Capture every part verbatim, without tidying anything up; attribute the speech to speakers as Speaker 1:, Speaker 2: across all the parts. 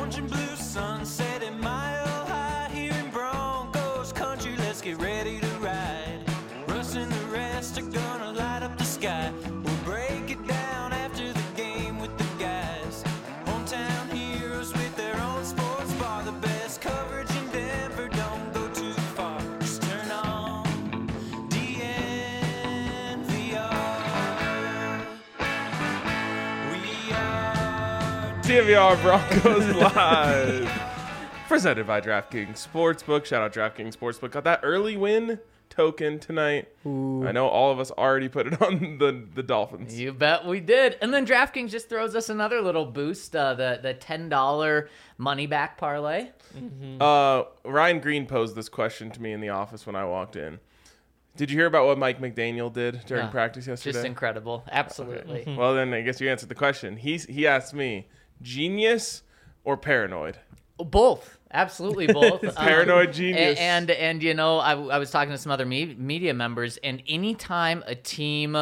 Speaker 1: orange and blue sunset and mile high here in Broncos country. Let's get ready to ride. Russ and the rest are gonna light up the sky. We'll break it down after the game with the guys. Hometown heroes with their own sports bar. The best coverage in Denver, don't go too far. Just turn on D N V R. We are
Speaker 2: D N V R Broncos Live. Presented by DraftKings Sportsbook. Shout out DraftKings Sportsbook. Got that early win token tonight.
Speaker 3: Ooh.
Speaker 2: I know all of us already put it on the, the Dolphins.
Speaker 4: You bet we did. And then DraftKings just throws us another little boost, uh, the, the ten dollars money back parlay.
Speaker 2: Mm-hmm. Uh, Ryan Green posed this question to me in the office when I walked in. Did you hear about what Mike McDaniel did during
Speaker 4: Yeah,
Speaker 2: practice yesterday?
Speaker 4: Just incredible. Absolutely.
Speaker 2: Okay. Well, then I guess you answered the question. He's, he asked me, genius or paranoid?
Speaker 4: Both. Absolutely both. Um,
Speaker 2: Paranoid genius.
Speaker 4: And, and, and you know, I, I was talking to some other me- media members, and anytime a team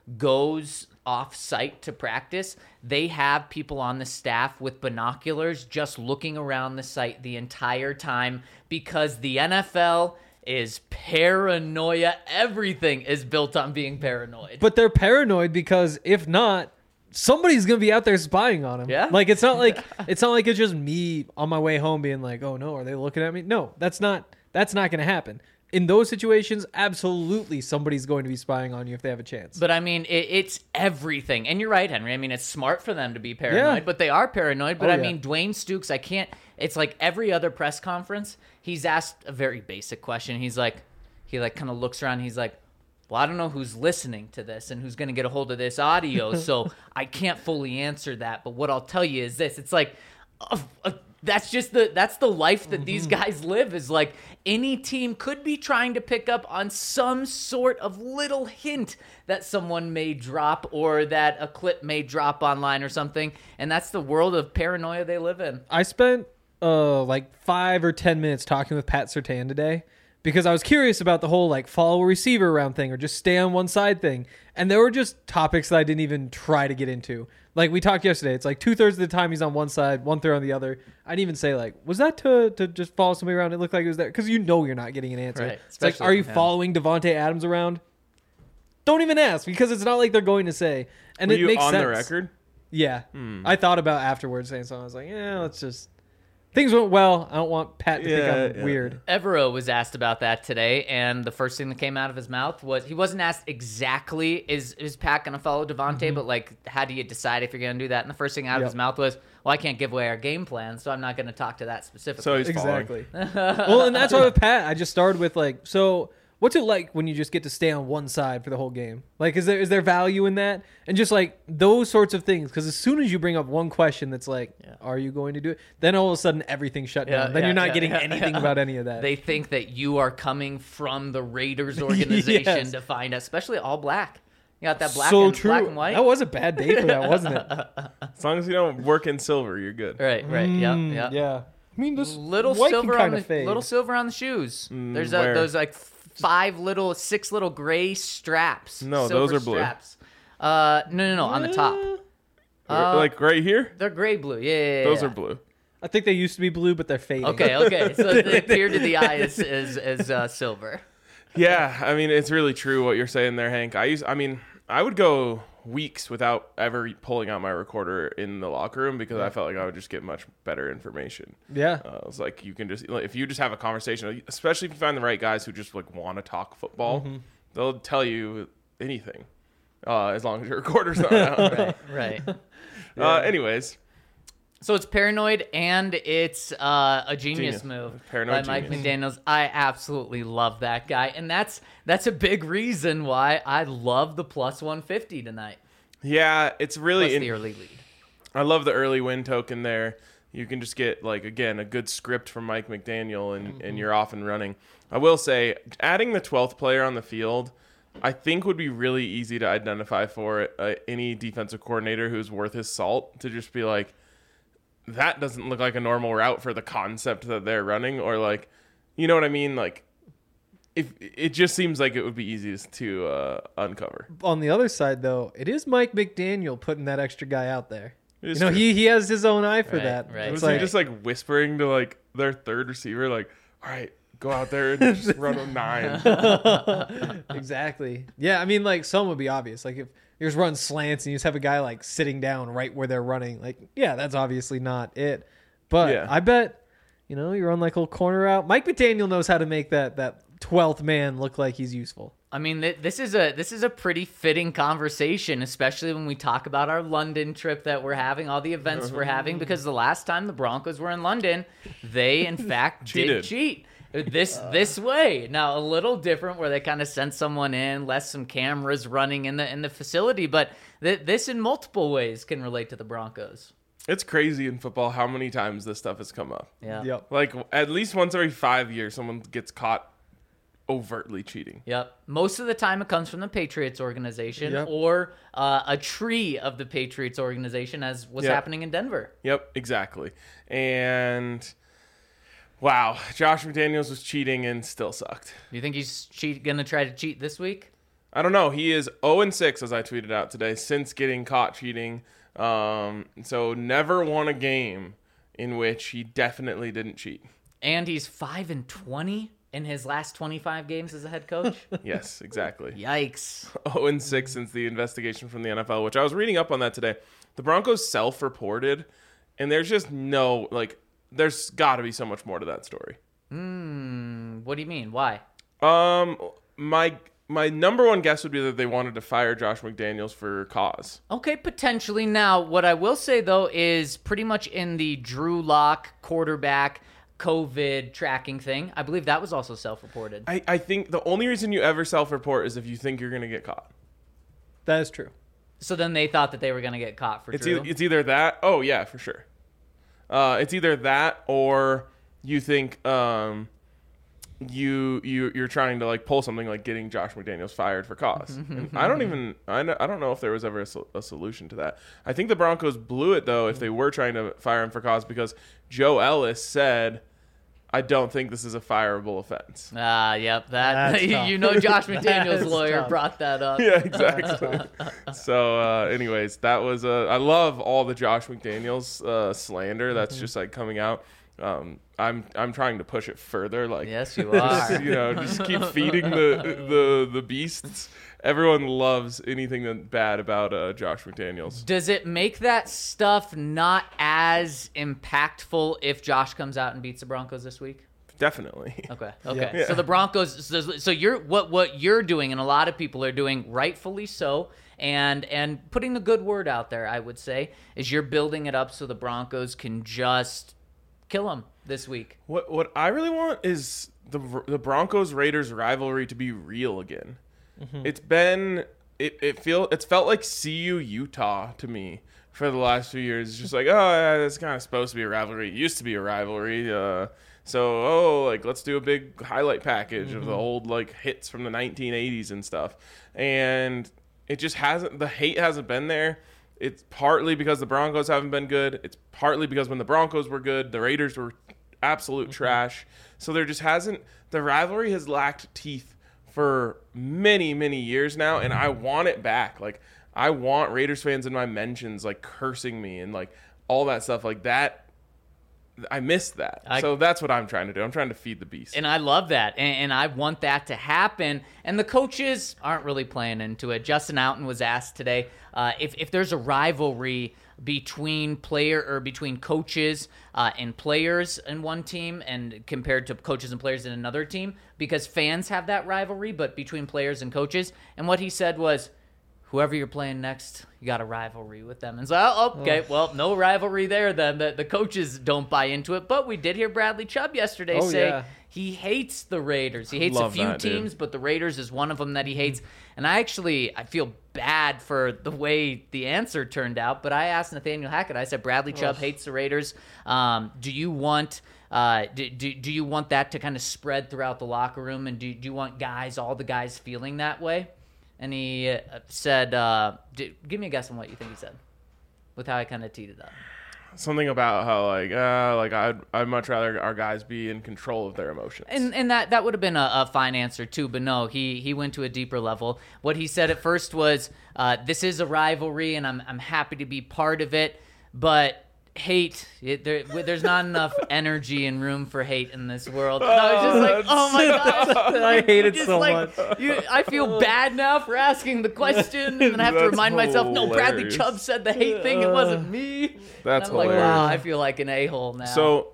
Speaker 4: goes off-site to practice, they have people on the staff with binoculars just looking around the site the entire time because the N F L is paranoia. Everything is built on being paranoid.
Speaker 3: But they're paranoid because if not, somebody's gonna be out there spying on him.
Speaker 4: Yeah.
Speaker 3: Like it's not like it's not like it's just me on my way home being like, oh no, are they looking at me? No, that's not that's not gonna happen. In those situations, absolutely somebody's going to be spying on you if they have a chance.
Speaker 4: But I mean, it, it's everything. And you're right, Henry. I mean, it's smart for them to be paranoid,
Speaker 3: Yeah.
Speaker 4: but they are paranoid. But
Speaker 3: Oh,
Speaker 4: I
Speaker 3: yeah.
Speaker 4: mean, Dwayne Stukes, I can't, it's like every other press conference, he's asked a very basic question. He's like, he like kind of looks around. He's like, well, I don't know who's listening to this and who's going to get a hold of this audio. So I can't fully answer that. But what I'll tell you is this, it's like, uh, uh, that's just the that's the life that these guys live, is like any team could be trying to pick up on some sort of little hint that someone may drop or that a clip may drop online or something. And that's the world of paranoia they live in.
Speaker 3: I spent uh like five or ten minutes talking with Pat Surtain today because I was curious about the whole like follow a receiver around thing or just stay on one side thing. And there were just topics that I didn't even try to get into. Like we talked yesterday, it's like two thirds of the time he's on one side, one third on the other. I didn't even say like, was that to, to just follow somebody around? It looked like it was there. Because you know you're not getting an answer.
Speaker 4: Right,
Speaker 3: It's like,
Speaker 4: especially
Speaker 3: are you
Speaker 4: from him.
Speaker 3: following Devontae Adams around? Don't even ask because it's not like they're going to say. And
Speaker 2: Were
Speaker 3: it
Speaker 2: you
Speaker 3: makes
Speaker 2: on
Speaker 3: sense.
Speaker 2: the record?
Speaker 3: Yeah. I thought about afterwards saying something. I was like, yeah, let's just. Things went well. I don't want Pat to
Speaker 2: Yeah,
Speaker 3: think I'm
Speaker 2: yeah.
Speaker 3: weird.
Speaker 4: Evero was asked about that today, and the first thing that came out of his mouth was he wasn't asked exactly, is is Pat going to follow Devontae, but like, how do you decide if you're going to do that? And the first thing out of
Speaker 3: Yep.
Speaker 4: his mouth was, well, I can't give away our game plan, so I'm not going to talk to that specifically.
Speaker 2: So he's
Speaker 3: Exactly.
Speaker 2: following.
Speaker 3: Well, and that's why with Pat, I just started with like, so what's it like when you just get to stay on one side for the whole game? Like, is there is there value in that? And just like those sorts of things, because as soon as you bring up one question that's like,
Speaker 4: Yeah.
Speaker 3: are you going to do it? Then all of a sudden everything's shut
Speaker 4: Yeah,
Speaker 3: down. Then
Speaker 4: yeah,
Speaker 3: you're not
Speaker 4: yeah,
Speaker 3: getting
Speaker 4: yeah,
Speaker 3: anything
Speaker 4: yeah.
Speaker 3: about any of that.
Speaker 4: They think that you are coming from the Raiders organization
Speaker 3: Yes.
Speaker 4: to find us, especially all black. You got that black,
Speaker 3: so
Speaker 4: and,
Speaker 3: true.
Speaker 4: black and white.
Speaker 3: That was a bad day for that, wasn't it?
Speaker 2: As long as you don't work in silver, you're good.
Speaker 4: Right, right, yeah,
Speaker 3: Mm,
Speaker 4: yeah.
Speaker 3: yeah. I mean, this
Speaker 4: Little
Speaker 3: white
Speaker 4: silver
Speaker 3: can
Speaker 4: on
Speaker 3: kind
Speaker 4: the
Speaker 3: of fade.
Speaker 4: little silver on the shoes. There's a,
Speaker 2: where?
Speaker 4: those like five little, six little gray straps.
Speaker 2: No,
Speaker 4: silver
Speaker 2: those are blue.
Speaker 4: Straps. Uh, no, no, no, on the top. Uh,
Speaker 2: like right here?
Speaker 4: They're gray blue. Yeah, yeah, yeah,
Speaker 2: Those
Speaker 4: yeah.
Speaker 2: are blue.
Speaker 3: I think they used to be blue, but they're fading.
Speaker 4: Okay, okay. So they appear to the eye as as, as uh, silver.
Speaker 2: Yeah, I mean, it's really true what you're saying there, Hank. I use, I mean, I would go weeks without ever pulling out my recorder in the locker room because I felt like I would just get much better information.
Speaker 3: Yeah.
Speaker 2: Uh, it's like you can just, like, if you just have a conversation, especially if you find the right guys who just like want to talk football,
Speaker 3: Mm-hmm.
Speaker 2: they'll tell you anything uh, as long as your recorder's not out.
Speaker 4: Right, right.
Speaker 2: uh, anyways,
Speaker 4: So it's paranoid and it's uh, a genius,
Speaker 2: Genius.
Speaker 4: move
Speaker 2: Paranoid
Speaker 4: by Mike
Speaker 2: genius.
Speaker 4: McDaniels. I absolutely love that guy, and that's that's a big reason why I love the plus one fifty tonight.
Speaker 2: yeah, it's really
Speaker 4: Plus
Speaker 2: in-
Speaker 4: the early lead.
Speaker 2: I love the early win token there. You can just get, like, again, a good script from Mike McDaniel, and, and you're off and running. I will say, adding the twelfth player on the field, I think would be really easy to identify for uh, any defensive coordinator who's worth his salt, to just be like, that doesn't look like a normal route for the concept that they're running, or like, you know what I mean? Like, if it just seems like it would be easiest to uh, uncover.
Speaker 3: On the other side, though, it is Mike McDaniel putting that extra guy out there. You know, he he has his own eye for
Speaker 4: Right,
Speaker 3: that.
Speaker 4: right.
Speaker 3: It's
Speaker 2: Was
Speaker 3: like,
Speaker 2: he just like whispering to like their third receiver, like, all right, go out there and just run a nine.
Speaker 3: exactly. Yeah, I mean, like some would be obvious. Like if you're just running slants and you just have a guy like sitting down right where they're running, like yeah, that's obviously not it. But
Speaker 2: Yeah.
Speaker 3: I bet, you know, you run like a little corner out. Mike McDaniel knows how to make that that twelfth man look like he's useful.
Speaker 4: I mean, th- this is a this is a pretty fitting conversation, especially when we talk about our London trip that we're having, all the events we're having, because the last time the Broncos were in London, they in fact
Speaker 2: Cheated.
Speaker 4: did cheat this this way. Now a little different, where they kind of sent someone in, left some cameras running in the in the facility, but th- this in multiple ways can relate to the Broncos.
Speaker 2: It's crazy in football how many times this stuff has come up.
Speaker 4: Yeah.
Speaker 3: Yep.
Speaker 2: Like at least once every five years, someone gets caught overtly cheating.
Speaker 4: Yep. Most of the time it comes from the Patriots organization
Speaker 3: Yep.
Speaker 4: or uh, a tree of the Patriots organization, as what's
Speaker 2: Yep.
Speaker 4: happening in Denver.
Speaker 2: Yep, exactly. And wow, Josh McDaniels was cheating and still sucked.
Speaker 4: Do you think he's cheat going to try to cheat this week?
Speaker 2: I don't know. He is oh and six, as I tweeted out today, since getting caught cheating. Um, so never won a game in which he definitely didn't cheat.
Speaker 4: And he's five and twenty in his last twenty-five games as a head coach.
Speaker 2: Yes, exactly.
Speaker 4: Yikes.
Speaker 2: oh and six since the investigation from the N F L, which I was reading up on that today. The Broncos self-reported, and there's just no, like, there's got to be so much more to that story.
Speaker 4: Hmm. What do you mean? Why?
Speaker 2: Um, my my number one guess would be that they wanted to fire Josh McDaniels for cause.
Speaker 4: Okay, potentially. Now, what I will say, though, is pretty much in the Drew Lock quarterback COVID tracking thing, I believe that was also self-reported.
Speaker 2: I, I think the only reason you ever self-report is if you think you're going to get caught.
Speaker 3: That is true.
Speaker 4: So then they thought that they were going to get caught for
Speaker 2: It's
Speaker 4: Drew.
Speaker 2: either, it's either that. Oh yeah, for sure. Uh, it's either that or you think um, you you you're trying to like pull something like getting Josh McDaniels fired for cause. And I don't even I don't, I don't know if there was ever a, sol- a solution to that. I think the Broncos blew it though if they were trying to fire him for cause, because Joe Ellis said, I don't think this is a fireable offense.
Speaker 4: Ah, yep. That
Speaker 3: That's tough.
Speaker 4: you know, Josh McDaniel's
Speaker 3: That's
Speaker 4: lawyer
Speaker 3: tough.
Speaker 4: brought that up.
Speaker 2: Yeah, exactly. So, uh, anyways, that was uh, I love all the Josh McDaniels uh, slander that's just like coming out. Um, I'm I'm trying to push it further. Like,
Speaker 4: Yes, you
Speaker 2: just,
Speaker 4: are.
Speaker 2: you know, just keep feeding the the the beasts. Everyone loves anything that bad about uh, Josh McDaniels.
Speaker 4: Does it make that stuff not as impactful if Josh comes out and beats the Broncos this week?
Speaker 2: Definitely.
Speaker 4: Okay. Okay.
Speaker 2: Yeah.
Speaker 4: So the Broncos. So, so you're what what you're doing, and a lot of people are doing, rightfully so, and and putting the good word out there. I would say is you're building it up so the Broncos can just kill them this week.
Speaker 2: What what I really want is the the Broncos Raiders rivalry to be real again. It's been it it feel it's felt like C U Utah to me for the last few years. It's just like, oh yeah, it's kind of supposed to be a rivalry. It used to be a rivalry. Uh, so oh like let's do a big highlight package of the old like hits from the nineteen eighties and stuff. And it just hasn't the hate hasn't been there. It's partly because the Broncos haven't been good. It's partly because when the Broncos were good, the Raiders were absolute trash. So there just hasn't the rivalry has lacked teeth for many, many years now, and I want it back. Like, I want Raiders fans in my mentions, like, cursing me and, like, all that stuff. Like, that, I missed that.
Speaker 4: I-
Speaker 2: so that's what I'm trying to do. I'm trying to feed the beast.
Speaker 4: And I love that. And, and I want that to happen. And the coaches aren't really playing into it. Justin Outen was asked today uh, if, if there's a rivalry between player or between coaches uh, and players in one team and compared to coaches and players in another team, because fans have that rivalry, but between players and coaches. And what he said was, whoever you're playing next, you got a rivalry with them. And so, oh, okay, well, no rivalry there then. The, the coaches don't buy into it. But we did hear Bradley Chubb yesterday
Speaker 3: Oh,
Speaker 4: say
Speaker 3: yeah.
Speaker 4: he hates the Raiders. He hates
Speaker 2: Love
Speaker 4: a few
Speaker 2: that, dude.
Speaker 4: teams, but the Raiders is one of them that he hates. And I actually, I feel bad for the way the answer turned out. But I asked Nathaniel Hackett, I said, Bradley Chubb hates the Raiders. Um, do you want... Uh, do, do, do you want that to kind of spread throughout the locker room? And do, do you want guys, all the guys feeling that way? And he uh, said, uh, d- give me a guess on what you think he said with how I kind of teed it up.
Speaker 2: Something about how, like, uh, like I'd, I'd much rather our guys be in control of their emotions.
Speaker 4: And and that, that would have been a, a fine answer too, but no, he, he went to a deeper level. What he said at first was, uh, this is a rivalry and I'm, I'm happy to be part of it, but hate, it, there, there's not enough energy and room for hate in this world. And I was just like, oh my gosh.
Speaker 3: I hate it
Speaker 4: Just
Speaker 3: so
Speaker 4: like,
Speaker 3: much.
Speaker 4: You, I feel bad now for asking the question, and then I have to
Speaker 2: That's
Speaker 4: remind myself, no, Bradley
Speaker 2: hilarious.
Speaker 4: Chubb said the hate thing. It wasn't me.
Speaker 2: That's
Speaker 4: And I'm
Speaker 2: hilarious.
Speaker 4: like, wow, I feel like an a-hole now.
Speaker 2: So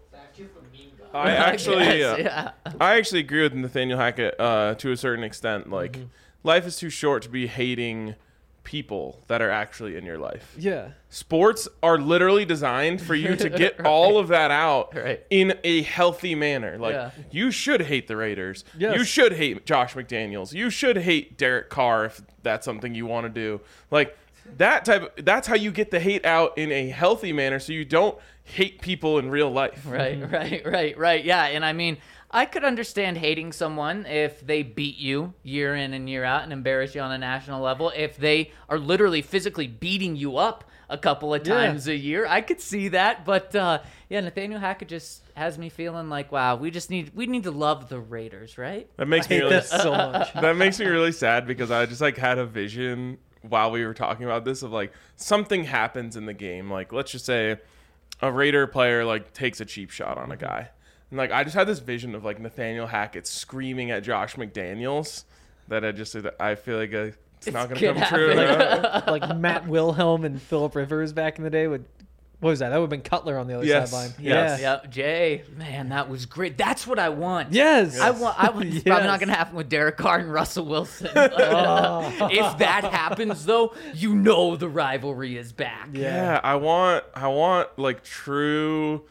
Speaker 2: I actually,
Speaker 4: Yes,
Speaker 2: uh,
Speaker 4: yeah.
Speaker 2: I actually agree with Nathaniel Hackett uh, to a certain extent. Like,
Speaker 3: Mm-hmm.
Speaker 2: life is too short to be hating people that are actually in your life.
Speaker 3: Yeah.
Speaker 2: Sports are literally designed for you to get
Speaker 4: Right.
Speaker 2: all of that out
Speaker 4: Right.
Speaker 2: in a healthy manner. Like,
Speaker 4: Yeah.
Speaker 2: you should hate the Raiders.
Speaker 3: Yes.
Speaker 2: You should hate Josh McDaniels. You should hate Derek Carr if that's something you want to do. Like, that type of, that's how you get the hate out in a healthy manner, so you don't hate people in real life.
Speaker 4: Right, right, right, right. Yeah, and I mean, I could understand hating someone if they beat you year in and year out and embarrass you on a national level. If they are literally physically beating you up a couple of
Speaker 3: Yeah.
Speaker 4: times a year, I could see that. But uh, yeah, Nathaniel Hackett just has me feeling like, wow, we just need we need to love the Raiders, right?
Speaker 2: That makes
Speaker 3: I
Speaker 2: me
Speaker 3: hate
Speaker 2: really
Speaker 3: this so much.
Speaker 2: that makes me really sad because I just like had a vision while we were talking about this of like something happens in the game. Like, let's just say a Raider player like takes a cheap shot on a guy. And like I just had this vision of like Nathaniel Hackett screaming at Josh McDaniels that I just I feel like uh, it's, not going to
Speaker 4: could
Speaker 2: come true.
Speaker 4: happen.
Speaker 3: Like Matt Wilhelm and Philip Rivers back in the day would. What was that? That would have been Cutler on the other
Speaker 2: Yes.
Speaker 3: sideline.
Speaker 2: Yes.
Speaker 3: Yeah.
Speaker 4: Yep, Jay, man, that was great. That's what I want.
Speaker 3: Yes.
Speaker 4: I want. I want. It's
Speaker 3: Yes.
Speaker 4: probably not going to happen with Derek Carr and Russell Wilson. But, uh, if that happens, though, you know the rivalry is back.
Speaker 2: Yeah, I want I want like true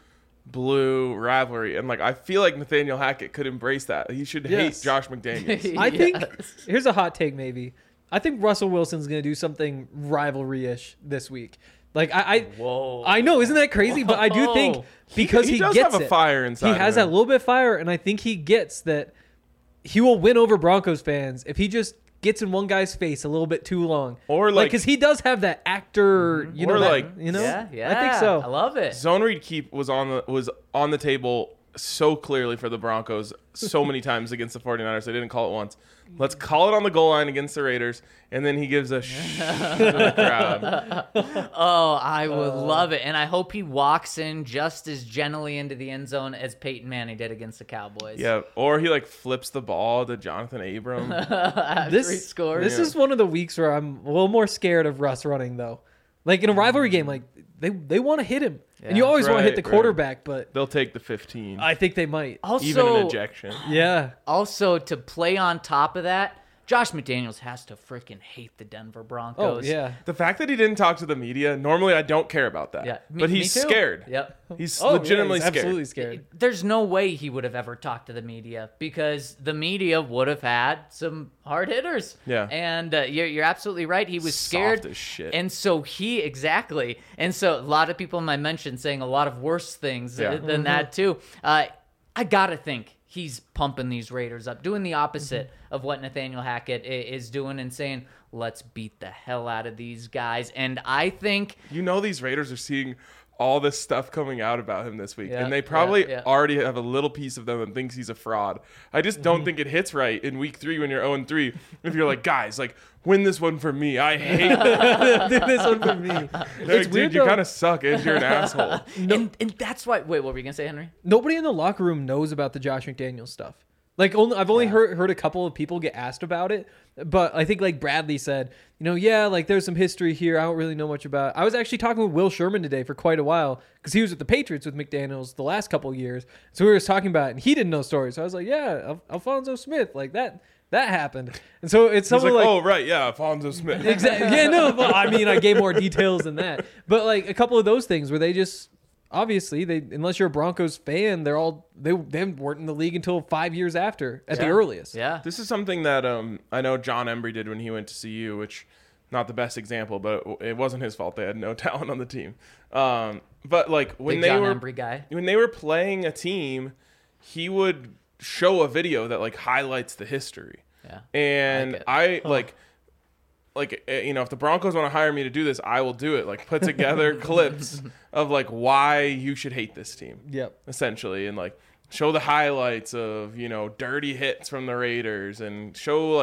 Speaker 2: blue rivalry, and like I feel like Nathaniel Hackett could embrace that. He should
Speaker 3: Yes.
Speaker 2: hate Josh McDaniels.
Speaker 3: I think
Speaker 4: Yes.
Speaker 3: here's a hot take. Maybe I think Russell Wilson's gonna do something rivalry-ish this week. Like I, I,
Speaker 4: Whoa.
Speaker 3: I know, isn't that crazy? But I do think
Speaker 4: Whoa.
Speaker 3: because
Speaker 2: he
Speaker 3: he,
Speaker 2: does
Speaker 3: gets
Speaker 2: have a
Speaker 3: it,
Speaker 2: fire inside
Speaker 3: he
Speaker 2: of
Speaker 3: has
Speaker 2: him.
Speaker 3: that little bit of fire, and I think he gets that he will win over Broncos fans if he just gets in one guy's face a little bit too long,
Speaker 2: Or, like-
Speaker 3: because he does have that actor, you know,
Speaker 2: Or,
Speaker 3: that-
Speaker 2: like-
Speaker 3: you know,
Speaker 4: Yeah, yeah.
Speaker 3: I think so.
Speaker 4: I love it.
Speaker 2: Zone read keep was on the was on the table so clearly for the Broncos so many times against the 49ers. They didn't call it once. Let's call it on the goal line against the Raiders, and then he gives a shh to the crowd.
Speaker 4: Oh, I would
Speaker 3: Uh,
Speaker 4: love it. And I hope he walks in just as gently into the end zone as Peyton Manning did against the Cowboys.
Speaker 2: Yeah, or he like flips the ball to Jonathan Abram.
Speaker 4: After
Speaker 3: This
Speaker 4: he scores.
Speaker 3: This is one of the weeks where I'm a little more scared of Russ running though. Like in a rivalry game, like they they want to hit him, and you
Speaker 4: Yeah.
Speaker 3: always want to hit
Speaker 2: Right,
Speaker 3: the
Speaker 2: right.
Speaker 3: quarterback, but
Speaker 2: They'll take the fifteen,
Speaker 3: I think they might.
Speaker 4: also,
Speaker 2: even an ejection.
Speaker 3: Yeah.
Speaker 4: also to play on top of that, Josh McDaniels has to freaking hate the Denver
Speaker 3: Oh
Speaker 4: Broncos.
Speaker 3: yeah.
Speaker 2: The fact that he didn't talk to the media, normally I don't care about that.
Speaker 4: Yeah. Me-
Speaker 2: but
Speaker 4: me
Speaker 2: he's
Speaker 4: too.
Speaker 2: scared.
Speaker 4: Yep.
Speaker 2: He's
Speaker 3: Oh, yeah,
Speaker 2: legitimately
Speaker 3: he's
Speaker 2: scared.
Speaker 3: absolutely scared.
Speaker 4: There's no way he would have ever talked to the media because the media would have had some hard hitters.
Speaker 2: Yeah.
Speaker 4: And uh, you're, you're absolutely right. He was scared.
Speaker 2: Soft as shit.
Speaker 4: And so he, exactly. And so a lot of people in my mention saying a lot of worse things
Speaker 2: Yeah.
Speaker 4: uh, than that too. Uh, I got to think he's pumping these Raiders up, doing the opposite
Speaker 2: Mm-hmm.
Speaker 4: of what Nathaniel Hackett i- is doing and saying, let's beat the hell out of these guys. And I think
Speaker 2: You know these Raiders are seeing all this stuff coming out about him this week,
Speaker 4: Yeah,
Speaker 2: and they probably
Speaker 4: yeah, yeah.
Speaker 2: already have a little piece of them that thinks he's a fraud. I just
Speaker 3: Mm-hmm.
Speaker 2: don't think it hits right in week three when you're oh and three. If you're like, guys, like win this one for me. I hate that.
Speaker 3: Do this one for me.
Speaker 2: Like, dude,
Speaker 3: weird
Speaker 2: you
Speaker 3: though.
Speaker 2: kind of suck and you're an asshole.
Speaker 4: and, and that's why wait, what were you gonna say, Henry?
Speaker 3: Nobody in the locker room knows about the Josh McDaniels stuff. Like only I've only heard heard a couple of people get asked about it, but I think like Bradley said, you know, yeah, like there's some history here. I don't really know much about. I was actually talking with Will Sherman today for quite a while because he was with the Patriots with McDaniels the last couple of years. So we were just talking about it, and he didn't know stories. So I was like, yeah, Al- Alfonso Smith, like that that happened. And so it's
Speaker 2: He's
Speaker 3: something
Speaker 2: like,
Speaker 3: like,
Speaker 2: oh right, yeah, Alfonso Smith.
Speaker 3: exactly, yeah, no, but I mean, I gave more details than that. But like a couple of those things where they just. Obviously, they unless you're a Broncos fan, they're all they they weren't in the league until five years after at the
Speaker 4: Yeah.
Speaker 3: earliest.
Speaker 4: Yeah.
Speaker 2: This is something that um I know John Embry did when he went to C U, which not the best example, but it wasn't his fault. They had no talent on the team. Um, but like when
Speaker 4: Big
Speaker 2: they
Speaker 4: John
Speaker 2: were
Speaker 4: Embry guy.
Speaker 2: when they were playing a team, he would show a video that like highlights the history.
Speaker 4: Yeah.
Speaker 2: And
Speaker 4: like it.
Speaker 2: I like like uh, you know, if the Broncos want to hire me to do this, I will do it. Like put together clips of like why you should hate this team.
Speaker 3: Yep.
Speaker 2: Essentially, and like show the highlights of, you know, dirty hits from the Raiders and show like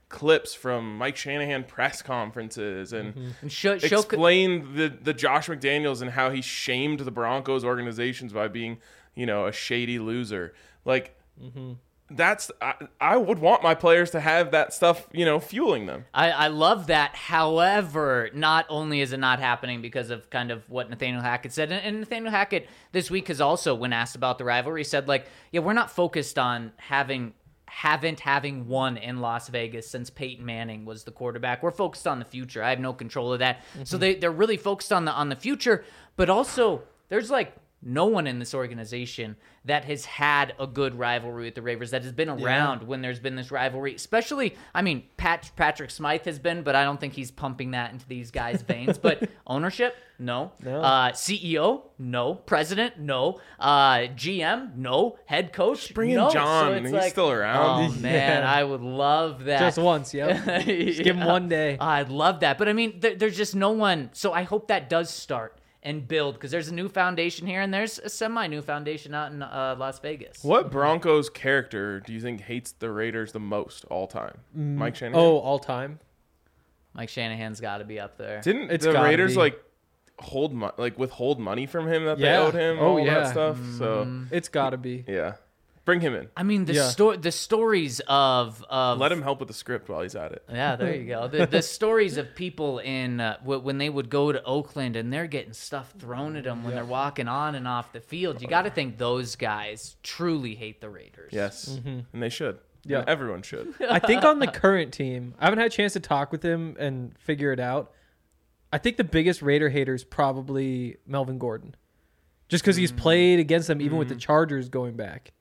Speaker 2: clips from Mike Shanahan press conferences and
Speaker 3: Mm-hmm.
Speaker 4: And show, show
Speaker 2: explained the, the Josh McDaniels and how he shamed the Broncos organizations by being, you know, a shady loser. Like,
Speaker 3: Mm-hmm.
Speaker 2: that's I, I would want my players to have that stuff, you know, fueling them.
Speaker 4: I, I love that. However, not only is it not happening because of kind of what Nathaniel Hackett said, and, and Nathaniel Hackett this week has also, when asked about the rivalry, said like, yeah, we're not focused on having haven't having won in Las Vegas since Peyton Manning was the quarterback. We're focused on the future. I have no control of that. Mm-hmm. So they they're really focused on the on the future, but also there's like no one in this organization that has had a good rivalry with the Ravens, that has been around yeah. when there's been this rivalry. Especially, I mean, Pat, Patrick Smythe has been, but I don't think he's pumping that into these guys' veins. But ownership, no. no. Uh, C E O, no. President, no. Uh, G M, no. Head coach,
Speaker 2: Just bring
Speaker 4: no.
Speaker 2: in John.
Speaker 4: So
Speaker 2: He's
Speaker 4: like,
Speaker 2: still around.
Speaker 4: Oh, man,
Speaker 3: Yeah.
Speaker 4: I would love that.
Speaker 3: Just once, yeah. Just give him one day.
Speaker 4: I'd love that. But, I mean, there, there's just no one. So I hope that does start and build, because there's a new foundation here and there's a semi-new foundation out in uh, Las Vegas.
Speaker 2: What Broncos character do you think hates the Raiders the most all time? Mm. Mike Shanahan?
Speaker 3: Oh, all time?
Speaker 4: Mike Shanahan's got to be up there.
Speaker 2: Didn't
Speaker 3: It's
Speaker 2: the
Speaker 3: gotta
Speaker 2: Raiders
Speaker 3: be.
Speaker 2: like hold mo- like withhold money from him that
Speaker 3: Yeah.
Speaker 2: they owed him?
Speaker 3: Oh,
Speaker 2: all
Speaker 3: yeah.
Speaker 2: that stuff. So
Speaker 3: It's got to be.
Speaker 2: yeah, bring him in.
Speaker 4: I mean, the
Speaker 3: Yeah.
Speaker 4: sto- the stories of of
Speaker 2: Let him help with the script while he's at it.
Speaker 4: Yeah, there you go. The, the stories of people in uh, w- when they would go to Oakland and they're getting stuff thrown at them when they're walking on and off the field. You got to think those guys truly hate the Raiders.
Speaker 2: Yes, and they should.
Speaker 3: Yeah.
Speaker 2: And everyone should.
Speaker 3: I think on the current team, I haven't had a chance to talk with him and figure it out. I think the biggest Raider hater is probably Melvin Gordon. Just because he's played against them even with the Chargers going back.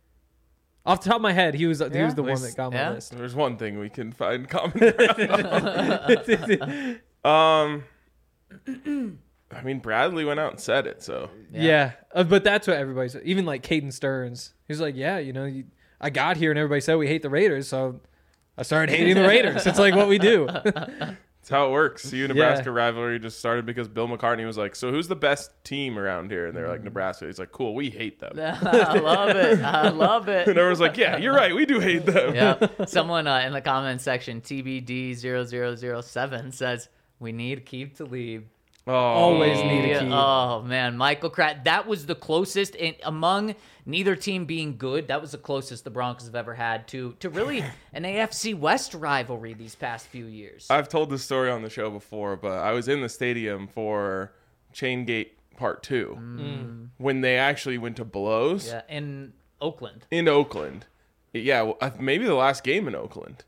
Speaker 3: Off the top of my head, he was he
Speaker 4: Yeah.
Speaker 3: was the one
Speaker 2: Least-
Speaker 3: that got my
Speaker 4: yeah.
Speaker 3: list.
Speaker 2: There's one thing we can find common ground. um, I mean, Bradley went out and said it, so
Speaker 3: Yeah, uh, but that's what everybody said. Even like Caden Stearns, he's like, yeah, you know, you, I got here and everybody said we hate the Raiders, so I started hating the Raiders. It's like what we do.
Speaker 2: that's how it works. The Nebraska rivalry just started because Bill McCartney was like, "So who's the best team around here?" And they're like, "Nebraska." He's like, "Cool, we hate them."
Speaker 4: I love it. I love it.
Speaker 2: And everyone's like, "Yeah, you're right. We do hate them."
Speaker 4: Yeah. Someone uh, in the comment section, T B D zero zero zero seven, says, we need Keith Talib.
Speaker 2: Oh,
Speaker 3: Always need a
Speaker 4: Yeah,
Speaker 3: key.
Speaker 4: Oh man, Michael Kraft. That was the closest in, among neither team being good. That was the closest the Broncos have ever had to to really an A F C West rivalry these past few years.
Speaker 2: I've told this story on the show before, but I was in the stadium for Chaingate Part Two
Speaker 3: Mm.
Speaker 2: when they actually went to blows
Speaker 4: Yeah, in Oakland.
Speaker 2: in Oakland. Yeah, well, uh, maybe the last game in Oakland,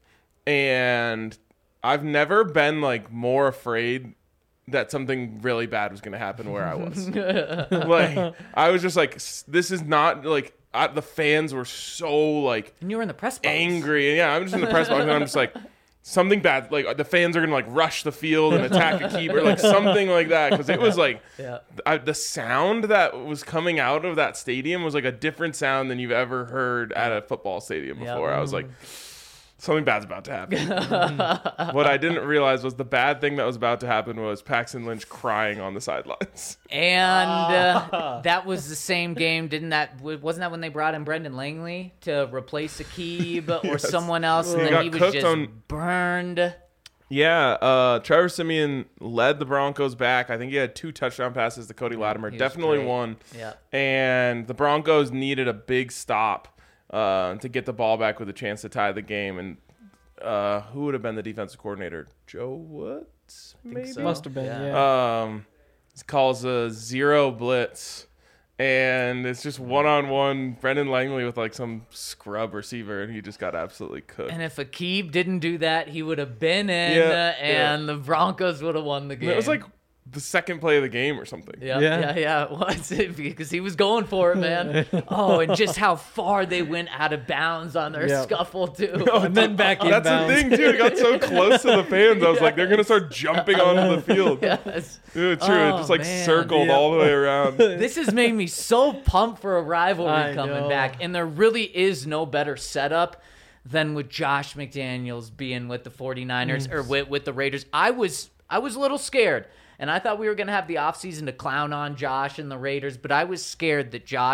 Speaker 2: and I've never been like more afraid that something really bad was going to happen where I was. Like, I was just like, s- this is not like I, the fans were so like
Speaker 4: And you were in the press box.
Speaker 2: angry, and yeah, I'm just in the press box, and I'm just like, something bad, like the fans are gonna like rush the field and attack a keeper, like something like that, because it was like
Speaker 4: Yeah.
Speaker 2: I, the sound that was coming out of that stadium was like a different sound than you've ever heard at a football stadium
Speaker 4: Yeah.
Speaker 2: before. I was like, something bad's about to happen. What I didn't realize was the bad thing that was about to happen was Paxton Lynch crying on the sidelines.
Speaker 4: And uh, that was the same game, didn't that? Wasn't that when they brought in Brendan Langley to replace Akib or
Speaker 2: Yes.
Speaker 4: someone else, and
Speaker 2: He
Speaker 4: then
Speaker 2: got
Speaker 4: he was
Speaker 2: cooked
Speaker 4: just
Speaker 2: on-
Speaker 4: burned.
Speaker 2: Yeah, uh, Trevor Siemian led the Broncos back. I think he had two touchdown passes to Cody Latimer.
Speaker 4: he was
Speaker 2: Definitely
Speaker 4: great.
Speaker 2: one.
Speaker 4: Yeah.
Speaker 2: And the Broncos needed a big stop uh, to get the ball back with a chance to tie the game. And uh, who would have been the defensive coordinator? Joe Woods, maybe?
Speaker 4: so.
Speaker 3: Must have been,
Speaker 4: Yeah.
Speaker 3: yeah.
Speaker 2: Um, he calls a zero blitz. And it's just one-on-one Brendan Langley with like some scrub receiver, and he just got absolutely cooked.
Speaker 4: And if Akib didn't do that, he would have been in,
Speaker 2: Yeah,
Speaker 4: uh, and the Broncos would have won the game.
Speaker 2: It was like the second play of the game or something.
Speaker 4: Yeah,
Speaker 3: Yeah.
Speaker 4: yeah, yeah, it was because he was going for it, man. Oh, and just how far they went out of bounds on their
Speaker 3: Yeah.
Speaker 4: scuffle too.
Speaker 3: And then back in
Speaker 2: That's the thing, too. It got so close to the fans. I was like, they're going to start jumping onto the field.
Speaker 4: Yes.
Speaker 2: Yeah, true.
Speaker 4: Oh,
Speaker 2: it just like
Speaker 4: man.
Speaker 2: circled
Speaker 3: Yeah.
Speaker 2: all the way around.
Speaker 4: This has made me so pumped for a rivalry
Speaker 3: I
Speaker 4: coming
Speaker 3: know.
Speaker 4: back, and there really is no better setup than with Josh McDaniels being with the 49ers or with, with the Raiders. I was I was a little scared, and I thought we were going to have the offseason to clown on Josh and the Raiders, but I was scared that Josh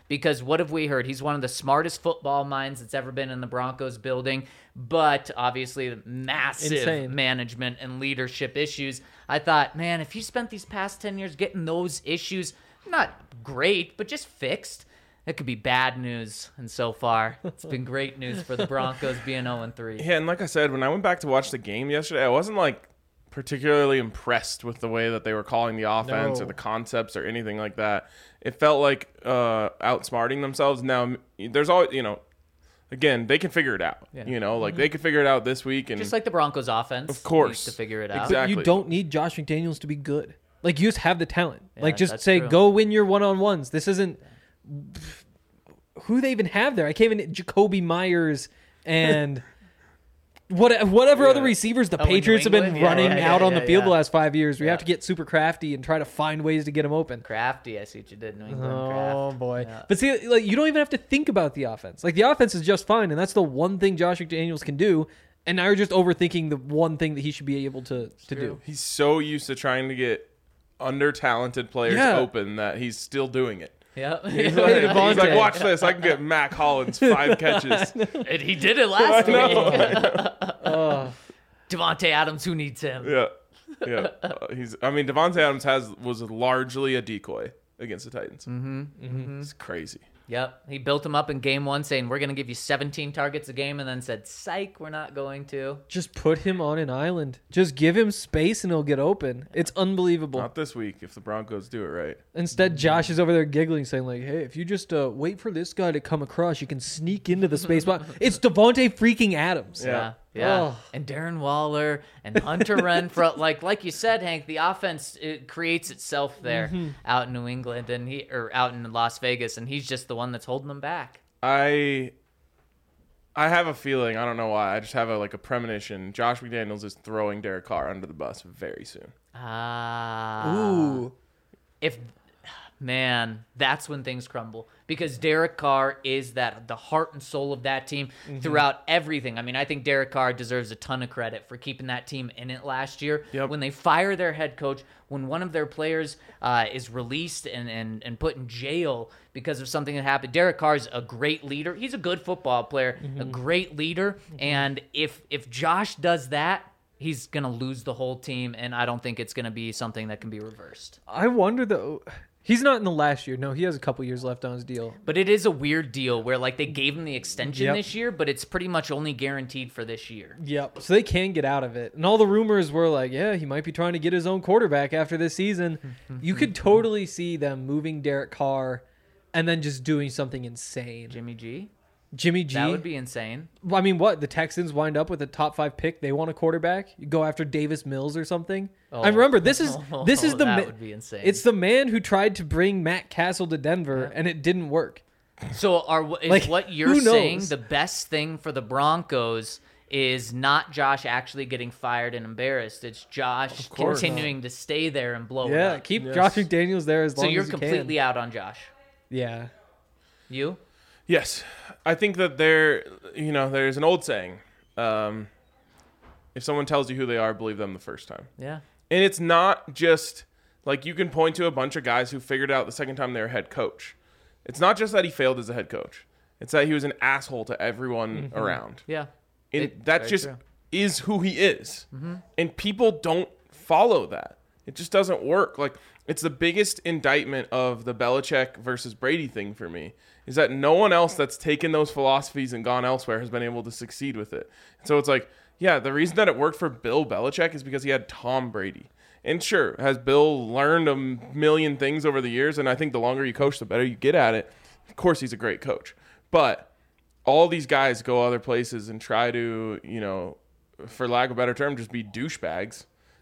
Speaker 4: because what have we heard? He's one of the smartest football minds that's ever been in the Broncos building, but obviously massive
Speaker 3: Insane.
Speaker 4: management and leadership issues. I thought, man, if you spent these past ten years getting those issues, not great, but just fixed, it could be bad news. And so far, it's been great news for the Broncos being oh and three.
Speaker 2: Yeah, and like I said, when I went back to watch the game yesterday, I wasn't like particularly impressed with the way that they were calling the offense
Speaker 3: No.
Speaker 2: or the concepts or anything like that. It felt like uh, outsmarting themselves. Now, there's always, you know, again, they can figure it out.
Speaker 4: Yeah.
Speaker 2: You know, like they could figure it out this week. And
Speaker 4: Just like the Broncos offense.
Speaker 2: Of course.
Speaker 4: needs to figure it out.
Speaker 2: Exactly.
Speaker 3: But you don't need Josh McDaniels to be good. Like, you just have the talent.
Speaker 4: Yeah,
Speaker 3: like, just
Speaker 4: that's
Speaker 3: say,
Speaker 4: true.
Speaker 3: go win your one-on-ones. This isn't... Who they even have there? I can't even... Jacoby Myers and... What, whatever
Speaker 2: Yeah.
Speaker 3: other receivers the
Speaker 4: Oh, in New
Speaker 3: Patriots have been
Speaker 4: England? Yeah,
Speaker 3: running
Speaker 4: yeah, yeah,
Speaker 3: out on
Speaker 4: yeah,
Speaker 3: the field
Speaker 4: yeah.
Speaker 3: the last five years. We
Speaker 4: Yeah.
Speaker 3: have to get super crafty and try to find ways to get them open.
Speaker 4: Crafty, I see what you did, New England.
Speaker 3: Oh
Speaker 4: Craft.
Speaker 3: boy!
Speaker 4: Yeah.
Speaker 3: But see, like you don't even have to think about the offense. Like the offense is just fine, and that's the one thing Josh McDaniels can do. And now you're just overthinking the one thing that he should be able to to do.
Speaker 2: He's so used to trying to get under talented players
Speaker 3: Yeah.
Speaker 2: open that he's still doing it.
Speaker 4: Yep.
Speaker 2: He's
Speaker 3: Hey,
Speaker 2: like,
Speaker 3: Devontae.
Speaker 2: he's like, watch this. I can get Mac Hollins five catches.
Speaker 4: And he did it last
Speaker 2: I know.
Speaker 4: week.
Speaker 3: Oh,
Speaker 4: Devontae Adams, who needs him?
Speaker 2: Yeah, yeah. Uh, he's. I mean, Devontae Adams has was largely a decoy against the Titans. Mm-hmm. It's crazy.
Speaker 4: Yep. He built him up in game one saying, we're going to give you seventeen targets a game, and then said, psych, we're not going to.
Speaker 3: just put him on an island. Just give him space, and he'll get open. It's unbelievable.
Speaker 2: Not this week if the Broncos do it right.
Speaker 3: Instead, Josh is over there giggling, saying like, "Hey, if you just uh, wait for this guy to come across, you can sneak into the space." But it's Devontae freaking Adams.
Speaker 2: Yeah.
Speaker 4: Yeah. Yeah.
Speaker 3: Oh.
Speaker 4: And Darren Waller and Hunter Renfrow. Like like you said, Hank, the offense it creates itself there
Speaker 3: Mm-hmm.
Speaker 4: out in New England and he or out in Las Vegas, and he's just the one that's holding them back.
Speaker 2: I. I have a feeling. I don't know why. I just have a like a premonition. Josh McDaniels is throwing Derek Carr under the bus very soon.
Speaker 4: Ah.
Speaker 3: Ooh.
Speaker 4: If man, that's when things crumble, because Derek Carr is that the heart and soul of that team
Speaker 3: Mm-hmm.
Speaker 4: throughout everything. I mean, I think Derek Carr deserves a ton of credit for keeping that team in it last year.
Speaker 2: Yep.
Speaker 4: When they fire their head coach, when one of their players uh, is released and, and, and put in jail because of something that happened, Derek Carr's a great leader. He's a good football player, a great leader. And if if Josh does that, he's going to lose the whole team, and I don't think it's going to be something that can be reversed.
Speaker 3: I wonder though. He's not in the last year. No, he has a couple years left on his deal.
Speaker 4: But it is a weird deal where, like, they gave him the extension
Speaker 3: Yep.
Speaker 4: this year, but it's pretty much only guaranteed for this year.
Speaker 3: Yep. So they can get out of it. And all the rumors were like, yeah, he might be trying to get his own quarterback after this season. You could totally see them moving Derek Carr and then just doing something insane.
Speaker 4: Jimmy G?
Speaker 3: Jimmy G.
Speaker 4: That would be insane.
Speaker 3: Well, I mean, what? The Texans wind up with a top five pick. They want a quarterback. You go after Davis Mills or something.
Speaker 4: Oh.
Speaker 3: I remember this is this is the
Speaker 4: That
Speaker 3: ma-
Speaker 4: would be insane.
Speaker 3: It's the man who tried to bring Matt Castle to Denver and it didn't work.
Speaker 4: So are is
Speaker 3: Like,
Speaker 4: what you're
Speaker 3: who
Speaker 4: saying
Speaker 3: knows?
Speaker 4: the best thing for the Broncos is not Josh actually getting fired and embarrassed. It's Josh
Speaker 2: course.
Speaker 4: continuing to stay there and blow it
Speaker 3: Yeah,
Speaker 4: up.
Speaker 3: keep
Speaker 2: Yes.
Speaker 3: Josh McDaniels there as
Speaker 4: So
Speaker 3: long
Speaker 4: you're
Speaker 3: as you
Speaker 4: completely
Speaker 3: can.
Speaker 4: out on Josh.
Speaker 3: Yeah.
Speaker 4: You?
Speaker 2: Yes, I think that there, you know, there's an old saying: um, if someone tells you who they are, believe them the first time.
Speaker 4: Yeah.
Speaker 2: And it's not just like you can point to a bunch of guys who figured it out the second time they were head coach. It's not just that he failed as a head coach; it's that he was an asshole to everyone around.
Speaker 4: Yeah.
Speaker 2: And
Speaker 4: It-
Speaker 2: that
Speaker 4: very
Speaker 2: just
Speaker 4: true.
Speaker 2: is who he is. And people don't follow that. It just doesn't work. Like, it's the biggest indictment of the Belichick versus Brady thing for me, is that no one else that's taken those philosophies and gone elsewhere has been able to succeed with it. So it's like, yeah, the reason that it worked for Bill Belichick is because he had Tom Brady. And sure, has Bill learned a million things over the years? And I think the longer you coach, the better you get at it. Of course, he's a great coach. But all these guys go other places and try to, you know, for lack of a better term, just be douchebags.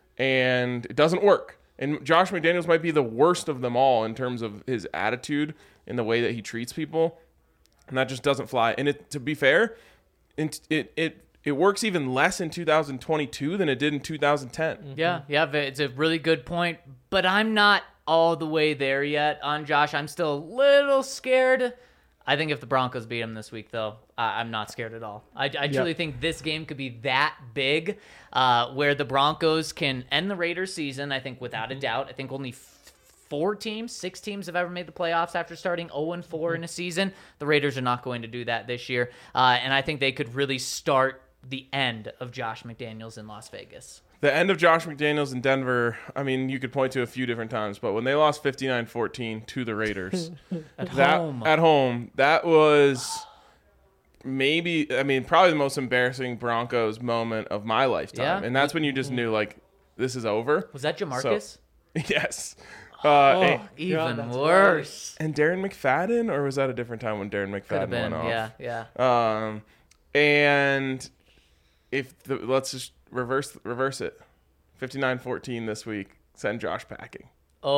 Speaker 2: And it doesn't work. And Josh McDaniels might be the worst of them all in terms of his attitude and the way that he treats people. And that just doesn't fly. And it, to be fair, it it it, it works even less in two thousand twenty-two than it did in two thousand ten.
Speaker 4: Yeah, yeah, it's a really good point. But I'm not all the way there yet on Josh. I'm still a little scared. I think if the Broncos beat him this week, though, I I'm not scared at all. I, I truly think this game could be that big, uh, where the Broncos can end the Raiders season, I think, without a doubt. I think only f- four teams, six teams have ever made the playoffs after starting oh and four in a season. The Raiders are not going to do that this year. Uh, and I think they could really start the end of Josh McDaniels in Las Vegas.
Speaker 2: The end of Josh McDaniels in Denver, I mean, you could point to a few different times, but when they lost fifty-nine fourteen to the Raiders
Speaker 4: At
Speaker 2: that,
Speaker 4: home.
Speaker 2: At home, that was maybe, I mean, probably the most embarrassing Broncos moment of my lifetime.
Speaker 4: Yeah.
Speaker 2: And that's when you just knew, like, this is over.
Speaker 4: Was that Jamarcus?
Speaker 2: So, yes. Uh, and,
Speaker 4: Even
Speaker 3: that's
Speaker 4: worse.
Speaker 2: and Darren McFadden, or was that a different time when Darren
Speaker 4: Could have
Speaker 2: McFadden
Speaker 4: been,
Speaker 2: went off?
Speaker 4: yeah, yeah.
Speaker 2: Um, and if the, let's just reverse reverse it, fifty-nine fourteen this week. Send Josh packing.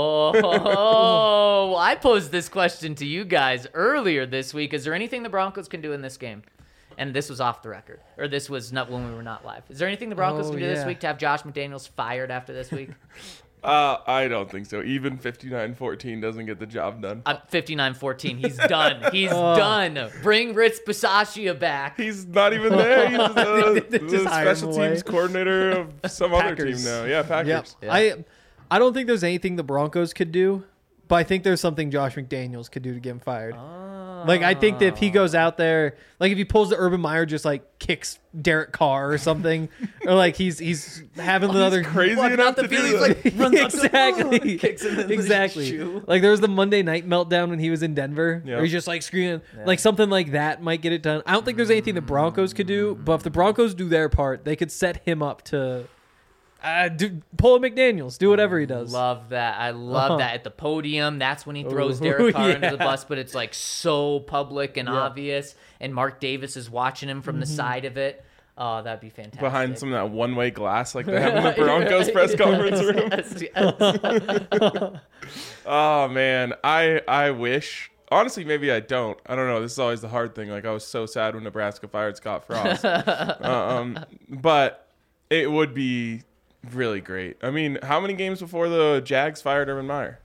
Speaker 4: Oh, I posed this question to you guys earlier this week. Is there anything the Broncos can do in this game? And this was off the record, or this was not when we were not live. Is there anything the Broncos
Speaker 3: Oh,
Speaker 4: can do this
Speaker 3: yeah.
Speaker 4: week to have Josh McDaniels fired after this week?
Speaker 2: Uh, I don't think so. Even fifty-nine fourteen doesn't get the job done.
Speaker 4: I'm fifty-nine fourteen. He's done. He's done. Bring Rich Bisaccia back.
Speaker 2: He's not even there. He's the, the
Speaker 3: Just hire him
Speaker 2: special
Speaker 3: away.
Speaker 2: teams coordinator of some other team
Speaker 3: Packers.
Speaker 2: now. Yeah, Packers.
Speaker 3: Yep.
Speaker 4: Yeah.
Speaker 3: I I don't think there's anything the Broncos could do, but I think there's something Josh McDaniels could do to get him fired. Like, I think that if he goes out there, like if he pulls the Urban Meyer, just like kicks Derek Carr or something, or like he's he's having the other
Speaker 2: Crazy
Speaker 4: Walking
Speaker 2: enough
Speaker 4: out the
Speaker 2: to
Speaker 4: field,
Speaker 2: do
Speaker 4: he's
Speaker 2: that.
Speaker 4: like, runs up to-
Speaker 3: exactly,
Speaker 4: kicks him in the
Speaker 3: exactly.
Speaker 4: shoe.
Speaker 3: Like there was the Monday night meltdown when he was in Denver,
Speaker 2: Yeah.
Speaker 3: where he's just like screaming, like something like that might get it done. I don't think there's anything the Broncos could do, but if the Broncos do their part, they could set him up to uh, do, pull a McDaniels, do whatever he does.
Speaker 4: Love that. I love
Speaker 3: Uh-huh.
Speaker 4: that at the podium. That's when he throws
Speaker 3: Ooh,
Speaker 4: Derek Carr
Speaker 3: yeah.
Speaker 4: under the bus, but it's like so public and
Speaker 3: Yeah. Mm-hmm.
Speaker 4: obvious. And Mark Davis is watching him from the side of it. Oh, that'd be fantastic.
Speaker 2: Behind some of that one-way glass like they have in the Broncos press conference room.
Speaker 4: Yes, yes.
Speaker 2: Oh man, I I wish. Honestly, maybe I don't. I don't know. This is always the hard thing. Like I was so sad when Nebraska fired Scott Frost. uh, um, but it would be really great. I mean, how many games before the Jags fired Urban Meyer?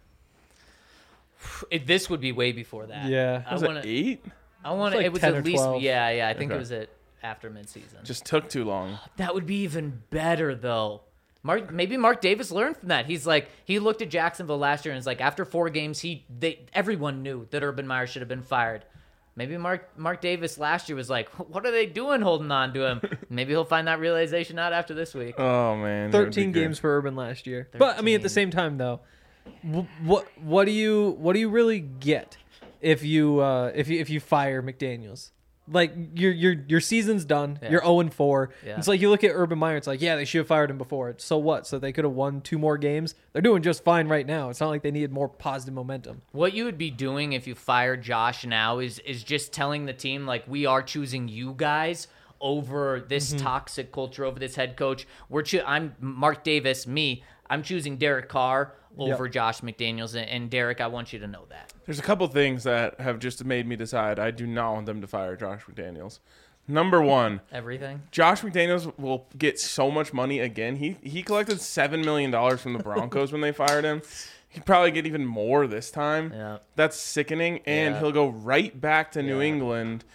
Speaker 4: It- this would be way before that.
Speaker 3: Yeah.
Speaker 4: I
Speaker 2: Was
Speaker 4: want
Speaker 2: it
Speaker 4: to.
Speaker 2: eight?
Speaker 4: I want to.
Speaker 3: like
Speaker 4: It was
Speaker 3: ten
Speaker 4: at
Speaker 3: or
Speaker 4: least.
Speaker 3: twelve.
Speaker 4: Yeah, yeah. I think
Speaker 2: Okay.
Speaker 4: it was at after midseason.
Speaker 2: Just took too long.
Speaker 4: That would be even better, though. Mark, maybe Mark Davis learned from that. He's like, he looked at Jacksonville last year and is like, after four games, he they everyone knew that Urban Meyer should have been fired. Maybe Mark Mark Davis last year was like, what are they doing holding on to him? Maybe he'll find that realization out after this week.
Speaker 2: Oh man, that would be
Speaker 3: thirteen
Speaker 2: good.
Speaker 3: games for Urban last year. But I mean, at the
Speaker 4: thirteen.
Speaker 3: same time, though, wh- what what do you what do you really get if you uh, if you if you fire McDaniels? Like your your your season's done.
Speaker 4: Yeah.
Speaker 3: You're zero and four.
Speaker 4: Yeah.
Speaker 3: It's like you look at Urban Meyer. It's like, yeah, they should have fired him before. So what? So they could have won two more games. They're doing just fine right now. It's not like they needed more positive momentum.
Speaker 4: What you would be doing if you fired Josh now is is just telling the team, like, we are choosing you guys over this
Speaker 3: Mm-hmm.
Speaker 4: toxic culture, over this head coach. We're cho- I'm Mark Davis, me. I'm choosing Derek Carr over
Speaker 3: Yep.
Speaker 4: Josh McDaniels, and, and Derek, I want you to know that.
Speaker 2: There's a couple things that have just made me decide I do not want them to fire Josh McDaniels. Number one,
Speaker 4: Everything.
Speaker 2: Josh McDaniels will get so much money again. He he collected seven million dollars from the Broncos when they fired him. He'd probably get even more this time.
Speaker 4: Yeah.
Speaker 2: That's sickening. And
Speaker 4: Yeah.
Speaker 2: he'll go right back to New
Speaker 4: Yeah.
Speaker 2: England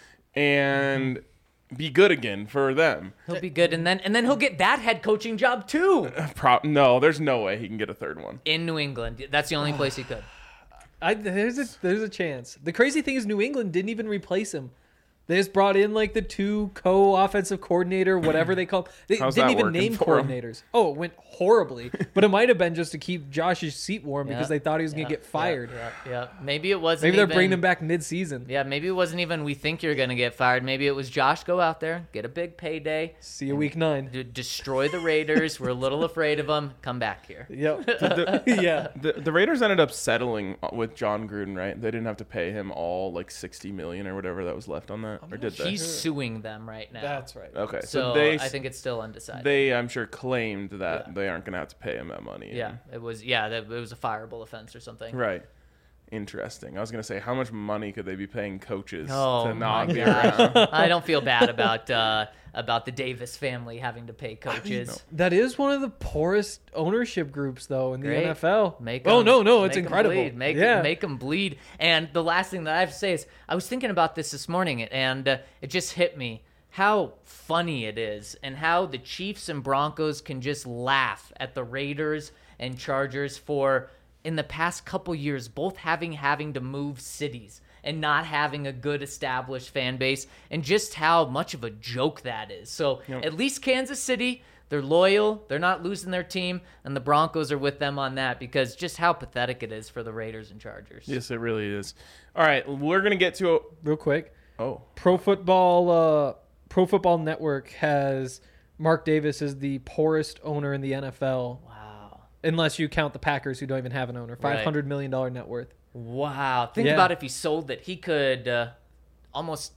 Speaker 2: and be good again for them.
Speaker 4: He'll be good, and then and then he'll get that head coaching job too
Speaker 2: Pro- no, there's no way he can get a third one.
Speaker 4: in New England. That's the only place he could.
Speaker 3: I, there's a there's a chance. The crazy thing is New England didn't even replace him. They just brought in like the two co-offensive coordinator, whatever they call. They
Speaker 2: How's
Speaker 3: didn't
Speaker 2: that
Speaker 3: even
Speaker 2: working
Speaker 3: name
Speaker 2: for 'em?
Speaker 3: coordinators. Oh, it went horribly. But it might have been just to keep Josh's seat warm because
Speaker 4: Yeah.
Speaker 3: they thought he was
Speaker 4: Yeah,
Speaker 3: gonna get fired.
Speaker 4: Yeah, yeah, yeah. Maybe it wasn't.
Speaker 3: Maybe they're
Speaker 4: even,
Speaker 3: bringing him back mid-season.
Speaker 4: Yeah, maybe it wasn't even. We think you're gonna get fired. Maybe it was Josh. Go out there, get a big payday,
Speaker 3: See you week nine.
Speaker 4: d- destroy the Raiders. We're a little afraid of them. Come back here.
Speaker 3: Yep. yeah.
Speaker 2: The, the Raiders ended up settling with John Gruden, right? They didn't have to pay him all like sixty million or whatever that was left on that, or did they?
Speaker 4: He's suing them right now.
Speaker 3: That's right.
Speaker 2: Okay,
Speaker 4: So,
Speaker 2: so, they
Speaker 4: I think it's still undecided.
Speaker 2: they I'm sure claimed that
Speaker 4: Yeah.
Speaker 2: they aren't going to have to pay him that money.
Speaker 4: yeah, it was. Yeah, that, it was a fireable offense or something.
Speaker 2: Right. Interesting. I was going to say, how much money could they be paying coaches
Speaker 4: Oh
Speaker 2: to
Speaker 4: my
Speaker 2: not be
Speaker 4: gosh.
Speaker 2: around?
Speaker 4: I don't feel bad about uh, about the Davis family having to pay coaches.
Speaker 3: That is one of the poorest ownership groups, though, in the
Speaker 4: Great.
Speaker 3: N F L.
Speaker 4: Make
Speaker 3: oh
Speaker 4: 'em-
Speaker 3: no, no, it's
Speaker 4: make 'em
Speaker 3: incredible.
Speaker 4: bleed. Make
Speaker 3: yeah.
Speaker 4: make them bleed. And the last thing that I have to say is, I was thinking about this this morning, and uh, it just hit me how funny it is, and how the Chiefs and Broncos can just laugh at the Raiders and Chargers for in the past couple years, both having having to move cities and not having a good established fan base, and just how much of a joke that is. So
Speaker 2: Yep.
Speaker 4: at least Kansas City, they're loyal, they're not losing their team, and the Broncos are with them on that, because just how pathetic it is for the Raiders and Chargers.
Speaker 2: Yes, it really is. All right, we're gonna get to a,
Speaker 3: Real quick,
Speaker 2: oh
Speaker 3: Pro Football uh, Pro Football Network has Mark Davis as the poorest owner in the N F L,
Speaker 4: Wow.
Speaker 3: unless you count the Packers, who don't even have an owner. Five hundred million dollar net worth.
Speaker 4: Wow. Think
Speaker 3: Yeah.
Speaker 4: about if he sold it, he could uh, almost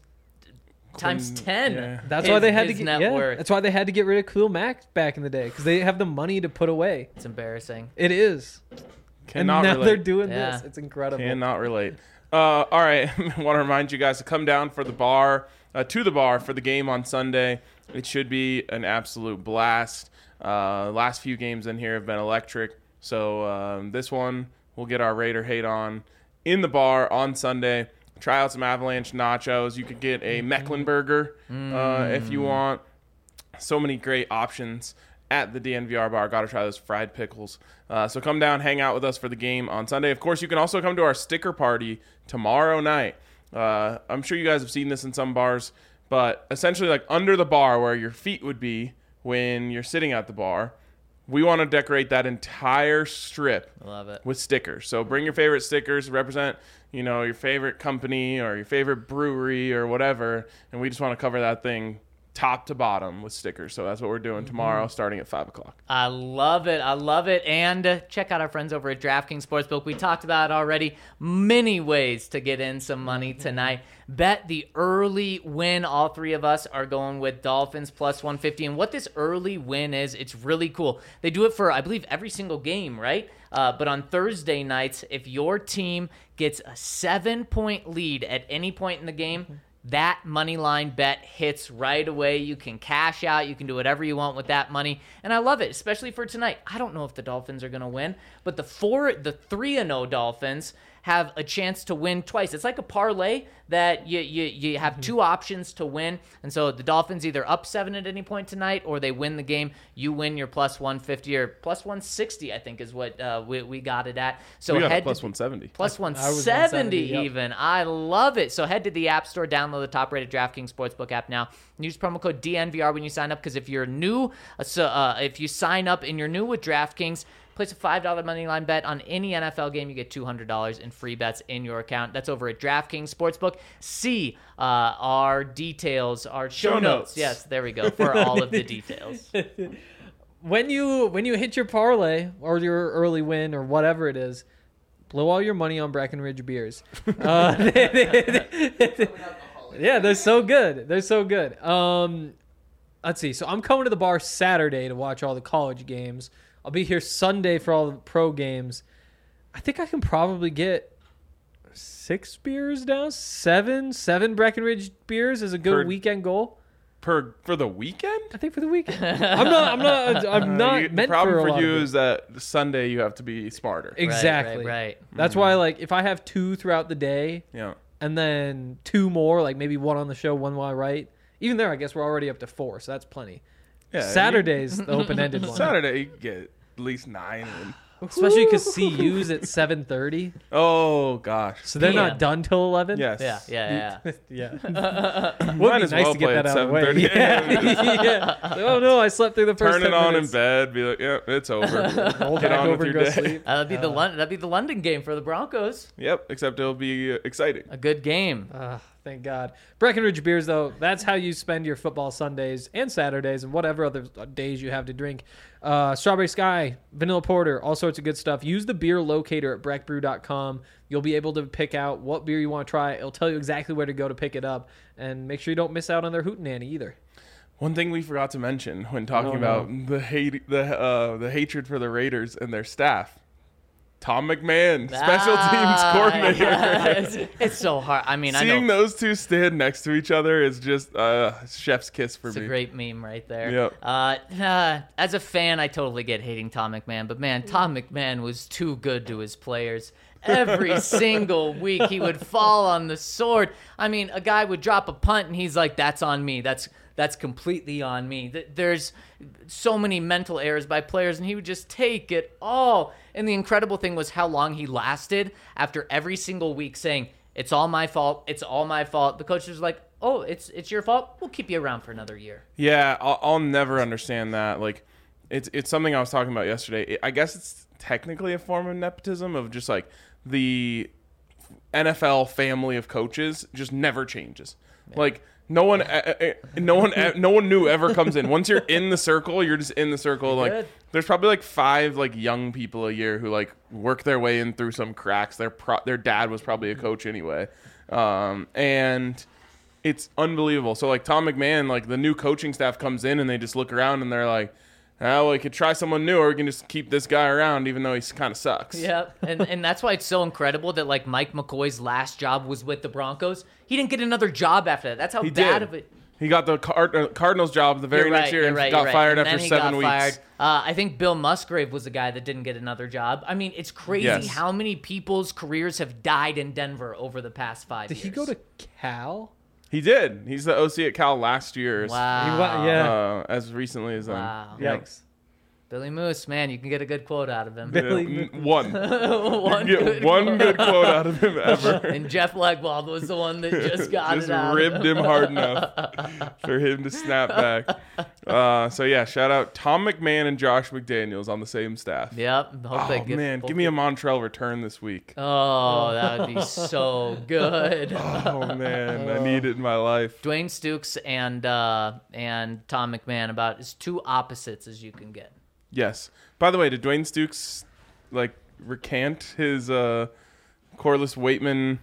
Speaker 4: times ten.
Speaker 2: yeah.
Speaker 3: That's
Speaker 4: his-
Speaker 3: why they had to
Speaker 4: his
Speaker 3: get.
Speaker 4: net
Speaker 3: Yeah,
Speaker 4: worth.
Speaker 3: that's why they had to get rid of Khalil Mack back in the day, because they have the money to put away.
Speaker 4: It's embarrassing.
Speaker 3: It is,
Speaker 2: cannot
Speaker 3: and now
Speaker 2: relate.
Speaker 3: they're doing
Speaker 4: Yeah.
Speaker 3: this. It's incredible.
Speaker 2: Cannot relate. Uh, all right, I want to remind you guys to come down for the bar, uh, to the bar for the game on Sunday. It should be an absolute blast. Uh, last few games in here have been electric, so um, this one we'll get our Raider hate on in the bar on Sunday. Try out some Avalanche nachos. You could get a Mecklenburger uh, if you want. So many great options at the D N V R bar. Got to try those fried pickles. Uh, so come down, hang out with us for the game on Sunday. Of course, you can also come to our sticker party tomorrow night. Uh, I'm sure you guys have seen this in some bars, but essentially like under the bar where your feet would be when you're sitting at the bar, we want to decorate that entire strip
Speaker 4: Love it.
Speaker 2: with stickers. So bring your favorite stickers, represent, you know, your favorite company or your favorite brewery or whatever, and we just want to cover that thing top to bottom with stickers. So that's what we're doing tomorrow, starting at five o'clock.
Speaker 4: I love it. I love it. And uh, check out our friends over at DraftKings Sportsbook. We talked about it already. Many ways to get in some money tonight. Bet the early win. All three of us are going with Dolphins plus one fifty. And what this early win is, it's really cool. They do it for, I believe, every single game, right? Uh, but on Thursday nights, if your team gets a seven-point lead at any point in the game, that money line bet hits right away. You can cash out. You can do whatever you want with that money. And I love it, especially for tonight. I don't know if the Dolphins are going to win, but the four, the three and oh Dolphins have a chance to win twice. It's like a parlay that you you, you have two options to win. And so the Dolphins either up seven at any point tonight or they win the game. You win your plus one fifty or plus one sixty, I think is what uh, we, we got it at. So
Speaker 2: We got a
Speaker 4: head
Speaker 2: plus
Speaker 4: to,
Speaker 2: one seventy.
Speaker 4: Plus
Speaker 3: I was
Speaker 4: one
Speaker 3: one
Speaker 4: seventy
Speaker 3: seventy, yep.
Speaker 4: even. I love it. So head to the App Store, download the top-rated DraftKings Sportsbook app now. Use promo code D N V R when you sign up, because if you're new, uh, so uh, if you sign up and you're new with DraftKings, place a five dollar money line bet on any N F L game, you get two hundred dollars in free bets in your account. That's over at DraftKings Sportsbook. See uh, our details, our show,
Speaker 2: Show
Speaker 4: notes.
Speaker 2: notes.
Speaker 4: Yes, there we go, for all of the details.
Speaker 3: When you when you hit your parlay or your early win or whatever it is, blow all your money on Breckenridge beers. Uh, yeah, they're so good. They're so good. Um, let's see. So I'm coming to the bar Saturday to watch all the college games. I'll be here Sunday for all the pro games. I think I can probably get six beers down, seven, seven Breckenridge beers is a good
Speaker 2: Per-
Speaker 3: weekend goal.
Speaker 2: Per for the weekend?
Speaker 3: I think for the weekend. I'm not. I'm not. I'm
Speaker 2: Uh,
Speaker 3: not
Speaker 2: you-
Speaker 3: meant
Speaker 2: the problem
Speaker 3: for, a
Speaker 2: for
Speaker 3: lot
Speaker 2: you
Speaker 3: of it.
Speaker 2: is that Sunday you have to be smarter.
Speaker 3: Exactly.
Speaker 4: Right, right, right.
Speaker 3: That's why, like, if I have two throughout the day
Speaker 2: Yeah.
Speaker 3: and then two more, like maybe one on the show, one while I write, even there, I guess we're already up to four, so that's plenty.
Speaker 2: Yeah,
Speaker 3: Saturday's the open-ended
Speaker 2: you-
Speaker 3: one.
Speaker 2: Saturday you get at least nine. And,
Speaker 3: Especially because C U's at seven thirty,
Speaker 2: oh gosh.
Speaker 3: so they're
Speaker 4: Damn.
Speaker 3: not done till eleven.
Speaker 2: Yes.
Speaker 4: Yeah, yeah, yeah.
Speaker 3: yeah. Would
Speaker 2: Might
Speaker 3: be
Speaker 2: as
Speaker 3: nice
Speaker 2: well
Speaker 3: to get
Speaker 2: play
Speaker 3: that
Speaker 2: at
Speaker 3: out of the way.
Speaker 2: seven thirty.
Speaker 3: Yeah. yeah. Oh no, I slept through the first
Speaker 2: Turn it
Speaker 3: ten
Speaker 2: on in
Speaker 3: minutes.
Speaker 2: bed. Be like, yeah, it's over.
Speaker 3: Roll
Speaker 2: Get
Speaker 3: back
Speaker 2: on with
Speaker 3: over and
Speaker 2: your
Speaker 3: go
Speaker 2: day.
Speaker 3: sleep.
Speaker 4: Uh, that'd be the London. That'd be the London game for the Broncos.
Speaker 2: Yep. Except it'll be uh, exciting.
Speaker 4: A good game.
Speaker 3: Ah, thank God. Breckenridge beers, though, that's how you spend your football Sundays and Saturdays and whatever other days you have to drink. Uh, Strawberry Sky, Vanilla Porter, all sorts of good stuff. Use the beer locator at breck brew dot com. You'll be able to pick out what beer you want to try. It'll tell you exactly where to go to pick it up. And make sure you don't miss out on their Hootenanny either.
Speaker 2: One thing we forgot to mention when talking
Speaker 3: Oh, no.
Speaker 2: about the hate, the uh, the hatred for the Raiders and their staff. Tom McMahon, special
Speaker 4: Ah,
Speaker 2: teams coordinator.
Speaker 4: yes. It's so hard. I mean, I
Speaker 2: Seeing
Speaker 4: know
Speaker 2: those two stand next to each other is just uh, chef's kiss for
Speaker 4: it's
Speaker 2: me.
Speaker 4: a great meme right there.
Speaker 2: Yep.
Speaker 4: Uh, uh, as a fan, I totally get hating Tom McMahon, but man, Tom McMahon was too good to his players. Every single week, he would fall on the sword. I mean, a guy would drop a punt, and he's like, "That's on me. That's that's completely on me. Th- There's so many mental errors by players, and he would just take it all. And the incredible thing was how long he lasted after every single week saying, it's all my fault. It's all my fault. The coach was like, oh, it's it's your fault. We'll keep you around for another year.
Speaker 2: Yeah, I'll, I'll never understand that. Like, it's it's something I was talking about yesterday. It, I guess it's technically a form of nepotism of just like the N F L family of coaches just never changes. Yeah. Like no one, uh, uh, no one, uh, no one new ever comes in. Once you're in the circle, you're just in the circle.
Speaker 4: You're
Speaker 2: like
Speaker 4: good.
Speaker 2: There's probably like five like young people a year who like work their way in through some cracks. Their pro- their dad was probably a coach anyway, um, and it's unbelievable. So like Tom McMahon, like the new coaching staff comes in and they just look around and they're like, oh, we could try someone new, or we can just keep this guy around, even though he kind of sucks.
Speaker 4: Yeah, and and that's why it's so incredible that like Mike McCoy's last job was with the Broncos. He didn't get another job after that. That's how
Speaker 2: He
Speaker 4: bad
Speaker 2: did.
Speaker 4: of it.
Speaker 2: He got the Card- uh, Cardinals job the very
Speaker 4: You're
Speaker 2: next
Speaker 4: right,
Speaker 2: year
Speaker 4: you're
Speaker 2: and
Speaker 4: right,
Speaker 2: got
Speaker 4: you're right.
Speaker 2: fired
Speaker 4: And
Speaker 2: after
Speaker 4: then he
Speaker 2: seven
Speaker 4: got
Speaker 2: weeks.
Speaker 4: Fired. Uh, I think Bill Musgrave was the guy that didn't get another job. I mean, it's crazy
Speaker 2: Yes.
Speaker 4: how many people's careers have died in Denver over the past five
Speaker 3: Did
Speaker 4: years.
Speaker 3: he go to Cal?
Speaker 2: He did. He's the O C at Cal last year.
Speaker 4: Wow.
Speaker 3: He wa- yeah.
Speaker 2: Uh, as recently as then.
Speaker 4: Wow.
Speaker 2: Yep.
Speaker 3: Yikes.
Speaker 4: Billy Moose, man, you can get a good quote out of him.
Speaker 3: Billy
Speaker 2: Yeah, n- one.
Speaker 4: One
Speaker 2: You get
Speaker 4: good
Speaker 2: one
Speaker 4: quote.
Speaker 2: good quote out of him ever.
Speaker 4: And Jeff Legwold was the one that just got
Speaker 2: Just
Speaker 4: it out.
Speaker 2: ribbed him hard enough for him to snap back. Uh, so yeah, shout out Tom McMahon and Josh McDaniels on the same staff.
Speaker 4: Yep. Hope they
Speaker 2: Oh
Speaker 4: get,
Speaker 2: man,
Speaker 4: hope
Speaker 2: give me a
Speaker 4: they-
Speaker 2: Montrell return this week.
Speaker 4: Oh, that would be so good.
Speaker 2: Oh man, I need it in my life.
Speaker 4: Dwayne Stukes and uh, and Tom McMahon about as two opposites as you can get.
Speaker 2: Yes. By the way, did Dwayne Stukes like recant his uh, Corliss Waitman?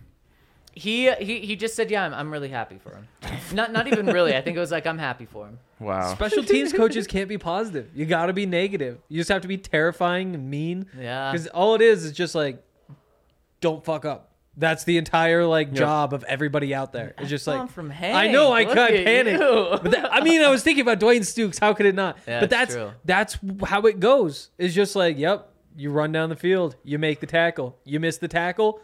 Speaker 4: He he he just said, "Yeah, I'm, I'm really happy for him." Not not even really. I think it was like, "I'm happy for him."
Speaker 2: Wow.
Speaker 3: Special teams coaches can't be positive. You got to be negative. You just have to be terrifying and mean.
Speaker 4: Yeah.
Speaker 3: Because all it is is just like, don't fuck up. That's the entire like job of everybody out there. It's just
Speaker 4: Come
Speaker 3: like
Speaker 4: from
Speaker 3: I know I
Speaker 4: Hank.
Speaker 3: can't
Speaker 4: Look at
Speaker 3: panic.
Speaker 4: you.
Speaker 3: But that, I mean, I was thinking about Dwayne Stukes. How could it not?
Speaker 4: Yeah,
Speaker 3: but
Speaker 4: it's
Speaker 3: that's
Speaker 4: true.
Speaker 3: that's how it goes. It's just like, yep, you run down the field, you make the tackle, you miss the tackle.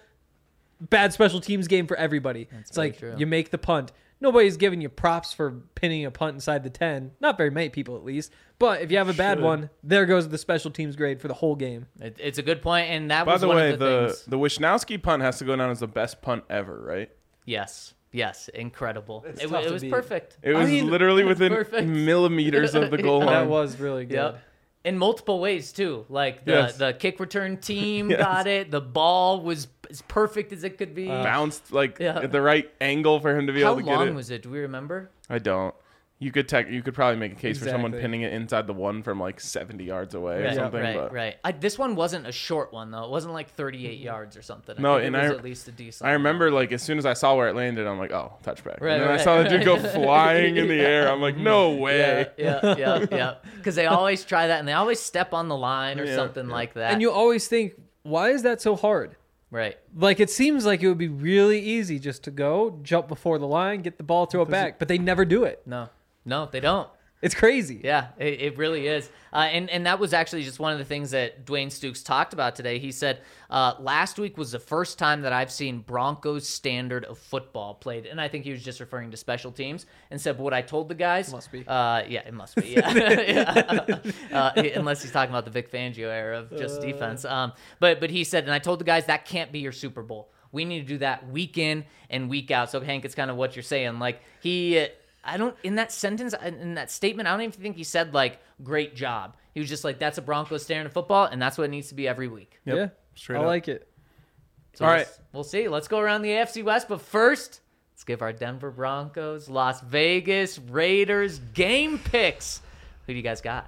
Speaker 3: Bad special teams game for everybody. it's
Speaker 4: very
Speaker 3: like
Speaker 4: true.
Speaker 3: you make the punt. Nobody's giving you props for pinning a punt inside the ten. Not very many people, at least. But if you have a bad
Speaker 2: Should.
Speaker 3: one, there goes the special teams grade for the whole game.
Speaker 4: It, it's a good point, and that
Speaker 2: By
Speaker 4: was
Speaker 2: the
Speaker 4: one
Speaker 2: way,
Speaker 4: of the,
Speaker 2: the
Speaker 4: things.
Speaker 2: the Wisnowski punt has to go down as the best punt ever, right?
Speaker 4: Yes, yes, incredible.
Speaker 3: It's
Speaker 4: It,
Speaker 3: tough
Speaker 4: it
Speaker 3: to
Speaker 4: was
Speaker 3: beat.
Speaker 4: perfect.
Speaker 2: It was
Speaker 3: mean,
Speaker 2: literally within
Speaker 4: perfect.
Speaker 2: millimeters of the goal
Speaker 4: Yeah.
Speaker 2: line.
Speaker 3: That was really good.
Speaker 4: Yep. In multiple ways too. Like the
Speaker 2: Yes.
Speaker 4: the kick return team
Speaker 2: Yes.
Speaker 4: got it. The ball was as perfect as it could be.
Speaker 2: Bounced like
Speaker 4: Yeah.
Speaker 2: at the right angle for him to be
Speaker 4: How
Speaker 2: able to get
Speaker 4: long
Speaker 2: it.
Speaker 4: was it? Do we remember?
Speaker 2: I don't. You could tech, you could probably make a case for someone
Speaker 3: Exactly.
Speaker 2: pinning it inside the one from like seventy yards away or
Speaker 4: Right,
Speaker 2: something.
Speaker 4: right,
Speaker 2: but
Speaker 4: right. I, this one wasn't a short one though. It wasn't like thirty-eight yards or something. I
Speaker 2: No,
Speaker 4: think
Speaker 2: and
Speaker 4: it was
Speaker 2: I-
Speaker 4: at least a decent.
Speaker 2: I remember like as soon as I saw where it landed, I'm like, oh, touchback.
Speaker 4: Right,
Speaker 2: and then I
Speaker 4: right,
Speaker 2: saw the dude go
Speaker 4: right.
Speaker 2: flying in the air. I'm like, no way.
Speaker 4: Yeah, yeah, yeah, yeah. Because they always try that, and they always step on the line or
Speaker 2: Yeah,
Speaker 4: something
Speaker 2: yeah.
Speaker 4: like that.
Speaker 3: And you always think, why is that so hard?
Speaker 4: right?
Speaker 3: Like, it seems like it would be really easy just to go, jump before the line, get the ball, throw it back, but they never do it.
Speaker 4: No, no, they don't.
Speaker 3: It's crazy.
Speaker 4: Yeah, it, it really is. Uh, and, and that was actually just one of the things that Dwayne Stukes talked about today. He said, uh, last week was the first time that I've seen Broncos standard of football played. And I think he was just referring to special teams and said, what I told the guys.
Speaker 3: Must be.
Speaker 4: Uh, yeah, it must be. Yeah. yeah. Uh, unless he's talking about the Vic Fangio era of just defense. Um, but, but he said, and I told the guys, that can't be your Super Bowl. We need to do that week in and week out. So, Hank, it's kind of what you're saying. Like, he... I don't, in that sentence, in that statement, I don't even think he said, like, great job. He was just like, that's a Broncos standard of football, and that's what it needs to be every week.
Speaker 2: Yep,
Speaker 3: Yeah.
Speaker 2: straight
Speaker 3: I
Speaker 2: up.
Speaker 3: like it.
Speaker 4: So
Speaker 2: All
Speaker 4: we'll,
Speaker 2: right.
Speaker 4: We'll see. Let's go around the A F C West, but first, let's give our Denver Broncos, Las Vegas Raiders game picks. Who do you guys got?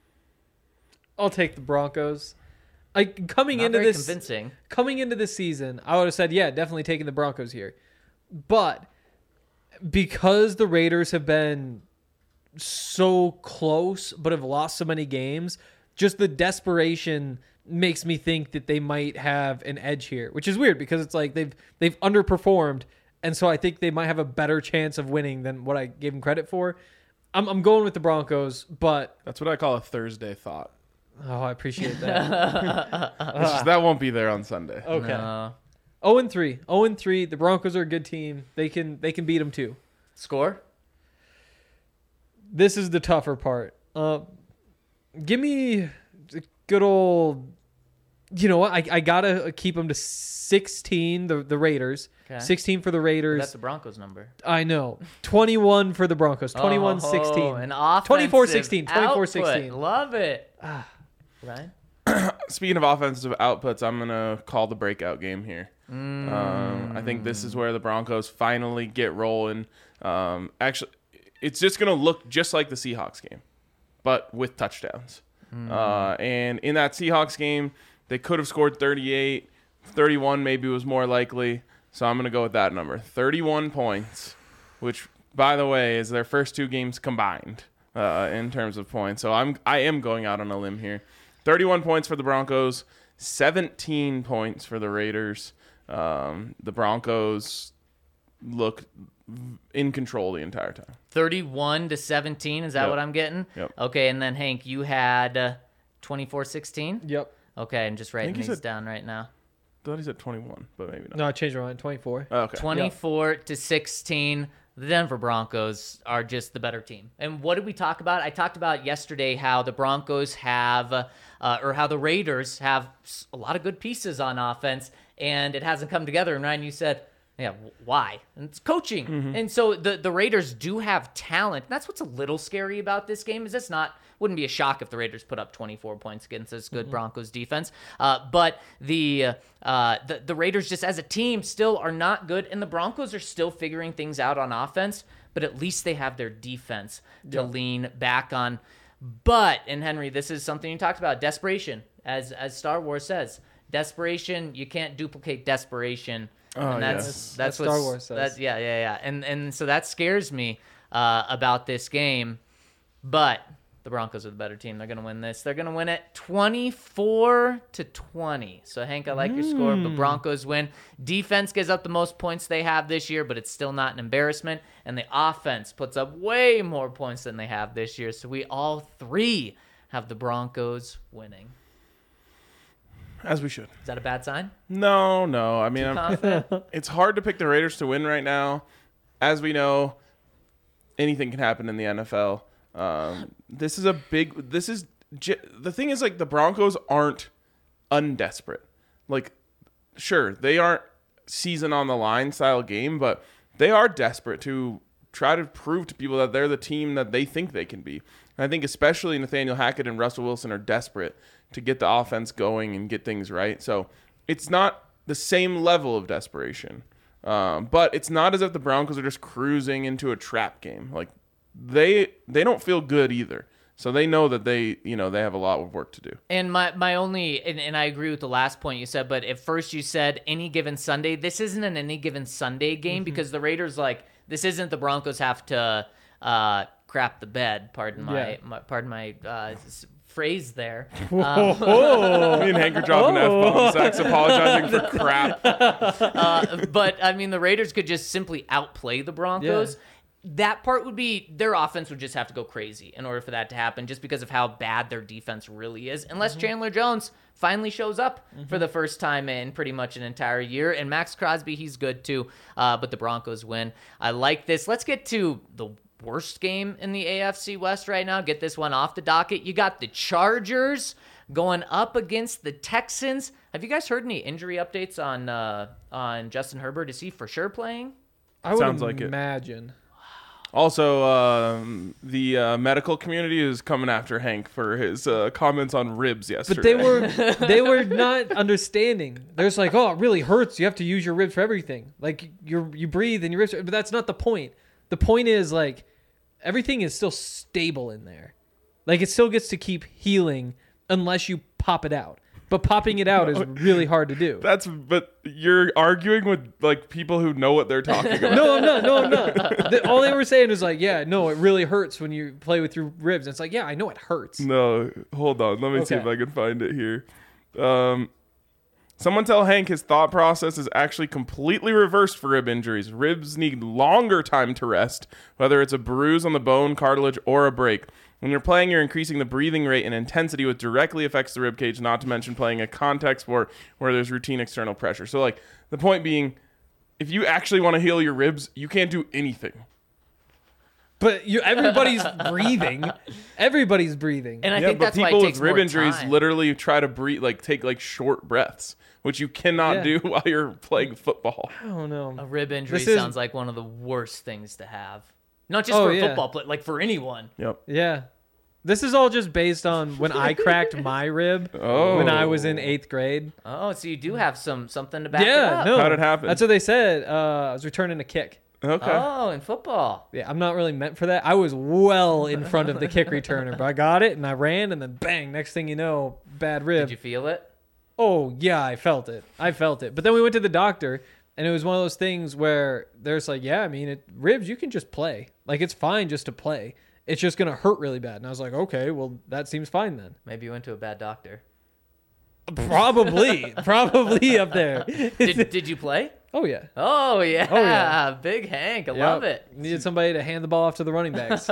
Speaker 3: I'll take the Broncos. Like, coming
Speaker 4: Not
Speaker 3: into
Speaker 4: very
Speaker 3: this
Speaker 4: convincing.
Speaker 3: coming into this season, I would have said, yeah, definitely taking the Broncos here. But because the Raiders have been so close but have lost so many games, just the desperation makes me think that they might have an edge here, which is weird because it's like they've they've underperformed, and so I think they might have a better chance of winning than what I gave them credit for. I'm I'm going with the Broncos, but
Speaker 2: That's what I call a Thursday thought.
Speaker 3: oh, I appreciate that.
Speaker 2: It's just, that won't be there on Sunday.
Speaker 3: Okay.
Speaker 4: No.
Speaker 3: oh and three. oh and three. The Broncos are a good team. They can they can beat them too.
Speaker 4: Score?
Speaker 3: This is the tougher part. Uh, give me the good old. You know what? I, I gotta keep them to sixteen. The the Raiders.
Speaker 4: Okay.
Speaker 3: sixteen for the Raiders.
Speaker 4: That's the Broncos number.
Speaker 3: I know. twenty-one for the Broncos. twenty-one sixteen.
Speaker 4: Oh, an offensive
Speaker 3: twenty-four sixteen. twenty-four sixteen.
Speaker 4: output. Love it. Ryan?
Speaker 2: Speaking of offensive outputs, I'm gonna call the breakout game here. Mm. Um, I think this is where the Broncos finally get rolling. Um, actually, it's just gonna look just like the Seahawks game, but with touchdowns. Mm. Uh, and in that Seahawks game, they could have scored thirty-eight. thirty-one maybe was more likely. So I'm gonna go with that number, thirty-one points, which, by the way, is their first two games combined uh, in terms of points. So I'm I am going out on a limb here. thirty-one points for the Broncos, seventeen points for the Raiders. Um, the Broncos look in control the entire time.
Speaker 4: thirty-one to seventeen, is that
Speaker 2: Yep.
Speaker 4: what I'm getting?
Speaker 2: Yep.
Speaker 4: Okay, and then Hank, you had uh, twenty-four sixteen?
Speaker 3: Yep.
Speaker 4: Okay, I'm just writing
Speaker 2: you
Speaker 4: these
Speaker 2: said-
Speaker 4: down right now.
Speaker 2: I thought he said twenty-one, but maybe not.
Speaker 3: No, I changed my mind. twenty-four.
Speaker 2: Oh, okay.
Speaker 4: twenty-four to sixteen. The Denver Broncos are just the better team. And what did we talk about? I talked about yesterday how the Broncos have, uh, or how the Raiders have a lot of good pieces on offense, and it hasn't come together. And Ryan, you said, yeah, why? And it's coaching. Mm-hmm. And so the, the Raiders do have talent. That's what's a little scary about this game is it's not, wouldn't be a shock if the Raiders put up twenty-four points against this good mm-hmm. Broncos defense. Uh, but the, uh, the the Raiders just as a team still are not good, and the Broncos are still figuring things out on offense, but at least they have their defense to yep. lean back on. But, and Henry, this is something you talked about, desperation. As as Star Wars says, desperation, you can't duplicate desperation.
Speaker 2: Oh,
Speaker 4: and that's,
Speaker 2: yes.
Speaker 4: that's, that's
Speaker 3: what Star Wars says.
Speaker 4: That's, yeah, yeah, yeah. And, and so that scares me uh, about this game. But the Broncos are the better team. They're going to win this. They're going to win it twenty-four to twenty. So, Hank, I like mm. your score, but Broncos win. Defense gives up the most points they have this year, but it's still not an embarrassment. And the offense puts up way more points than they have this year. So, we all three have the Broncos winning.
Speaker 2: As we should.
Speaker 4: Is that a bad sign?
Speaker 2: No, no. I mean,
Speaker 4: Too
Speaker 2: I'm,
Speaker 4: confident?
Speaker 2: It's hard to pick the Raiders to win right now. As we know, anything can happen in the N F L. Um, this is a big. This is the thing. Is like the Broncos aren't undesperate. Like, sure, they aren't season on the line style game, but they are desperate to try to prove to people that they're the team that they think they can be. And I think especially Nathaniel Hackett and Russell Wilson are desperate to get the offense going and get things right. So it's not the same level of desperation, um, but it's not as if the Broncos are just cruising into a trap game. Like. They they don't feel good either. So they know that they, you know, they have a lot of work to do.
Speaker 4: And my, my only, and, and I agree with the last point you said, but at first you said any given Sunday. This isn't an any given Sunday game mm-hmm. because the Raiders, like, this isn't the Broncos have to uh, crap the bed, pardon my, yeah. my pardon my uh, phrase there. Um,
Speaker 2: Me and Hank are dropping F-bomb sex, apologizing for crap.
Speaker 4: Uh, but, I mean, the Raiders could just simply outplay the Broncos. Yeah. That part would be, their offense would just have to go crazy in order for that to happen, just because of how bad their defense really is. Unless mm-hmm. Chandler Jones finally shows up mm-hmm. for the first time in pretty much an entire year. And Max Crosby, he's good too, uh, but the Broncos win. I like this. Let's get to the worst game in the A F C West right now. Get this one off the docket. You got the Chargers going up against the Texans. Have you guys heard any injury updates on uh, on Justin Herbert? Is he for sure playing?
Speaker 3: I would
Speaker 2: Sounds like
Speaker 3: imagine.
Speaker 2: It. Also, um, the uh, medical community is coming after Hank for his uh, comments on ribs yesterday.
Speaker 3: But they were they were not understanding. They're just like, oh, it really hurts. You have to use your ribs for everything. Like you you breathe and your ribs. But that's not the point. The point is like everything is still stable in there. Like it still gets to keep healing unless you pop it out. But popping it out is really hard to do.
Speaker 2: That's but you're arguing with like people who know what they're talking about.
Speaker 3: No, I'm not. No, I'm not. The, all they were saying is like, yeah, no, it really hurts when you play with your ribs. And it's like, yeah, I know it hurts.
Speaker 2: No, hold on. Let me
Speaker 3: okay.
Speaker 2: see if I can find it here. Um, someone tell Hank his thought process is actually completely reversed for rib injuries. Ribs need longer time to rest, whether it's a bruise on the bone, cartilage, or a break. When you're playing, you're increasing the breathing rate and intensity, which directly affects the rib cage, not to mention playing a contact sport where there's routine external pressure. So, like, the point being, if you actually want to heal your ribs, you can't do anything.
Speaker 3: but you everybody's breathing. Everybody's breathing.
Speaker 4: And I
Speaker 2: yeah,
Speaker 4: think
Speaker 2: but
Speaker 4: that's
Speaker 2: people
Speaker 4: why it
Speaker 2: with
Speaker 4: takes
Speaker 2: rib
Speaker 4: more
Speaker 2: injuries
Speaker 4: time.
Speaker 2: literally try to breathe, like take like short breaths, which you cannot
Speaker 3: Yeah.
Speaker 2: do while you're playing football.
Speaker 3: I don't know.
Speaker 4: A rib injury
Speaker 3: This is-
Speaker 4: sounds like one of the worst things to have. Not just
Speaker 3: Oh,
Speaker 4: for a
Speaker 3: yeah.
Speaker 4: football player, like for anyone.
Speaker 2: Yep.
Speaker 3: Yeah. This is all just based on when I cracked my rib
Speaker 2: Oh.
Speaker 3: when I was in eighth grade.
Speaker 4: Oh, so you do have some something to back it
Speaker 3: Yeah,
Speaker 4: up.
Speaker 3: no.
Speaker 2: How'd it happen?
Speaker 3: That's what they said. Uh, I was returning a kick.
Speaker 2: Okay.
Speaker 4: Oh, in football.
Speaker 3: Yeah, I'm not really meant for that. I was well in front of the kick returner, but I got it and I ran, and then bang, next thing you know, bad rib.
Speaker 4: Did you feel it?
Speaker 3: Oh, yeah, I felt it. I felt it. But then we went to the doctor, and it was one of those things where there's like, yeah, I mean, it, ribs, you can just play. Like, it's fine just to play. It's just going to hurt really bad. And I was like, okay, well, that seems fine then.
Speaker 4: Maybe you went to a bad doctor.
Speaker 3: Probably. probably up there.
Speaker 4: Did, did you play?
Speaker 3: Oh, yeah.
Speaker 4: Oh yeah.
Speaker 3: Oh, yeah.
Speaker 4: Big Hank. I
Speaker 3: Yep.
Speaker 4: love it.
Speaker 3: Needed somebody to hand the ball off to the running backs.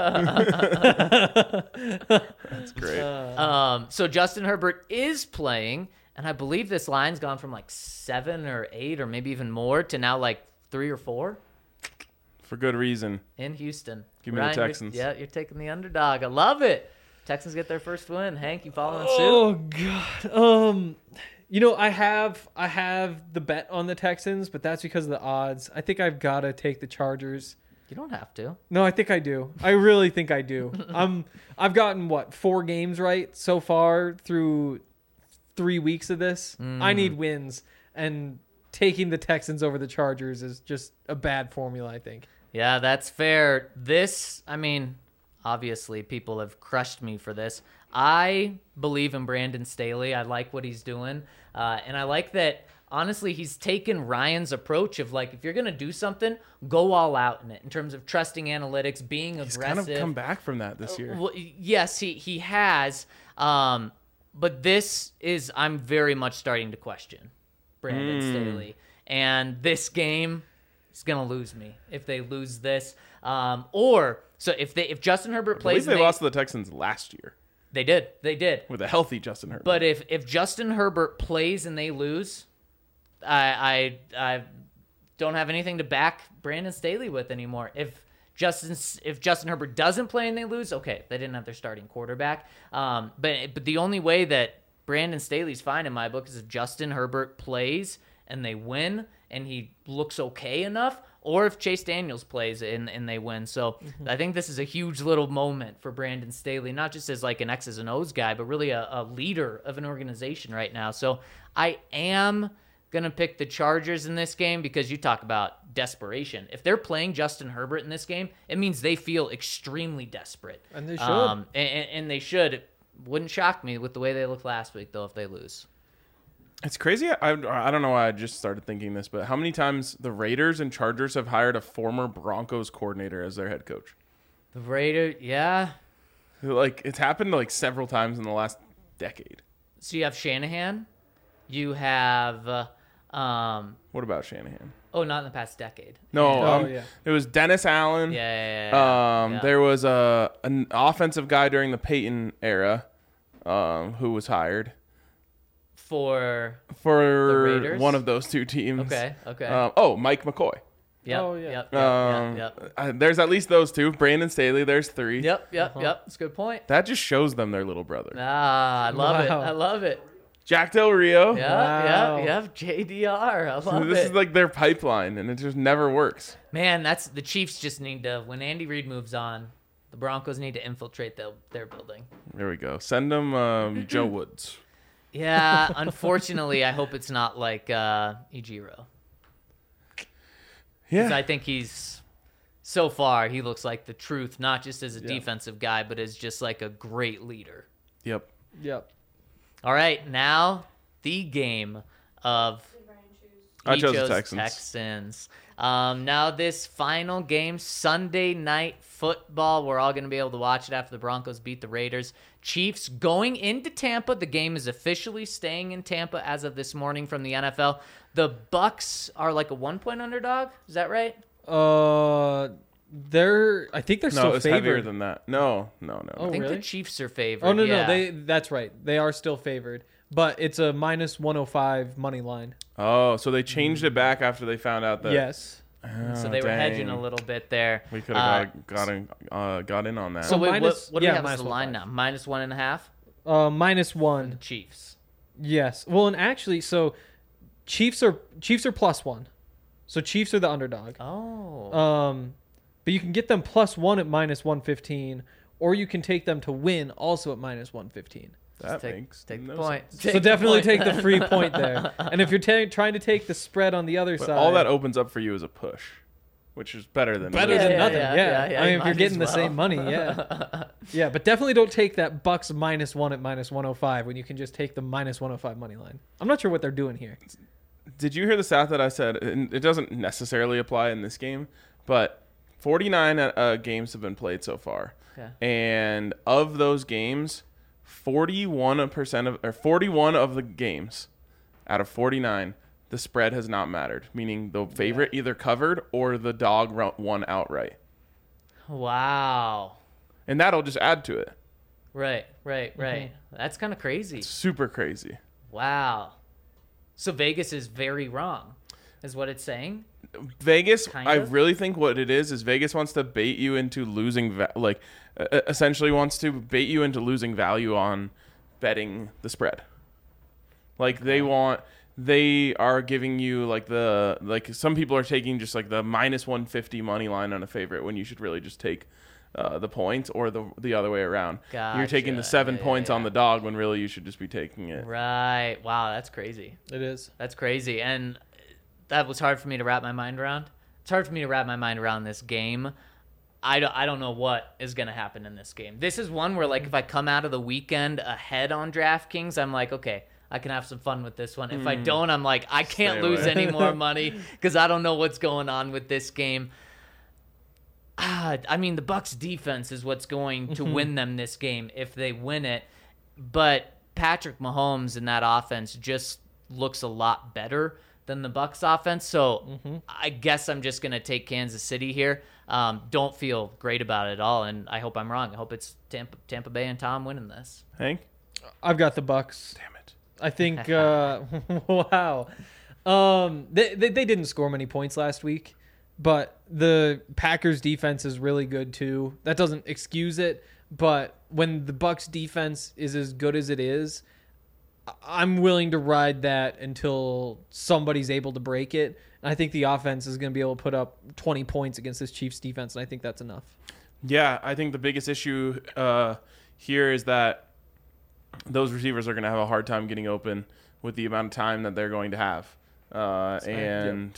Speaker 2: That's great.
Speaker 4: Um, so Justin Herbert is playing, and I believe this line's gone from like seven or eight or maybe even more to now like three or four
Speaker 2: For good reason.
Speaker 4: in Houston.
Speaker 2: Give me the
Speaker 4: Ryan, you're-
Speaker 2: Texans.
Speaker 4: Yeah, you're taking the underdog. I love it. Texans get their first win. Hank, you following suit?
Speaker 3: Oh god. Um you know, I have I have the bet on the Texans, but that's because of the odds. I think I've got to take the Chargers.
Speaker 4: You don't have to.
Speaker 3: No, I think I do. I really think I do. I'm I've gotten what, four games right so far through three weeks of this. I need wins, and taking the Texans over the Chargers is just a bad formula, I think.
Speaker 4: Yeah, that's fair. This, I mean, obviously people have crushed me for this. I believe in Brandon Staley. I like what he's doing. Uh, and I like that, honestly, he's taken Ryan's approach of like, if you're going to do something, go all out in it in terms of trusting analytics, being
Speaker 2: He's
Speaker 4: aggressive.
Speaker 2: kind of come back from that this year.
Speaker 4: Well, yes, he, he has. Um, but this is, I'm very much starting to question Brandon Staley. And this game is going to lose me if they lose this. Um, or, so if they if Justin Herbert
Speaker 2: I
Speaker 4: plays,
Speaker 2: believe they
Speaker 4: and they,
Speaker 2: lost to the Texans last year
Speaker 4: they did. They did.
Speaker 2: with a healthy Justin Herbert.
Speaker 4: But if, if Justin Herbert plays and they lose, I, I I don't have anything to back Brandon Staley with anymore. If Justin if Justin Herbert doesn't play and they lose, okay, they didn't have their starting quarterback. Um, but but the only way that Brandon Staley's fine in my book is if Justin Herbert plays and they win and he looks okay enough, or if Chase Daniels plays and, and they win. So I think this is a huge little moment for Brandon Staley, not just as like an X's and O's guy, but really a, a leader of an organization right now. So I am going to pick the Chargers in this game because you talk about desperation. If they're playing Justin Herbert in this game, it means they feel extremely desperate.
Speaker 3: And they should.
Speaker 4: Um, and, and they should. It wouldn't shock me with the way they looked last week, though, if they lose.
Speaker 2: It's crazy. I, I don't know why I just started thinking this, but how many times the Raiders and Chargers have hired a former Broncos coordinator as their head coach?
Speaker 4: The Raiders, yeah.
Speaker 2: Like, it's happened like several times in the last decade.
Speaker 4: So you have Shanahan. You have, uh, um,
Speaker 2: What about Shanahan?
Speaker 4: oh, not in the past decade.
Speaker 2: No,
Speaker 3: Oh,
Speaker 2: um,
Speaker 3: yeah.
Speaker 2: it was Dennis Allen.
Speaker 4: Yeah, yeah, yeah, yeah.
Speaker 2: Um,
Speaker 4: Yeah.
Speaker 2: There was a an offensive guy during the Peyton era um, who was hired
Speaker 4: For,
Speaker 2: for
Speaker 4: Raiders?
Speaker 2: one of those two teams.
Speaker 4: okay, okay.
Speaker 2: Um, oh, Mike McCoy.
Speaker 4: yep,
Speaker 3: oh, yeah.
Speaker 4: yep, yep,
Speaker 2: Um,
Speaker 4: yep, yep.
Speaker 2: uh, there's at least those two. Brandon Staley, there's three.
Speaker 4: Yep, yep, yep. That's a good point.
Speaker 2: That just shows them their little brother.
Speaker 4: Ah, I love it.
Speaker 3: Wow.
Speaker 4: I love it.
Speaker 2: Jack Del Rio.
Speaker 4: Yeah,
Speaker 3: Wow.
Speaker 4: yeah, yeah. J D R. I love
Speaker 2: This
Speaker 4: it.
Speaker 2: is like their pipeline, and it just never works.
Speaker 4: Man, that's the Chiefs just need to, when Andy Reid moves on, the Broncos need to infiltrate the, their building.
Speaker 2: There we go. Send them um, Joe Woods.
Speaker 4: Yeah, unfortunately, I hope it's not like uh, Ejiro.
Speaker 2: Yeah.
Speaker 4: Because I think he's, so far, he looks like the truth, not just as a defensive guy, but as just like a great leader.
Speaker 2: Yep.
Speaker 3: Yep.
Speaker 4: All right, now the game of
Speaker 2: I
Speaker 4: he
Speaker 2: chose the
Speaker 4: chose
Speaker 2: Texans.
Speaker 4: Texans. Um, now this final game, Sunday night football. We're all going to be able to watch it after the Broncos beat the Raiders. Chiefs going into Tampa. The game is officially staying in Tampa as of this morning from the N F L. The Bucks are like a one-point underdog. Is that right?
Speaker 3: Uh, they're. I think they're
Speaker 2: No,
Speaker 3: still
Speaker 2: it's
Speaker 3: favored.
Speaker 2: heavier than that. No, no, no.
Speaker 3: Oh,
Speaker 2: no.
Speaker 4: I think
Speaker 3: really?
Speaker 4: the Chiefs are favored.
Speaker 3: Oh no,
Speaker 4: yeah.
Speaker 3: no, they. That's right. They are still favored, but it's a minus one hundred five money line.
Speaker 2: Oh, so they changed it back after they found out that.
Speaker 3: Yes.
Speaker 4: so
Speaker 2: Oh,
Speaker 4: they were hedging
Speaker 2: dang.
Speaker 4: a little bit there.
Speaker 2: We could
Speaker 4: Uh,
Speaker 2: have got got in, uh, got in on that.
Speaker 4: So
Speaker 3: So
Speaker 4: wait,
Speaker 3: minus-
Speaker 4: what, what do
Speaker 3: yeah,
Speaker 4: we have as
Speaker 3: minus
Speaker 4: the
Speaker 3: one
Speaker 4: line
Speaker 3: five.
Speaker 4: now? Minus one and a half.
Speaker 3: Uh, minus one.
Speaker 4: Chiefs.
Speaker 3: Yes. Well, and actually, so Chiefs are Chiefs are plus one. So Chiefs are the underdog.
Speaker 4: Oh.
Speaker 3: Um, but you can get them plus one at minus one fifteen, or you can take them to win also at minus one fifteen.
Speaker 2: that
Speaker 4: take,
Speaker 2: makes
Speaker 4: take
Speaker 2: no
Speaker 4: the point.
Speaker 2: sense.
Speaker 4: Take
Speaker 3: So
Speaker 4: the
Speaker 3: definitely
Speaker 4: point.
Speaker 3: take the free point there. And if you're ta- trying to take the spread on the other
Speaker 2: But
Speaker 3: side,
Speaker 2: all that opens up for you is a push, which is better than
Speaker 3: better
Speaker 4: Yeah,
Speaker 3: than
Speaker 4: yeah,
Speaker 3: nothing.
Speaker 4: yeah,
Speaker 3: Yeah,
Speaker 4: yeah, yeah,
Speaker 3: I
Speaker 4: you
Speaker 3: mean, if
Speaker 4: might
Speaker 3: you're
Speaker 4: as
Speaker 3: getting the
Speaker 4: well.
Speaker 3: same money, yeah, yeah. But definitely don't take that Bucks minus one at minus one hundred five when you can just take the minus one hundred five money line. I'm not sure what they're doing here.
Speaker 2: Did you hear the stat that I said? And it doesn't necessarily apply in this game, but forty-nine uh, games have been played so far,
Speaker 4: Okay.
Speaker 2: and of those games, forty-one percent of or forty-one of the games out of forty-nine, the spread has not mattered. Meaning the favorite either covered or the dog ro- won outright,
Speaker 4: Wow.
Speaker 2: and that'll just add to it.
Speaker 4: Right, right,
Speaker 3: Mm-hmm.
Speaker 4: right. That's kind of crazy.
Speaker 2: Super crazy.
Speaker 4: Wow. So Vegas is very wrong, is what it's saying.
Speaker 2: Vegas,
Speaker 4: Kind
Speaker 2: I
Speaker 4: of?
Speaker 2: really think what it is is Vegas wants to bait you into losing, va- like, uh, essentially wants to bait you into losing value on betting the spread. Like they want, they are giving you like the like some people are taking just like the minus one fifty money line on a favorite when you should really just take uh, the points or the the other way around. You're taking the
Speaker 4: Gotcha.
Speaker 2: seven
Speaker 4: Yeah, yeah,
Speaker 2: points on
Speaker 4: yeah.
Speaker 2: the dog when really you should just be taking it.
Speaker 4: Right. Wow, that's crazy.
Speaker 3: It is.
Speaker 4: That's crazy. And that was hard for me to wrap my mind around. It's hard for me to wrap my mind around this game. I don't, I don't know what is going to happen in this game. This is one where, like, if I come out of the weekend ahead on DraftKings, I'm like, okay, I can have some fun with this one. If I don't, I'm like, I can't
Speaker 2: Stay
Speaker 4: lose
Speaker 2: away.
Speaker 4: any more money because I don't know what's going on with this game. Ah, I mean, the Bucks defense is what's going to win them this game if they win it. But Patrick Mahomes in that offense just looks a lot better than the Bucks offense. So I guess I'm just going to take Kansas City here. Um, don't feel great about it at all, and I hope I'm wrong. I hope it's Tampa, Tampa Bay and Tom winning this.
Speaker 2: Hank,
Speaker 3: I've got the Bucks.
Speaker 2: damn it.
Speaker 3: I think. Uh, wow. Um, they, they they didn't score many points last week, but the Packers defense is really good too. That doesn't excuse it, but when the Bucks defense is as good as it is, I- I'm willing to ride that until somebody's able to break it. And I think the offense is going to be able to put up twenty points against this Chiefs defense, and I think that's enough.
Speaker 2: Yeah, I think the biggest issue uh, here is that those receivers are going to have a hard time getting open with the amount of time that they're going to have, uh, and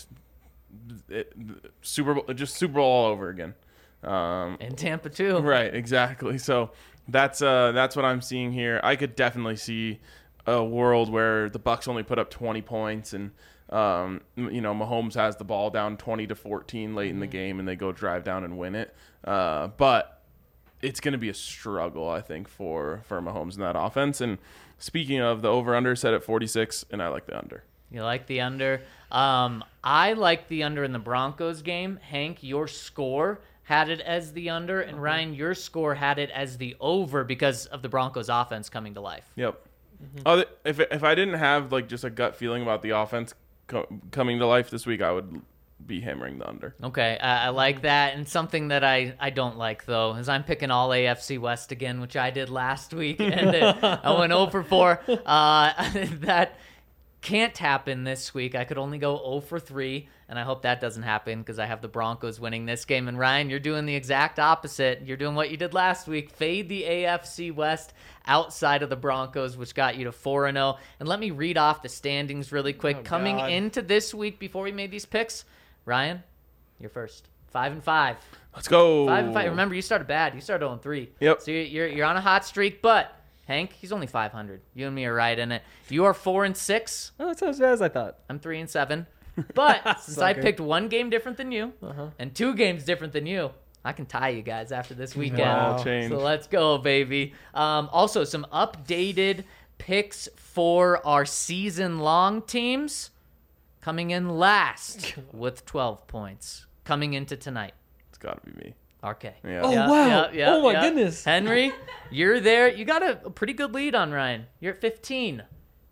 Speaker 2: it, Super Bowl, just Super Bowl all over again. Um,
Speaker 4: And Tampa too.
Speaker 2: right, exactly. So that's uh, that's what I'm seeing here. I could definitely see a world where the Bucks only put up twenty points and. Um, you know, Mahomes has the ball down twenty to fourteen late in the game, and they go drive down and win it. Uh, but it's going to be a struggle, I think, for for Mahomes in that offense. And speaking of, the over/under set at forty-six, and I like the under.
Speaker 4: You like the under? Um, I like the under in the Broncos game. Hank, your score had it as the under, and Ryan, your score had it as the over because of the Broncos offense coming to life.
Speaker 2: Yep. Other, if if I didn't have like just a gut feeling about the offense co- coming to life this week, I would be hammering the under.
Speaker 4: Okay, I, I like that. And something that I, I don't like, though, is I'm picking all A F C West again, which I did last week, and uh, I went oh for four. Uh, that can't happen this week. I could only go oh for three, and I hope that doesn't happen because I have the Broncos winning this game. And Ryan, you're doing the exact opposite. You're doing what you did last week. Fade the A F C West outside of the Broncos, which got you to four and oh. And let me read off the standings really quick.
Speaker 3: Oh,
Speaker 4: Coming
Speaker 3: God.
Speaker 4: into this week, before we made these picks, Ryan, you're first. Five and five.
Speaker 2: Let's go.
Speaker 4: Five and five. Remember, you started bad. You started oh and three.
Speaker 2: Yep.
Speaker 4: So you're, you're you're on a hot streak, but Hank, he's only five hundred. You and me are right in it. You are four and six.
Speaker 3: Oh, that's as bad as I thought.
Speaker 4: I'm three and seven. But since I
Speaker 3: Sucker.
Speaker 4: picked one game different than you
Speaker 3: Uh-huh.
Speaker 4: and two games different than you, I can tie you guys after this weekend.
Speaker 3: Wow.
Speaker 2: Change.
Speaker 4: So let's go, baby. Um, also, some updated picks for our season-long teams. Coming in last with twelve points. Coming into tonight.
Speaker 2: It's got to be me.
Speaker 4: R K.
Speaker 2: Yeah.
Speaker 3: Oh, wow. Oh, my
Speaker 4: yeah.
Speaker 3: goodness.
Speaker 4: Henry, you're there. You got a, a pretty good lead on Ryan. You're at fifteen.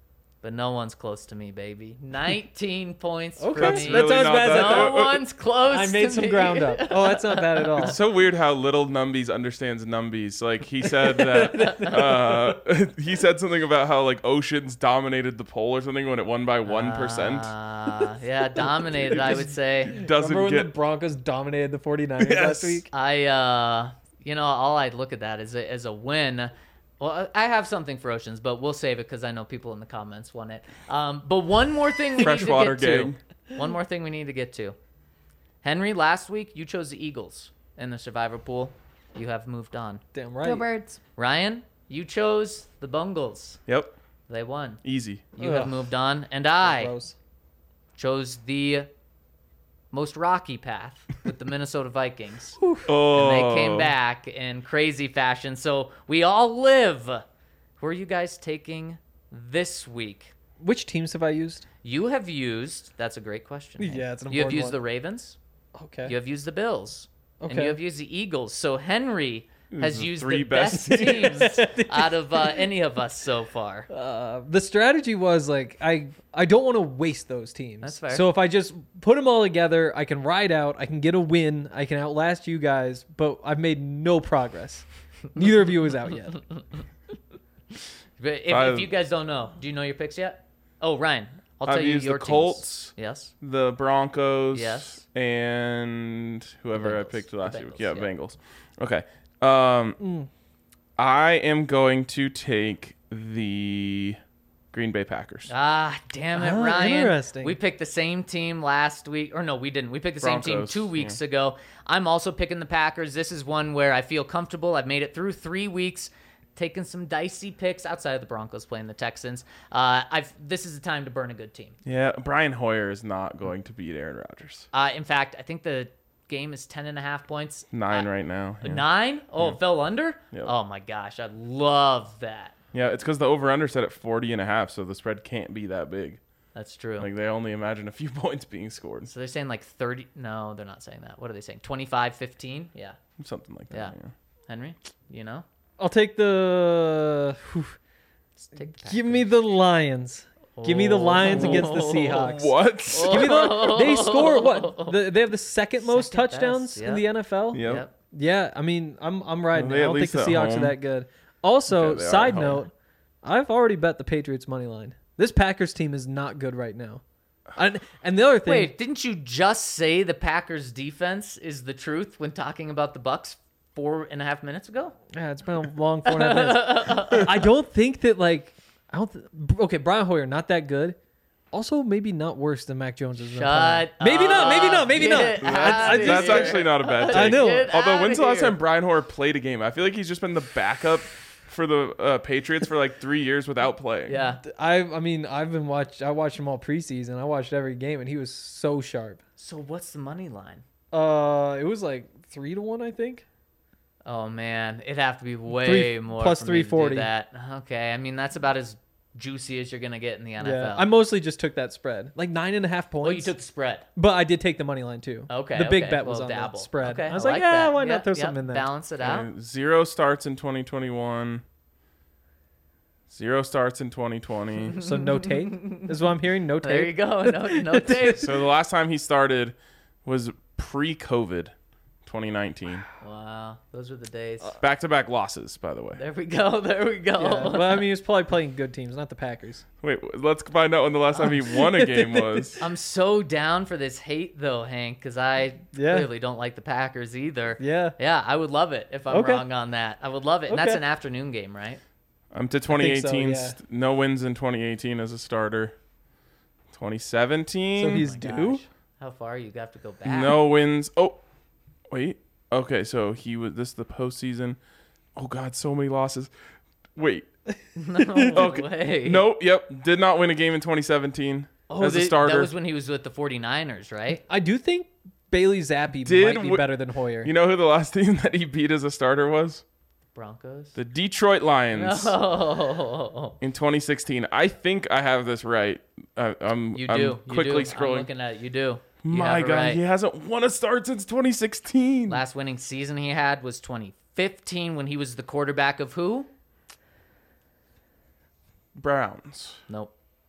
Speaker 4: but no one's close to me, baby. nineteen points
Speaker 3: Okay,
Speaker 4: for
Speaker 2: That's
Speaker 4: me.
Speaker 3: that's
Speaker 2: really
Speaker 3: not as
Speaker 2: not
Speaker 3: bad as
Speaker 2: that-
Speaker 3: I
Speaker 4: no
Speaker 3: thought.
Speaker 4: one's close.
Speaker 3: I made
Speaker 4: to
Speaker 3: some
Speaker 4: me.
Speaker 3: ground up. Oh, that's not bad at all.
Speaker 2: It's so weird how little Numbies understands Numbies. Like he said that uh, he said something about how like Oceans dominated the poll or something when it won by one percent.
Speaker 4: Uh, yeah, dominated. I would say.
Speaker 2: Doesn't
Speaker 3: Remember when
Speaker 2: get
Speaker 3: the Broncos dominated the 49ers
Speaker 2: Yes.
Speaker 3: last week?
Speaker 4: I, uh, you know, all I'd look at that as a, as a win. Well, I have something for Oceans, but we'll save it because I know people in the comments want it. Um, but one more thing we
Speaker 2: Freshwater
Speaker 4: need to get
Speaker 2: gang.
Speaker 4: to. One more thing we need to get to. Henry, last week you chose the Eagles in the Survivor pool. You have moved on.
Speaker 3: Damn
Speaker 5: Go
Speaker 3: right.
Speaker 5: Birds.
Speaker 4: Ryan, you chose the Bungles.
Speaker 2: Yep,
Speaker 4: They won.
Speaker 2: easy.
Speaker 4: You
Speaker 3: Ugh.
Speaker 4: have moved on, and I
Speaker 3: Gross.
Speaker 4: chose the most rocky path with the Minnesota Vikings.
Speaker 2: Oh,
Speaker 4: And they came back in crazy fashion. So we all live. Who are you guys taking this week?
Speaker 3: Which teams have I used?
Speaker 4: You have used, that's a great question. Hank.
Speaker 3: Yeah, it's an
Speaker 4: You have
Speaker 3: important
Speaker 4: used
Speaker 3: one.
Speaker 4: the Ravens,
Speaker 3: Okay.
Speaker 4: you have used the Bills, and
Speaker 3: Okay.
Speaker 4: you have used the Eagles. So Henry has
Speaker 2: the
Speaker 4: used
Speaker 2: three
Speaker 4: the best,
Speaker 2: best
Speaker 4: teams out of uh, any of us so far.
Speaker 3: Uh, the strategy was like I I don't want to waste those teams.
Speaker 4: That's fair.
Speaker 3: So if I just put them all together, I can ride out, I can get a win, I can outlast you guys, but I've made no progress. Neither of you is out yet.
Speaker 4: But if,
Speaker 2: I've-
Speaker 4: if you guys don't know, do you know your picks yet? Oh, Ryan, I'll tell
Speaker 2: I've
Speaker 4: you
Speaker 2: used
Speaker 4: your
Speaker 2: the Colts,
Speaker 4: teams. Yes.
Speaker 2: the Broncos,
Speaker 4: Yes.
Speaker 2: and whoever I
Speaker 4: Bengals.
Speaker 2: picked
Speaker 4: The
Speaker 2: last
Speaker 4: Bengals,
Speaker 2: week. Yeah,
Speaker 4: yeah.
Speaker 2: Bengals. Okay. Um,
Speaker 3: Mm.
Speaker 2: I am going to take the Green Bay Packers.
Speaker 4: Ah, damn it,
Speaker 3: Ah,
Speaker 4: Ryan.
Speaker 3: interesting.
Speaker 4: We picked the same team last week. Or no, we didn't. We picked the same team
Speaker 2: Broncos,
Speaker 4: two weeks ago. I'm also picking the Packers. This is one where I feel comfortable. I've made it through three weeks, taking some dicey picks outside of the Broncos playing the Texans. Uh, I've This is the time to burn a good team.
Speaker 2: Yeah, Brian Hoyer is not going to beat Aaron Rodgers.
Speaker 4: Uh, in fact, I think the game is ten and a half points.
Speaker 2: Nine
Speaker 4: Uh,
Speaker 2: right now. Yeah.
Speaker 4: Nine? Oh, it fell under?
Speaker 2: Yep.
Speaker 4: Oh, my gosh. I love that.
Speaker 2: Yeah, it's because the over-under set at forty and a half, so the spread can't be that big.
Speaker 4: That's true.
Speaker 2: Like, they only imagine a few points being scored.
Speaker 4: so they're saying like thirty. No, they're not saying that. What are they saying? twenty-five fifteen? Yeah.
Speaker 2: Something like that.
Speaker 4: Yeah.
Speaker 2: Yeah.
Speaker 4: Henry, you know?
Speaker 3: I'll take the whew,
Speaker 4: Let's take the
Speaker 3: give me the Lions. Give me the Lions against the
Speaker 4: Oh.
Speaker 3: Seahawks.
Speaker 2: What?
Speaker 3: Give me the they score what? The, they have the second most
Speaker 4: Second
Speaker 3: touchdowns
Speaker 4: best,
Speaker 3: in the N F L.
Speaker 2: Yep.
Speaker 4: Yep.
Speaker 3: Yeah, I mean, I'm I'm riding.
Speaker 2: Well,
Speaker 3: it.
Speaker 2: they
Speaker 3: I
Speaker 2: at
Speaker 3: don't think
Speaker 2: least
Speaker 3: the
Speaker 2: at
Speaker 3: Seahawks
Speaker 2: home.
Speaker 3: are that good. Also,
Speaker 2: Okay, they are
Speaker 3: side
Speaker 2: at home.
Speaker 3: note, I've already bet the Patriots money line. This Packers team is not good right now. And, and the other thing,
Speaker 4: Wait, didn't you just say the Packers defense is the truth when talking about the Bucks four and a half minutes ago?
Speaker 3: yeah, it's been a long four and a half minutes. I don't think that like I don't. Th- okay, Brian Hoyer not that good. Also, maybe not worse than Mac Jones is.
Speaker 4: Shut
Speaker 3: Maybe not. Maybe not. Maybe
Speaker 4: Get
Speaker 3: not.
Speaker 4: outta
Speaker 2: That's, that's
Speaker 4: here.
Speaker 2: actually not a bad take.
Speaker 3: I know.
Speaker 4: Get
Speaker 2: Although,
Speaker 4: outta
Speaker 2: when's the last
Speaker 4: here.
Speaker 2: time Brian Hoyer played a game? I feel like he's just been the backup for the uh, Patriots for like three years without playing.
Speaker 4: Yeah.
Speaker 3: I I mean I've been watched. I watched him all preseason. I watched every game, and he was so sharp.
Speaker 4: So what's the money line?
Speaker 3: Uh, it was like three to one, I think.
Speaker 4: Oh man, it'd have to be way
Speaker 3: Three-
Speaker 4: more
Speaker 3: plus
Speaker 4: for me to do
Speaker 3: three forty.
Speaker 4: that. Okay, I mean that's about as juicy as you're gonna get in the N F L.
Speaker 3: Yeah, I mostly just took that spread, like nine and a half points.
Speaker 4: Oh, you took the spread.
Speaker 3: but I did take the money line too.
Speaker 4: Okay,
Speaker 3: the big
Speaker 4: okay.
Speaker 3: bet was
Speaker 4: Well,
Speaker 3: on
Speaker 4: dabble.
Speaker 3: the spread.
Speaker 4: Okay,
Speaker 3: I was
Speaker 4: I
Speaker 3: like,
Speaker 4: like
Speaker 3: yeah,
Speaker 4: that.
Speaker 3: why not
Speaker 4: Yep,
Speaker 3: throw
Speaker 4: yep.
Speaker 3: something in there?
Speaker 4: Balance it out.
Speaker 2: Uh, Zero starts in twenty twenty-one. Zero starts in twenty twenty.
Speaker 3: So no take is what I'm hearing. No
Speaker 4: There you
Speaker 3: take.
Speaker 4: go. No, no tape.
Speaker 2: So the last time he started was pre-COVID, twenty nineteen.
Speaker 4: Wow, those were the days.
Speaker 2: Back-to-back losses, by the way.
Speaker 4: There we go. There we go.
Speaker 3: Yeah, but I mean, he was probably playing good teams, not the Packers.
Speaker 2: Wait, let's find out when the last time he won a game was.
Speaker 4: I'm so down for this hate though, Hank, because I
Speaker 3: Yeah.
Speaker 4: clearly don't like the Packers either.
Speaker 3: Yeah.
Speaker 4: Yeah, I would love it if I'm
Speaker 3: Okay.
Speaker 4: wrong on that. I would love it. And that's
Speaker 3: Okay.
Speaker 4: an afternoon game, right?
Speaker 2: I'm to twenty eighteen.
Speaker 3: so, yeah.
Speaker 2: st- No wins in twenty eighteen as a starter. twenty seventeen.
Speaker 3: So he's
Speaker 4: Oh my
Speaker 3: due.
Speaker 4: gosh. How far you have to go back?
Speaker 2: No wins. Oh, wait. Okay, so he was. This is the postseason. Oh God, so many losses. Wait.
Speaker 4: No
Speaker 2: Okay.
Speaker 4: way.
Speaker 2: Nope. Yep. Did not win a game in twenty seventeen
Speaker 4: Oh,
Speaker 2: as a
Speaker 4: they-
Speaker 2: starter.
Speaker 4: that was when he was with the 49ers, right?
Speaker 3: I do think Bailey Zappi
Speaker 2: Did
Speaker 3: might be
Speaker 2: wi-
Speaker 3: better than Hoyer.
Speaker 2: You know who the last team that he beat as a starter was?
Speaker 4: Broncos.
Speaker 2: The Detroit Lions
Speaker 4: No.
Speaker 2: in twenty sixteen. I think I have this right. I, I'm,
Speaker 4: You
Speaker 2: I'm
Speaker 4: do.
Speaker 2: quickly
Speaker 4: you do. I'm
Speaker 2: scrolling.
Speaker 4: looking at it. You do. You
Speaker 2: My
Speaker 4: have it
Speaker 2: God,
Speaker 4: right.
Speaker 2: he hasn't won a start since twenty sixteen.
Speaker 4: Last winning season he had was twenty fifteen when he was the quarterback of who?
Speaker 2: Browns.
Speaker 4: Nope.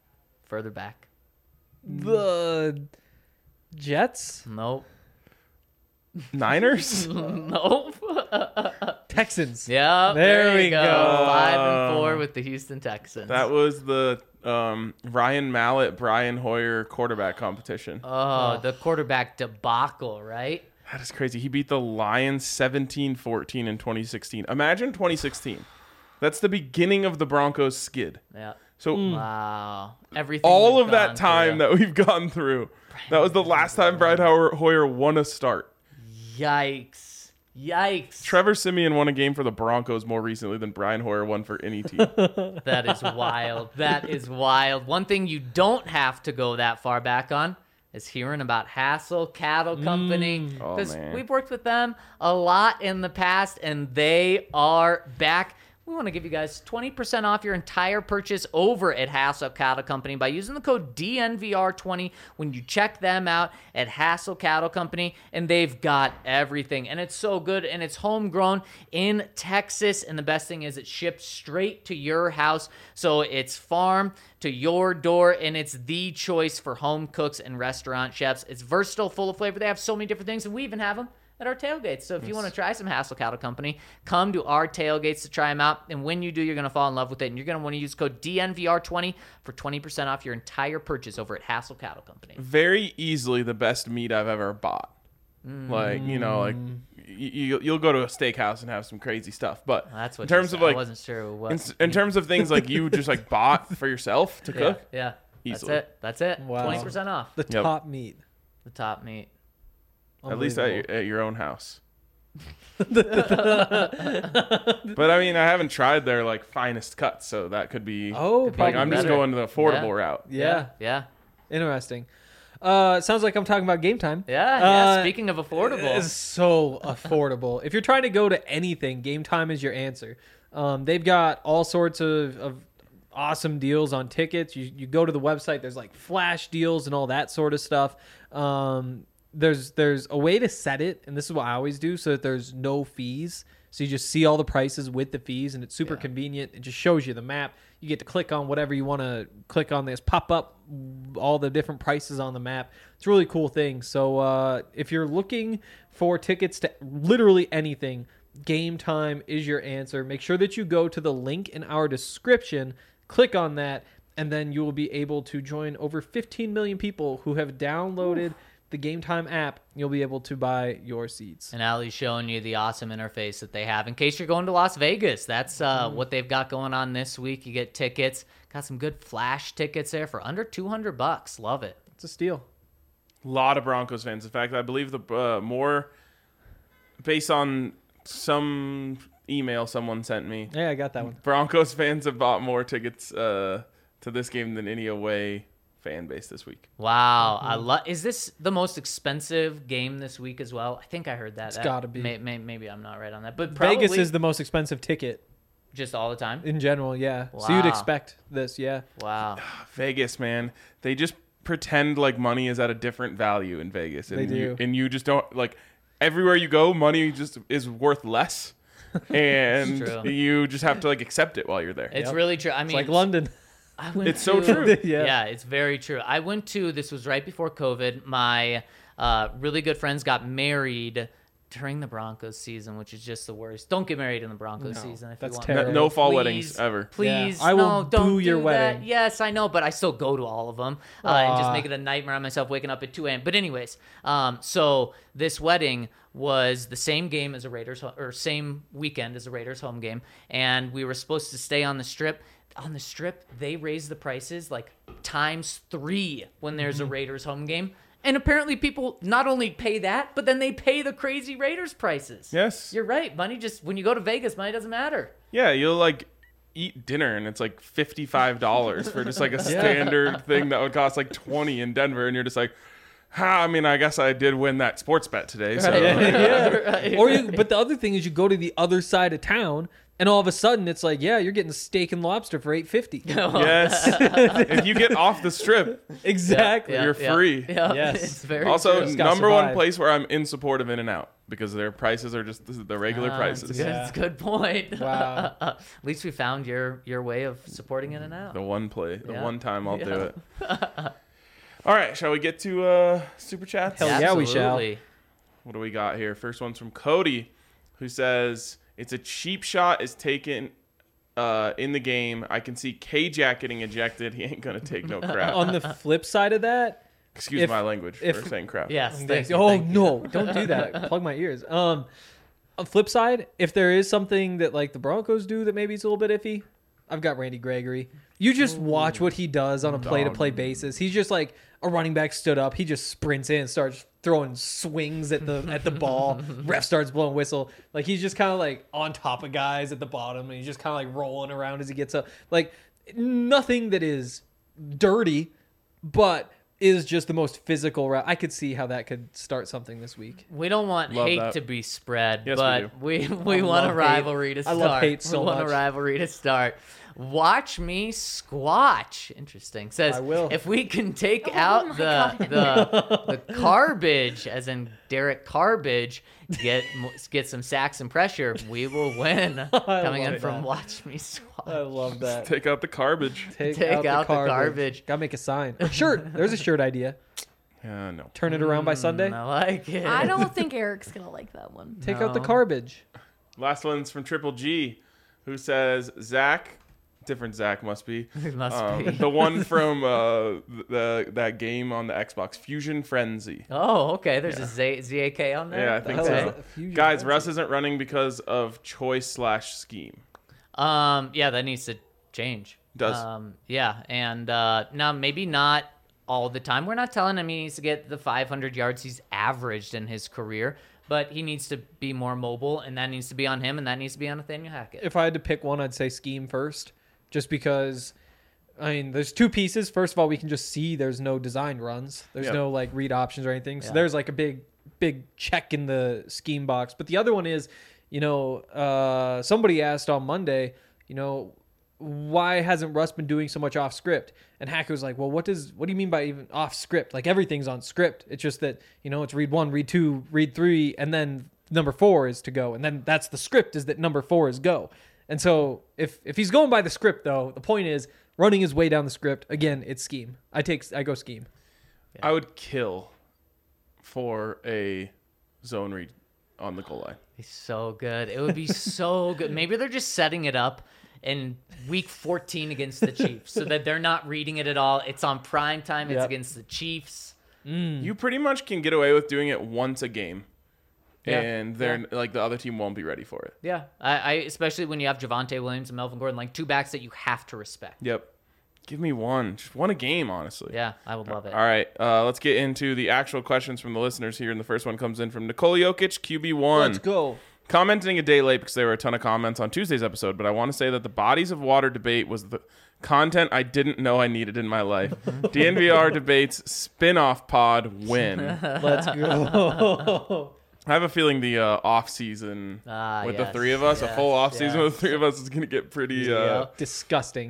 Speaker 4: Further back.
Speaker 3: The Jets,
Speaker 4: Nope.
Speaker 2: Niners?
Speaker 4: Nope.
Speaker 3: Texans.
Speaker 4: Yeah,
Speaker 3: There
Speaker 4: there,
Speaker 3: we
Speaker 4: you go.
Speaker 3: go.
Speaker 4: Five and four with the Houston Texans.
Speaker 2: That was the um, Ryan Mallett, Brian Hoyer quarterback competition.
Speaker 4: oh, the quarterback debacle, right?
Speaker 2: That is crazy. He beat the Lions seventeen fourteen in twenty sixteen. Imagine twenty sixteen. That's the beginning of the Broncos skid.
Speaker 4: Yeah.
Speaker 2: So
Speaker 4: Wow. Everything.
Speaker 2: all
Speaker 4: we've
Speaker 2: of that
Speaker 4: gone
Speaker 2: time
Speaker 4: through.
Speaker 2: that we've gone through, that was the last time Brian Hoyer Hoyer won a start.
Speaker 4: Yikes. Yikes.
Speaker 2: Trevor Siemian won a game for the Broncos more recently than Brian Hoyer won for any team.
Speaker 4: That is wild. That is wild. One thing you don't have to go that far back on is hearing about Hassel Cattle Company.
Speaker 2: Oh,
Speaker 4: Because
Speaker 2: man.
Speaker 4: we've worked with them a lot in the past, and they are back. We want to give you guys twenty percent off your entire purchase over at Hassel Cattle Company by using the code D N V R twenty when you check them out at Hassel Cattle Company. And they've got everything. And it's so good. And it's homegrown in Texas. And the best thing is it ships straight to your house. So it's farm to your door. And it's the choice for home cooks and restaurant chefs. It's versatile, full of flavor. They have so many different things. And we even have them at our tailgates. So if you want to try some Hassel Cattle Company, come to our tailgates to try them out. And when you do, you're going to fall in love with it. And you're going to want to use code D N V R twenty for twenty percent off your entire purchase over at Hassel Cattle Company.
Speaker 2: Very easily the best meat I've ever bought. Like, you know, like you, you'll go to a steakhouse and have some crazy stuff. But
Speaker 4: That's what
Speaker 2: in terms
Speaker 4: you
Speaker 2: of
Speaker 4: said.
Speaker 2: like,
Speaker 4: I wasn't sure what.
Speaker 2: in, in terms of things like you just like bought for yourself to
Speaker 4: yeah,
Speaker 2: cook,
Speaker 4: yeah. That's
Speaker 2: Easily.
Speaker 4: it. That's it.
Speaker 3: Wow.
Speaker 4: twenty percent off.
Speaker 3: The
Speaker 2: Yep.
Speaker 3: top meat.
Speaker 4: The top meat.
Speaker 2: at least at your,
Speaker 3: Unbelievable.
Speaker 2: at your own house. But I mean, I haven't tried their like finest cuts, so that could be.
Speaker 3: Oh,
Speaker 4: Could be
Speaker 2: like
Speaker 3: probably
Speaker 2: I'm just
Speaker 4: better.
Speaker 2: going to the affordable
Speaker 4: Yeah.
Speaker 2: route.
Speaker 3: Yeah.
Speaker 4: Yeah.
Speaker 3: Interesting. Uh, sounds like I'm talking about Game Time.
Speaker 4: Yeah. Yeah.
Speaker 3: Uh,
Speaker 4: Speaking of affordable.
Speaker 3: It's so affordable. If you're trying to go to anything, Game Time is your answer. Um, they've got all sorts of, of awesome deals on tickets. You you go to the website, there's like flash deals and all that sort of stuff. Um, there's there's a way to set it, and this is what I always do, so that there's no fees. So you just see all the prices with the fees, and it's super
Speaker 4: Yeah.
Speaker 3: convenient. It just shows you the map. You get to click on whatever you want to click on. This pop up all the different prices on the map. It's a really cool thing. So uh, if you're looking for tickets to literally anything, Game Time is your answer. Make sure that you go to the link in our description, click on that, and then you will be able to join over fifteen million people who have downloaded Oof. the Game Time app. You'll be able to buy your seats.
Speaker 4: And Ali's showing you the awesome interface that they have in case you're going to Las Vegas. That's uh,
Speaker 3: Mm.
Speaker 4: what they've got going on this week. You get tickets. Got some good flash tickets there for under two hundred bucks. Love it.
Speaker 3: It's a steal.
Speaker 2: A lot of Broncos fans. In fact, I believe the uh, more based on some email someone sent me,
Speaker 3: Yeah, I got that one.
Speaker 2: Broncos fans have bought more tickets uh, to this game than any away fan base this week.
Speaker 4: Wow, I love. Is this the most expensive game this week as well? I think I heard that.
Speaker 3: It's
Speaker 4: That-
Speaker 3: gotta be.
Speaker 4: May, may, maybe I'm not right on that, but probably
Speaker 3: Vegas is the most expensive ticket
Speaker 4: just all the time.
Speaker 3: in general, yeah. So you'd
Speaker 4: Wow.
Speaker 3: expect this, yeah.
Speaker 4: Wow.
Speaker 2: Vegas, man, they just pretend like money is at a different value in Vegas, and
Speaker 3: They
Speaker 2: you,
Speaker 3: do.
Speaker 2: and you just don't like. Everywhere you go, money just is worth less, and
Speaker 4: It's true.
Speaker 2: you just have to like accept it while you're there.
Speaker 4: It's
Speaker 3: Yep.
Speaker 4: really true. I
Speaker 3: It's
Speaker 4: mean,
Speaker 3: like London.
Speaker 4: I went
Speaker 2: It's so
Speaker 4: to-
Speaker 2: true.
Speaker 3: Yeah.
Speaker 4: Yeah, it's very true. I went to, this was right before COVID. My uh, really good friends got married during the Broncos season, which is just the worst. Don't get married in the Broncos
Speaker 3: No,
Speaker 4: season if
Speaker 3: that's
Speaker 4: you want.
Speaker 3: terrible.
Speaker 2: No, no fall
Speaker 4: Please,
Speaker 2: weddings ever.
Speaker 4: Please,
Speaker 3: Yeah. I will
Speaker 4: no, don't
Speaker 3: boo your
Speaker 4: do that.
Speaker 3: wedding.
Speaker 4: Yes, I know, but I still go to all of them uh, and just
Speaker 3: Aw.
Speaker 4: make it a nightmare on myself waking up at two a.m. But anyways, um, so this wedding was the same game as a Raiders ho- or same weekend as a Raiders home game, and we were supposed to stay on the Strip. On the Strip, they raised the prices like times three when there's a Raiders home game. And apparently people not only pay that, but then they pay the crazy Raiders prices.
Speaker 2: Yes.
Speaker 4: You're right. Money just, when you go to Vegas, money doesn't matter.
Speaker 2: Yeah, you'll like eat dinner and it's like fifty-five dollars for just like a standard thing that would cost like twenty in Denver, and you're just like, ha, I mean, I guess I did win that sports bet today. So
Speaker 3: Yeah.
Speaker 4: Right.
Speaker 3: Or you, but the other thing is you go to the other side of town, And all of a sudden, it's like, yeah, you're getting steak and lobster for eight fifty.
Speaker 2: Yes. If you get off the strip,
Speaker 3: Exactly.
Speaker 2: You're free.
Speaker 4: Yeah,
Speaker 3: Yes.
Speaker 4: it's very
Speaker 2: also,
Speaker 4: true.
Speaker 3: Just gotta
Speaker 2: number one
Speaker 3: survive.
Speaker 2: place where I'm in support of In-N-Out because their prices are just the regular
Speaker 4: Ah,
Speaker 2: prices.
Speaker 4: It's a good,
Speaker 3: Yeah.
Speaker 4: it's a good point.
Speaker 3: Wow.
Speaker 4: At least we found your your way of supporting In and
Speaker 2: The
Speaker 4: Out.
Speaker 2: one play, the
Speaker 4: Yeah.
Speaker 2: one time I'll do
Speaker 4: Yeah.
Speaker 2: it. All right, shall we get to uh, super chats?
Speaker 3: Hell yeah, we shall.
Speaker 4: Absolutely.
Speaker 2: What do we got here? First one's from Cody, who says it's a cheap shot is taken uh, in the game. I can see K-Jack getting ejected. He ain't gonna take no crap.
Speaker 3: On the flip side of that,
Speaker 2: Excuse
Speaker 3: if-
Speaker 2: my language
Speaker 3: if-
Speaker 2: for saying crap.
Speaker 4: Yes. Thank you,
Speaker 3: oh
Speaker 4: thank you.
Speaker 3: no, don't do that. Plug my ears. Um, on flip side, if there is something that like the Broncos do that maybe it's a little bit iffy, I've got Randy Gregory. You just watch what he does on a play-to-play basis. He's just like a running back stood up. He just sprints in and starts throwing swings at the at the ball. Ref starts blowing whistle. Like he's just kind of like on top of guys at the bottom, and he's just kind of like rolling around as he gets up. Like nothing that is dirty, but is just the most physical route. I could see how that could start something this week.
Speaker 4: We don't want
Speaker 2: Love
Speaker 4: hate
Speaker 2: that.
Speaker 4: to be spread,
Speaker 2: Yes, we
Speaker 4: but we we,
Speaker 3: I
Speaker 4: want a
Speaker 3: love hate.
Speaker 4: rivalry to
Speaker 3: I
Speaker 4: start.
Speaker 3: love hate so
Speaker 4: we want
Speaker 3: much.
Speaker 4: a rivalry to start. Watch me squatch. Interesting. Says
Speaker 3: I will.
Speaker 4: if we can take
Speaker 5: Oh
Speaker 4: out
Speaker 5: my
Speaker 4: the
Speaker 5: God.
Speaker 4: the the garbage, as in Derek Carbage, get get some sacks and pressure, we will win. Coming in
Speaker 3: love
Speaker 4: from
Speaker 3: that.
Speaker 4: Watch Me Squatch.
Speaker 3: I love that.
Speaker 2: Take out the garbage.
Speaker 3: Take,
Speaker 4: Take out the garbage.
Speaker 3: Gotta make a sign. A shirt. There's a shirt idea.
Speaker 2: Yeah, no.
Speaker 3: Turn it around by Sunday.
Speaker 4: I like it.
Speaker 5: I don't think Eric's gonna like that one.
Speaker 3: Take out the
Speaker 4: No.
Speaker 3: garbage.
Speaker 2: Last one's from Triple G, who says Zach, different Zach must be.
Speaker 4: It must
Speaker 2: Um,
Speaker 4: be.
Speaker 2: the one from uh, the that game on the Xbox, Fusion Frenzy.
Speaker 4: Oh, okay. There's a Z- ZAK on there.
Speaker 2: Yeah, I think
Speaker 3: hell is
Speaker 2: so.
Speaker 3: that? Fusion
Speaker 2: Guys,
Speaker 3: Frenzy.
Speaker 2: Russ isn't running because of choice slash scheme.
Speaker 4: Um, yeah, that needs to change.
Speaker 2: Does.
Speaker 4: Um, yeah, and uh, now maybe not all the time. We're not telling him he needs to get the five hundred yards he's averaged in his career, but he needs to be more mobile, and that needs to be on him, and that needs to be on Nathaniel Hackett.
Speaker 3: If I had to pick one, I'd say scheme first, just because. I mean, there's two pieces. First of all, we can just see there's no design runs. There's
Speaker 2: Yep.
Speaker 3: no like read options or anything. So
Speaker 4: Yeah.
Speaker 3: there's like a big, big check in the scheme box. But the other one is, you know, uh, somebody asked on Monday, you know, why hasn't Russ been doing so much off script? And Hackett was like, well, what does what do you mean by even off script? Like everything's on script. It's just that, you know, it's read one, read two, read three, and then number four is to go. And then that's the script is that number four is go. And so if if he's going by the script though, the point is running his way down the script. Again, it's scheme. I take I go scheme.
Speaker 2: I would kill for a zone read on the goal line.
Speaker 4: He's so good. It would be so good. Maybe they're just setting it up in week fourteen against the Chiefs so that they're not reading it at all. It's on prime time. It's
Speaker 3: Yep.
Speaker 4: against the Chiefs.
Speaker 2: You pretty much can get away with doing it once a game,
Speaker 4: Yeah.
Speaker 2: and they're like the other team won't be ready for it.
Speaker 4: Yeah, I, I especially when you have Javonte Williams and Melvin Gordon, like two backs that you have to respect.
Speaker 2: Yep. Give me one, just one a game, honestly.
Speaker 4: Yeah, I would love it.
Speaker 2: All right, uh, let's get into the actual questions from the listeners here. And the first one comes in from Nikola Jokic, Q B one.
Speaker 3: Let's go.
Speaker 2: Commenting a day late because there were a ton of comments on Tuesday's episode, but I want to say that the bodies of water debate was the content I didn't know I needed in my life. D N V R debates spin-off pod win.
Speaker 3: Let's go.
Speaker 2: I have a feeling the uh, off season
Speaker 4: Ah,
Speaker 2: with the
Speaker 4: yes,
Speaker 2: three of us, a
Speaker 4: yes,
Speaker 2: full off season
Speaker 4: yes.
Speaker 2: with the three of us is going to get pretty. Uh,
Speaker 4: Yep.
Speaker 3: Disgusting.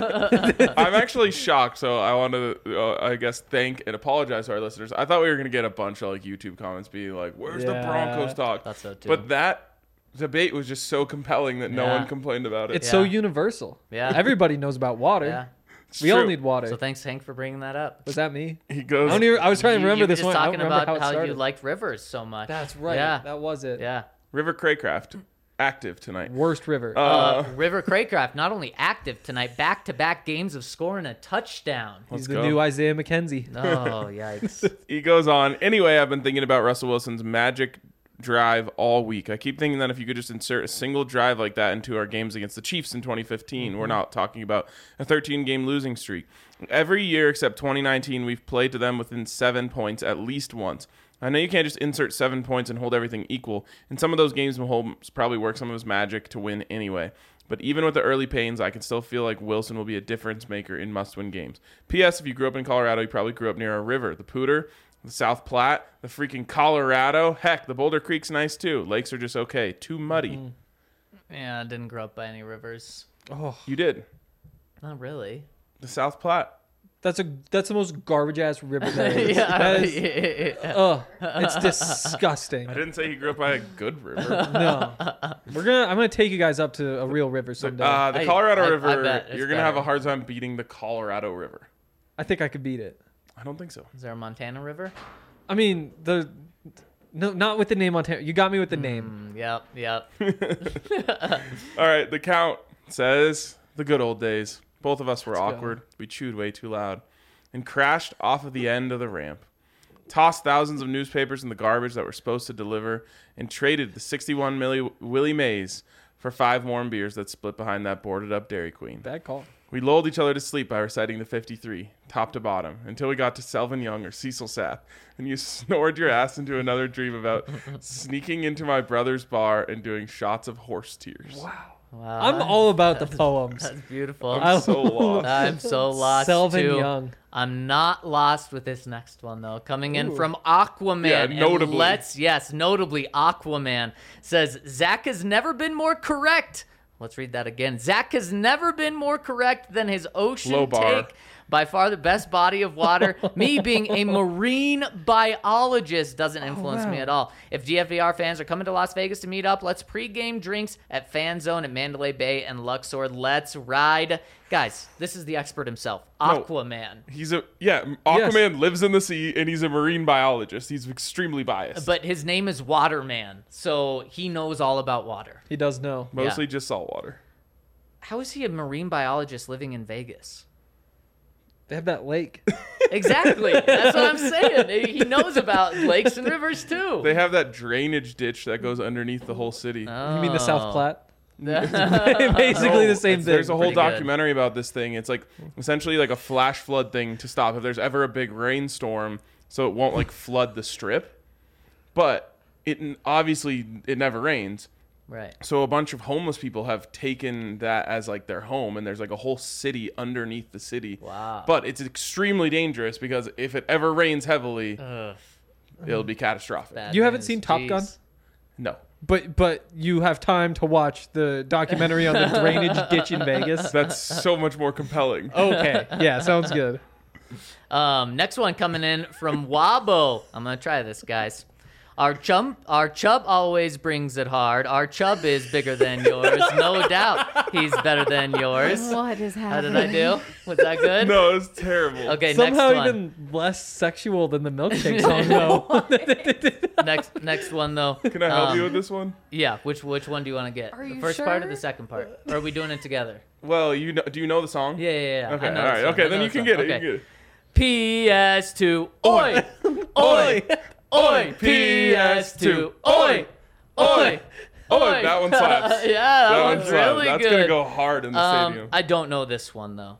Speaker 2: I'm actually shocked, so I want to, uh, I guess, thank and apologize to our listeners. I thought we were going to get a bunch of like YouTube comments being like, "Where's the
Speaker 3: Yeah.
Speaker 2: Broncos talk?"
Speaker 4: Thought so, too.
Speaker 2: But that debate was just so compelling that no
Speaker 4: Yeah.
Speaker 2: one complained about it.
Speaker 3: It's so
Speaker 4: Yeah.
Speaker 3: universal.
Speaker 4: Yeah.
Speaker 3: Everybody knows about water.
Speaker 4: Yeah.
Speaker 2: It's
Speaker 3: We all
Speaker 2: true.
Speaker 3: need water.
Speaker 4: So thanks, Hank, for bringing that up.
Speaker 3: Was that me?
Speaker 2: He
Speaker 3: I
Speaker 2: goes.
Speaker 3: don't even. I was trying to
Speaker 4: You-
Speaker 3: remember
Speaker 4: you were
Speaker 3: this
Speaker 4: just
Speaker 3: one. I don't
Speaker 4: talking
Speaker 3: remember
Speaker 4: about
Speaker 3: how it
Speaker 4: how,
Speaker 3: started.
Speaker 4: you liked Rivers so much.
Speaker 3: That's right.
Speaker 4: Yeah.
Speaker 3: That was it.
Speaker 4: Yeah.
Speaker 2: River Craycraft active tonight.
Speaker 3: Worst river.
Speaker 2: Uh,
Speaker 4: Uh, River Craycraft not only active tonight, back-to-back games of scoring a touchdown.
Speaker 3: He's
Speaker 2: let's
Speaker 3: the
Speaker 2: go.
Speaker 3: new Isaiah McKenzie.
Speaker 4: Oh, yikes.
Speaker 2: He goes on. Anyway, I've been thinking about Russell Wilson's magic drive all week. I keep thinking that if you could just insert a single drive like that into our games against the Chiefs in twenty fifteen, we're not talking about a thirteen game losing streak. Every year except twenty nineteen, we've played to them within seven points at least once. I know you can't just insert seven points and hold everything equal. In some of those games, Mahomes probably worked some of his magic to win anyway. But even with the early pains, I can still feel like Wilson will be a difference maker in must-win games. P S. If you grew up in Colorado, you probably grew up near a river. The Pooter, the South Platte, the freaking Colorado. Heck, the Boulder Creek's nice too. Lakes are just okay. Too muddy.
Speaker 4: Yeah, I didn't grow up by any rivers.
Speaker 3: Oh,
Speaker 2: You did.
Speaker 4: Not really.
Speaker 2: The South Platte.
Speaker 3: that's a that's the most garbage ass river there is.
Speaker 4: yeah,
Speaker 3: That is-
Speaker 4: yeah, yeah.
Speaker 3: Oh, it's disgusting.
Speaker 2: I didn't say he grew up by a good river.
Speaker 3: No, we're gonna. I'm gonna take you guys up to a real river someday.
Speaker 2: Uh, the
Speaker 4: I-
Speaker 2: Colorado
Speaker 4: I- I
Speaker 2: River,
Speaker 4: bet it's
Speaker 2: you're going to have a
Speaker 4: better.
Speaker 2: hard time beating the Colorado River.
Speaker 3: I think I could beat it.
Speaker 2: I don't think so.
Speaker 4: Is there a Montana River?
Speaker 3: I mean the. No, not with the name Montana. You got me with the name.
Speaker 4: Mm, yep, yep.
Speaker 2: All right, the count says the good old days. Both of us were
Speaker 3: Let's go.
Speaker 2: awkward. We chewed way too loud and crashed off of the end of the ramp. Tossed thousands of newspapers in the garbage that were supposed to deliver and traded the sixty-one milli Willie Mays for five warm beers that split behind that boarded up Dairy Queen.
Speaker 3: Bad call.
Speaker 2: We lulled each other to sleep by reciting the fifty-three, top to bottom, until we got to Selvin Young or Cecil Sath, and you snored your ass into another dream about sneaking into my brother's bar and doing shots of horse tears.
Speaker 3: Wow.
Speaker 4: Wow.
Speaker 3: I'm all about the poems.
Speaker 4: That's beautiful.
Speaker 2: I'm
Speaker 3: I-
Speaker 2: so lost.
Speaker 4: I'm so lost
Speaker 3: Selvin
Speaker 4: too.
Speaker 3: Young.
Speaker 4: I'm not lost with this next one though. Coming in
Speaker 3: Ooh.
Speaker 4: from Aquaman.
Speaker 2: Yeah,
Speaker 4: and
Speaker 2: notably.
Speaker 4: let's yes, notably Aquaman says Zach has never been more correct. Let's read that again. Zach has never been more correct than his ocean
Speaker 2: Low bar.
Speaker 4: take. By far the best body of water. Me being a marine biologist doesn't influence me
Speaker 3: wow.
Speaker 4: at all. If D F V R fans are coming to Las Vegas to meet up, let's pregame drinks at Fan Zone at Mandalay Bay and Luxor. Let's ride. Guys, this is the expert himself,
Speaker 2: No.
Speaker 4: Aquaman.
Speaker 2: He's a yeah. Aquaman lives in the sea and he's a marine biologist. He's extremely biased.
Speaker 4: But his name is Waterman, so he knows all about water.
Speaker 3: He does know.
Speaker 2: Mostly just salt water.
Speaker 4: How is he a marine biologist living in Vegas?
Speaker 3: They have that lake.
Speaker 4: Exactly. That's what I'm saying. He knows about lakes and rivers too.
Speaker 2: They have that drainage ditch that goes underneath the whole city.
Speaker 3: You mean the South Platte?
Speaker 4: Platte?
Speaker 3: Basically the same
Speaker 2: It's-
Speaker 3: thing.
Speaker 2: There's a whole
Speaker 4: Pretty good.
Speaker 2: documentary about this thing. It's like essentially like a flash flood thing to stop if there's ever a big rainstorm, so it won't like flood the strip. But it obviously it never rains.
Speaker 4: Right.
Speaker 2: So a bunch of homeless people have taken that as like their home, and there's like a whole city underneath the city.
Speaker 4: Wow.
Speaker 2: But it's extremely dangerous because if it ever rains heavily,
Speaker 4: Ugh,
Speaker 2: it'll be catastrophic.
Speaker 4: bad
Speaker 3: You haven't
Speaker 4: news.
Speaker 3: seen Top Gun?
Speaker 4: Jeez.
Speaker 2: No,
Speaker 3: But but you have time to watch the documentary on the drainage ditch in Vegas.
Speaker 2: that's so much more compelling.
Speaker 3: Okay. Yeah, sounds good.
Speaker 4: Um, next one coming in from Wabo. I'm gonna try this, guys. Our chum, our chub always brings it hard. Our chub is bigger than yours, no doubt. He's better than yours.
Speaker 5: What is
Speaker 4: How
Speaker 5: happening?
Speaker 4: did I do? Was that good?
Speaker 2: No, it's terrible.
Speaker 4: Okay,
Speaker 3: Somehow
Speaker 4: next one.
Speaker 3: even less sexual than the milkshake song, though.
Speaker 4: Next, next one though.
Speaker 2: Can I help
Speaker 4: Um,
Speaker 2: you with this one?
Speaker 4: Yeah. Which which one do you want to get?
Speaker 5: Are
Speaker 4: the
Speaker 5: you
Speaker 4: first part or
Speaker 5: sure?
Speaker 4: the second part? Or are we doing it together?
Speaker 2: Well, you know, do you know the song?
Speaker 4: Yeah, yeah, yeah.
Speaker 2: Okay,
Speaker 4: I
Speaker 2: all
Speaker 4: know
Speaker 2: right.
Speaker 4: this one.
Speaker 2: Okay,
Speaker 4: I
Speaker 2: then
Speaker 4: know
Speaker 2: you
Speaker 4: this
Speaker 2: can
Speaker 4: one.
Speaker 2: get it.
Speaker 4: Okay.
Speaker 2: You can get it.
Speaker 4: P S two. Oi, oi, oi. P S two. Oi, oi.
Speaker 2: Oh, that one slaps.
Speaker 4: Yeah, that,
Speaker 2: That one
Speaker 4: one's
Speaker 2: slaps.
Speaker 4: really
Speaker 2: That's
Speaker 4: good.
Speaker 2: gonna go hard in the
Speaker 4: Um,
Speaker 2: stadium.
Speaker 4: I don't know this one though.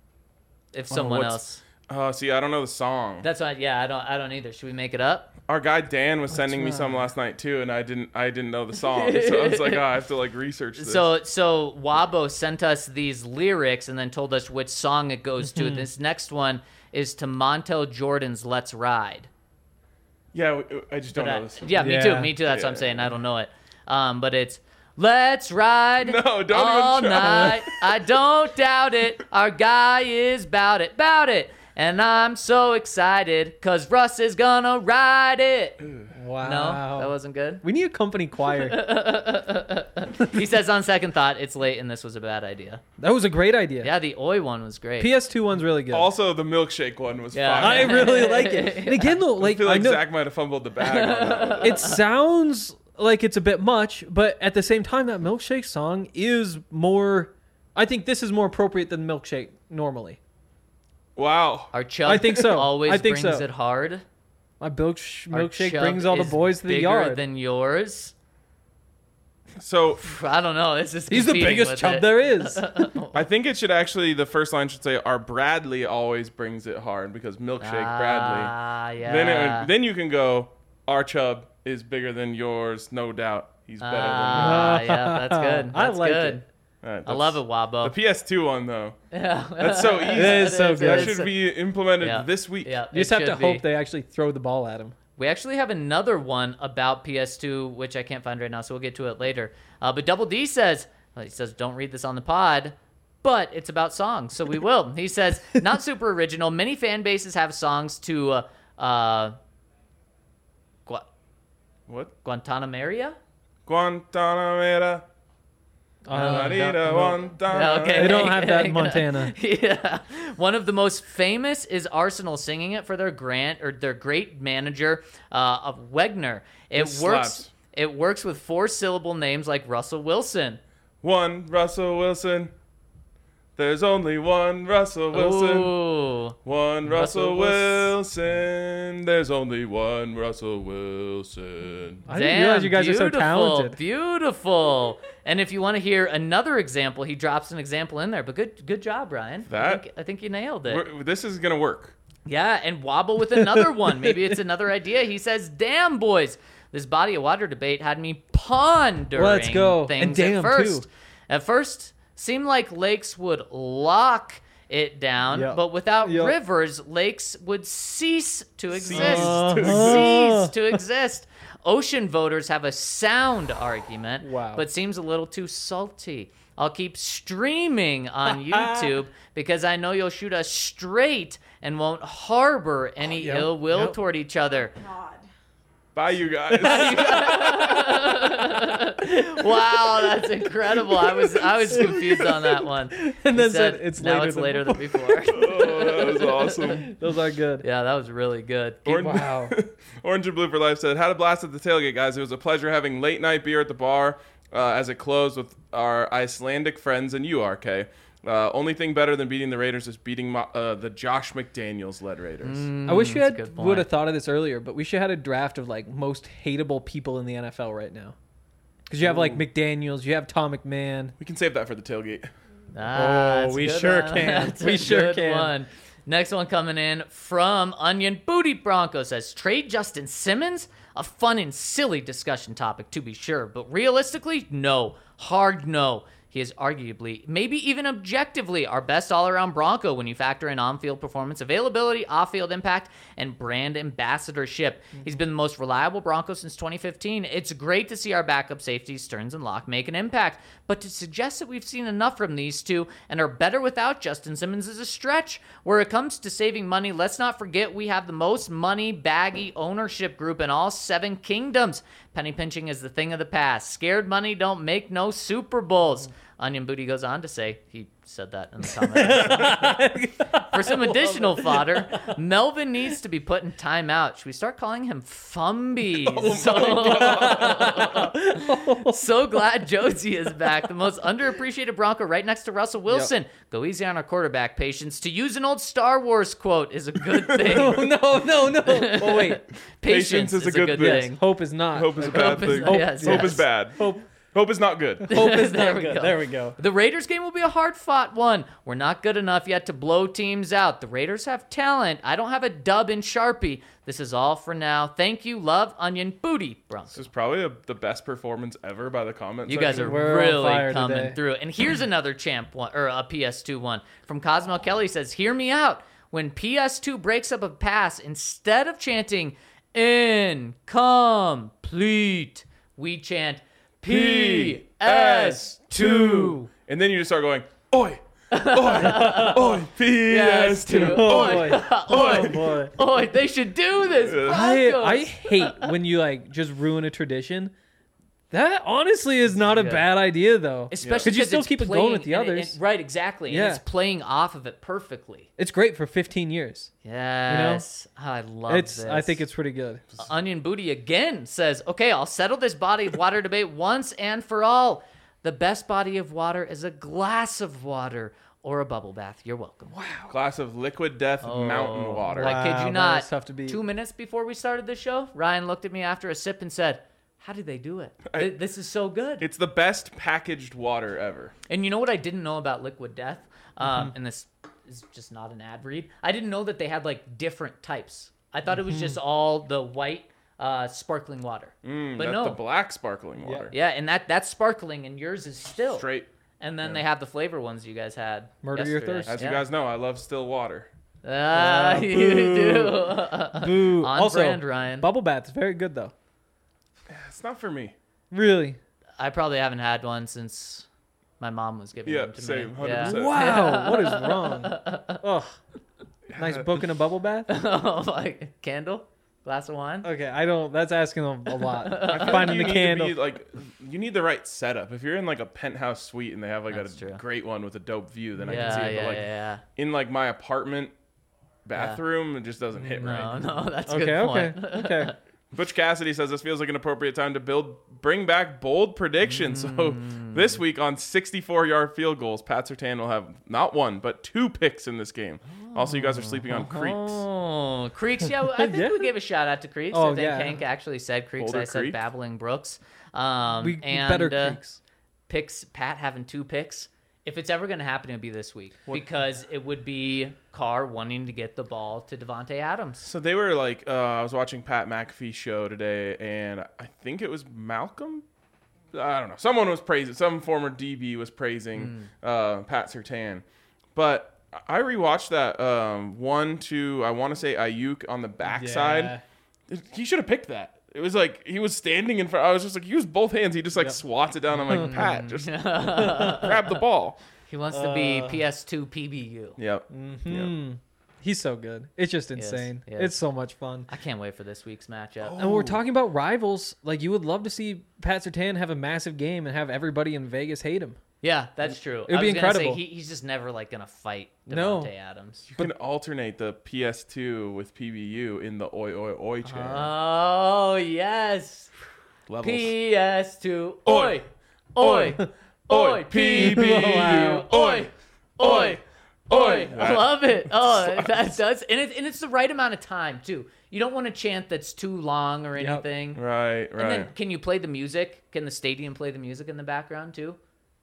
Speaker 4: If someone
Speaker 2: what's-
Speaker 4: else,
Speaker 2: Oh, see, I don't know the song.
Speaker 4: that's why. Yeah, I don't. I don't either. Should we make it up?
Speaker 2: Our guy Dan was sending me some last night too, and I didn't. I didn't know the song, so I was like, oh, I have to like research this.
Speaker 4: So, so Wabo sent us these lyrics and then told us which song it goes to.
Speaker 2: Mm-hmm.
Speaker 4: This next one is to Montel Jordan's "Let's Ride."
Speaker 2: yeah, we- I just don't
Speaker 4: But I-
Speaker 2: know this.
Speaker 4: yeah, me
Speaker 3: Yeah.
Speaker 4: too. Me too. That's what I'm
Speaker 2: Yeah.
Speaker 4: saying. I don't know it. Um, but it's "Let's ride
Speaker 2: No, don't even
Speaker 4: all
Speaker 2: try.
Speaker 4: night." I don't doubt it. Our guy is bout it, bout it. And I'm so excited because Russ is gonna ride it.
Speaker 3: Wow.
Speaker 4: No, that wasn't good.
Speaker 3: We need a company choir.
Speaker 4: He says on second thought, it's late and this was a bad idea.
Speaker 3: That was a great idea.
Speaker 4: Yeah, the Oi one was great.
Speaker 3: P S two one's really good.
Speaker 2: Also, the milkshake one was
Speaker 4: Yeah.
Speaker 2: fine.
Speaker 3: I really like it. And again, though,
Speaker 2: I
Speaker 3: like
Speaker 2: feel
Speaker 3: I
Speaker 2: like
Speaker 3: know
Speaker 2: Zach might have fumbled the bag on that one.
Speaker 3: it sounds like it's a bit much, but at the same time, that milkshake song is more. I think this is more appropriate than milkshake normally.
Speaker 2: Wow.
Speaker 4: Our chub
Speaker 3: I think so.
Speaker 4: always
Speaker 3: I think
Speaker 4: brings
Speaker 3: so.
Speaker 4: it hard.
Speaker 3: My milksh-
Speaker 4: Our
Speaker 3: milkshake
Speaker 4: chub
Speaker 3: brings all the
Speaker 4: is
Speaker 3: boys to the
Speaker 4: bigger
Speaker 3: yard.
Speaker 4: than yours.
Speaker 2: So
Speaker 4: I don't know. This is
Speaker 3: He's the
Speaker 4: competing
Speaker 3: biggest
Speaker 4: with
Speaker 3: chub
Speaker 4: it.
Speaker 3: there is.
Speaker 2: I think it should actually. The first line should say, "Our Bradley always brings it hard," because milkshake Bradley.
Speaker 4: Ah, yeah.
Speaker 2: Then it, then you can go. Our chub is bigger than yours, no doubt. He's better
Speaker 4: Ah, yeah, that's good.
Speaker 3: I
Speaker 4: That's
Speaker 3: like
Speaker 4: good.
Speaker 3: it.
Speaker 2: than you. Alright,
Speaker 4: I love
Speaker 2: that's-
Speaker 4: it, Wabo.
Speaker 2: The P S two one though.
Speaker 4: Yeah.
Speaker 2: That's so easy.
Speaker 3: It is so
Speaker 4: is,
Speaker 3: good.
Speaker 2: That
Speaker 4: it is.
Speaker 2: should be implemented
Speaker 4: Yeah.
Speaker 2: this week.
Speaker 4: Yeah,
Speaker 3: You just
Speaker 4: it
Speaker 3: have to
Speaker 4: should be.
Speaker 3: hope they actually throw the ball at him.
Speaker 4: We actually have another one about P S two, which I can't find right now, so we'll get to it later. Uh, but Double D says, well, he says, don't read this on the pod, but it's about songs, so we will. He says, not super original. Many fan bases have songs to uh, uh, Gu-
Speaker 2: What?
Speaker 4: Guantanamera?
Speaker 2: Guantanamera.
Speaker 3: Uh,
Speaker 2: Marina,
Speaker 3: no, no.
Speaker 2: Guantanamera.
Speaker 4: Okay.
Speaker 3: They don't have that in Montana.
Speaker 4: Yeah. One of the most famous is Arsenal singing it for their grant or their great manager uh, of Wegner. It
Speaker 2: This
Speaker 4: works.
Speaker 2: slaps.
Speaker 4: It works with four syllable names like Russell Wilson.
Speaker 2: One Russell Wilson. There's only one Russell Wilson.
Speaker 4: Ooh.
Speaker 2: One
Speaker 4: Russell
Speaker 2: Russell Wilson. There's only one Russell Wilson.
Speaker 3: I didn't realize you guys are so
Speaker 4: beautiful,
Speaker 3: talented.
Speaker 4: Beautiful. And if you want to hear another example, he drops an example in there. But good, good job, Ryan. I
Speaker 2: That-
Speaker 4: think, I think you nailed it.
Speaker 2: We're, this is gonna work.
Speaker 4: Yeah, and wobble with another one. Maybe it's another idea. He says, "Damn, boys, this body of water debate had me pondering
Speaker 3: Let's go.
Speaker 4: things
Speaker 3: And damn,
Speaker 4: at first.
Speaker 3: too.
Speaker 4: At first, seemed like lakes would lock it down,
Speaker 3: Yep.
Speaker 4: but without
Speaker 3: Yep.
Speaker 4: rivers, lakes would cease to exist.
Speaker 3: to
Speaker 4: Cease to exist. Ocean voters have a sound argument,
Speaker 3: Wow.
Speaker 4: but seems a little too salty. I'll keep streaming on YouTube because I know you'll shoot us straight and won't harbor any
Speaker 3: yep,
Speaker 4: ill will
Speaker 3: yep.
Speaker 4: toward each other."
Speaker 2: Bye, you guys.
Speaker 4: Wow, that's incredible. I was I was confused on that one.
Speaker 3: And
Speaker 4: He
Speaker 3: then said, "It's
Speaker 4: now
Speaker 3: later
Speaker 4: it's
Speaker 3: than
Speaker 4: later than before.
Speaker 2: Oh, that was awesome.
Speaker 3: Those are good.
Speaker 4: Yeah, that was really good.
Speaker 2: Orange,
Speaker 3: Wow.
Speaker 2: Orange and Blue for Life said, had a blast at the tailgate, guys. It was a pleasure having late night beer at the bar uh, as it closed with our Icelandic friends and you, R K. Uh, only thing better than beating the Raiders is beating Mo- uh, the Josh McDaniels led Raiders.
Speaker 3: I wish we
Speaker 4: that's a
Speaker 3: had
Speaker 4: good point.
Speaker 3: would have thought of this earlier, but we should have had a draft of like most hateable people in the N F L right now. Because you have like McDaniels, you have Tom McMahon.
Speaker 2: We can save that for the tailgate.
Speaker 4: Ah, that's a
Speaker 3: we
Speaker 4: good
Speaker 3: sure
Speaker 4: one.
Speaker 3: can.
Speaker 4: That's a
Speaker 3: We sure
Speaker 4: good
Speaker 3: can.
Speaker 4: one. Next one coming in from Onion Booty Bronco says, trade Justin Simmons? A fun and silly discussion topic, to be sure. But realistically, no. Hard no. He is arguably, maybe even objectively, our best all-around Bronco when you factor in on-field performance, availability, off-field impact, and brand ambassadorship. He's been the most reliable Bronco since twenty fifteen. It's great to see our backup safeties, Stearns and Locke, make an impact, but to suggest that we've seen enough from these two and are better without Justin Simmons is a stretch. Where it comes to saving money, let's not forget we have the most money baggy ownership group in all seven kingdoms. Penny pinching is the thing of the past. Scared money don't make no Super Bowls. Onion Booty goes on to say, he said that in the comments. For some additional fodder, Melvin needs to be put in timeout. Should we start calling him Fumby? so, so glad Josie is back. The most underappreciated Bronco right next to Russell Wilson. Go easy on our quarterback, patience. To use an old Star Wars quote is a good thing.
Speaker 3: Oh, no, no, no. Oh, wait.
Speaker 4: Patience, is, a good,
Speaker 3: Yes,
Speaker 4: thing.
Speaker 3: hope is not.
Speaker 2: Hope is a bad
Speaker 4: Hope is-
Speaker 2: thing.
Speaker 4: yes,
Speaker 2: Hope
Speaker 4: yes.
Speaker 2: is bad.
Speaker 3: Hope,
Speaker 2: Hope is not good.
Speaker 3: hope is
Speaker 4: There
Speaker 3: not
Speaker 4: we
Speaker 3: good.
Speaker 4: go.
Speaker 3: There we go.
Speaker 4: The Raiders game will be a hard-fought one. We're not good enough yet to blow teams out. The Raiders have talent. I don't have a dub in Sharpie. This is all for now. Thank you. Love, Onion Booty, Bronco.
Speaker 2: This is probably a, the best performance ever by the comments.
Speaker 4: You guys are
Speaker 2: section.
Speaker 3: We're on
Speaker 4: really
Speaker 3: fire
Speaker 4: coming
Speaker 3: today.
Speaker 4: through. And here's another champ one, or a P S two one from Cosmo Kelly says, hear me out. When P S two breaks up a pass, instead of chanting incomplete, we chant P S two.
Speaker 2: And then you just start going, oi, oi, oi, P S two,
Speaker 3: Oh,
Speaker 2: oi.
Speaker 3: boy. Oh, boy.
Speaker 4: Oh, they should do this.
Speaker 3: I,
Speaker 4: Broncos.
Speaker 3: I hate when you like just ruin a tradition. That honestly is not a
Speaker 4: Yeah.
Speaker 3: bad idea, though.
Speaker 4: Especially
Speaker 3: because you still
Speaker 4: it's
Speaker 3: keep it
Speaker 4: playing-
Speaker 3: going with the
Speaker 4: and it-
Speaker 3: others.
Speaker 4: and- right, exactly.
Speaker 3: Yeah.
Speaker 4: And it's playing off of it perfectly.
Speaker 3: It's great for fifteen years.
Speaker 4: Yes. I love
Speaker 3: It's.
Speaker 4: this.
Speaker 3: I think it's pretty good.
Speaker 4: Onion Booty again says, okay, I'll settle this body of water debate once and for all. The best body of water is a glass of water or a bubble bath. You're welcome. Wow.
Speaker 2: Glass of liquid death mountain water.
Speaker 4: I kid
Speaker 3: Wow,
Speaker 4: you
Speaker 3: that
Speaker 4: not.
Speaker 3: was tough to beat.
Speaker 4: Two minutes before we started the show, Ryan looked at me after a sip and said, how did they do it? Th- this is so good.
Speaker 2: It's the best packaged water ever.
Speaker 4: And you know what I didn't know about Liquid Death? Um,
Speaker 3: Mm-hmm.
Speaker 4: And this is just not an ad read. I didn't know that they had like different types. I thought it was just all the white uh, sparkling water.
Speaker 2: Mm,
Speaker 4: but
Speaker 2: that's
Speaker 4: no.
Speaker 2: the black sparkling water.
Speaker 4: Yeah, and that that's sparkling, and yours is still.
Speaker 2: Straight.
Speaker 4: And then they have the flavor ones you guys had.
Speaker 3: Murder your
Speaker 4: yesterday.
Speaker 3: thirst.
Speaker 2: As
Speaker 4: Yeah.
Speaker 2: you guys know, I love still water.
Speaker 4: Ah,
Speaker 3: Uh,
Speaker 4: you
Speaker 3: boo.
Speaker 4: do.
Speaker 3: Boo.
Speaker 4: On
Speaker 3: also,
Speaker 4: brand, Ryan.
Speaker 3: bubble baths very good though.
Speaker 2: It's not for me.
Speaker 3: Really?
Speaker 4: I probably haven't had one since my mom was giving
Speaker 2: Yeah,
Speaker 4: them to
Speaker 2: same,
Speaker 4: me.
Speaker 2: one hundred percent.
Speaker 3: Wow. What is wrong? Ugh. Nice book and a bubble bath.
Speaker 4: Oh, like candle, glass of wine.
Speaker 3: Okay, I don't. That's asking a, a lot.
Speaker 2: I feel
Speaker 3: Finding
Speaker 2: like
Speaker 3: the
Speaker 2: you need
Speaker 3: candle.
Speaker 2: to be, like, you need the right setup. If you're in like a penthouse suite and they have like
Speaker 4: That's
Speaker 2: a
Speaker 4: true.
Speaker 2: great one with a dope view, then I
Speaker 4: yeah,
Speaker 2: can see it.
Speaker 4: yeah,
Speaker 2: But like
Speaker 4: yeah,
Speaker 2: in like my apartment bathroom, it just doesn't
Speaker 4: yeah.
Speaker 2: hit
Speaker 4: No,
Speaker 2: right.
Speaker 4: no, that's a
Speaker 3: Okay,
Speaker 4: good
Speaker 3: okay,
Speaker 4: point.
Speaker 3: okay.
Speaker 2: Butch Cassidy says this feels like an appropriate time to build, bring back bold predictions. So this week on sixty-four yard field goals, Pat Surtain will have not one but two picks in this game. Also, you guys are sleeping on Creeks.
Speaker 4: Oh, Creeks. Yeah, I think
Speaker 3: Yeah.
Speaker 4: we gave a shout out to Creeks.
Speaker 3: Oh,
Speaker 4: I think
Speaker 3: yeah.
Speaker 4: Hank actually said Creeks.
Speaker 2: Boulder
Speaker 4: I said
Speaker 2: Creek.
Speaker 4: Babbling Brooks. Um,
Speaker 3: We, we
Speaker 4: and,
Speaker 3: better
Speaker 4: uh,
Speaker 3: creeks.
Speaker 4: picks. Pat having two picks. If it's ever going to happen, it'll be this week because it would be Carr wanting to get the ball to Devontae Adams.
Speaker 2: So they were like, uh, I was watching Pat McAfee's show today, and I think it was Malcolm. I don't know. Someone was praising, some former D B was praising uh, Pat Surtain. But I rewatched that um, one to, I want to say Ayuk on the backside.
Speaker 3: Yeah.
Speaker 2: He should have picked that. It was like he was standing in front. I was just like, use both hands. He just like
Speaker 3: Yep.
Speaker 2: swats it down. I'm like, Pat, just grab the ball.
Speaker 4: He wants to be
Speaker 3: Uh,
Speaker 4: P S two P B U.
Speaker 2: Yep.
Speaker 3: Hmm. He's so good. It's just
Speaker 4: Yes,
Speaker 3: insane.
Speaker 4: yes.
Speaker 3: It's so much fun.
Speaker 4: I can't wait for this week's matchup.
Speaker 3: And when we're talking about rivals, like you would love to see Pat Surtain have a massive game and have everybody in Vegas hate him.
Speaker 4: Yeah, that's true.
Speaker 3: It would
Speaker 4: I
Speaker 3: be
Speaker 4: was gonna
Speaker 3: incredible.
Speaker 4: Say, he, he's just never like gonna fight
Speaker 3: No.
Speaker 4: Devontae Adams.
Speaker 2: You can alternate the P S two with P B U in the oi oi oi channel.
Speaker 4: Oh yes,
Speaker 2: Levels.
Speaker 4: P S two.
Speaker 2: Oi.
Speaker 4: Oi, oi, oi,
Speaker 2: P B U.
Speaker 3: Wow.
Speaker 4: oi, oi, oi. I
Speaker 2: That-
Speaker 4: love it. Oh, that does, and it, and it's the right amount of time too. You don't want a chant that's too long or
Speaker 3: Yep.
Speaker 4: anything.
Speaker 2: Right, right.
Speaker 4: And then, can you play the music? Can the stadium play the music in the background too?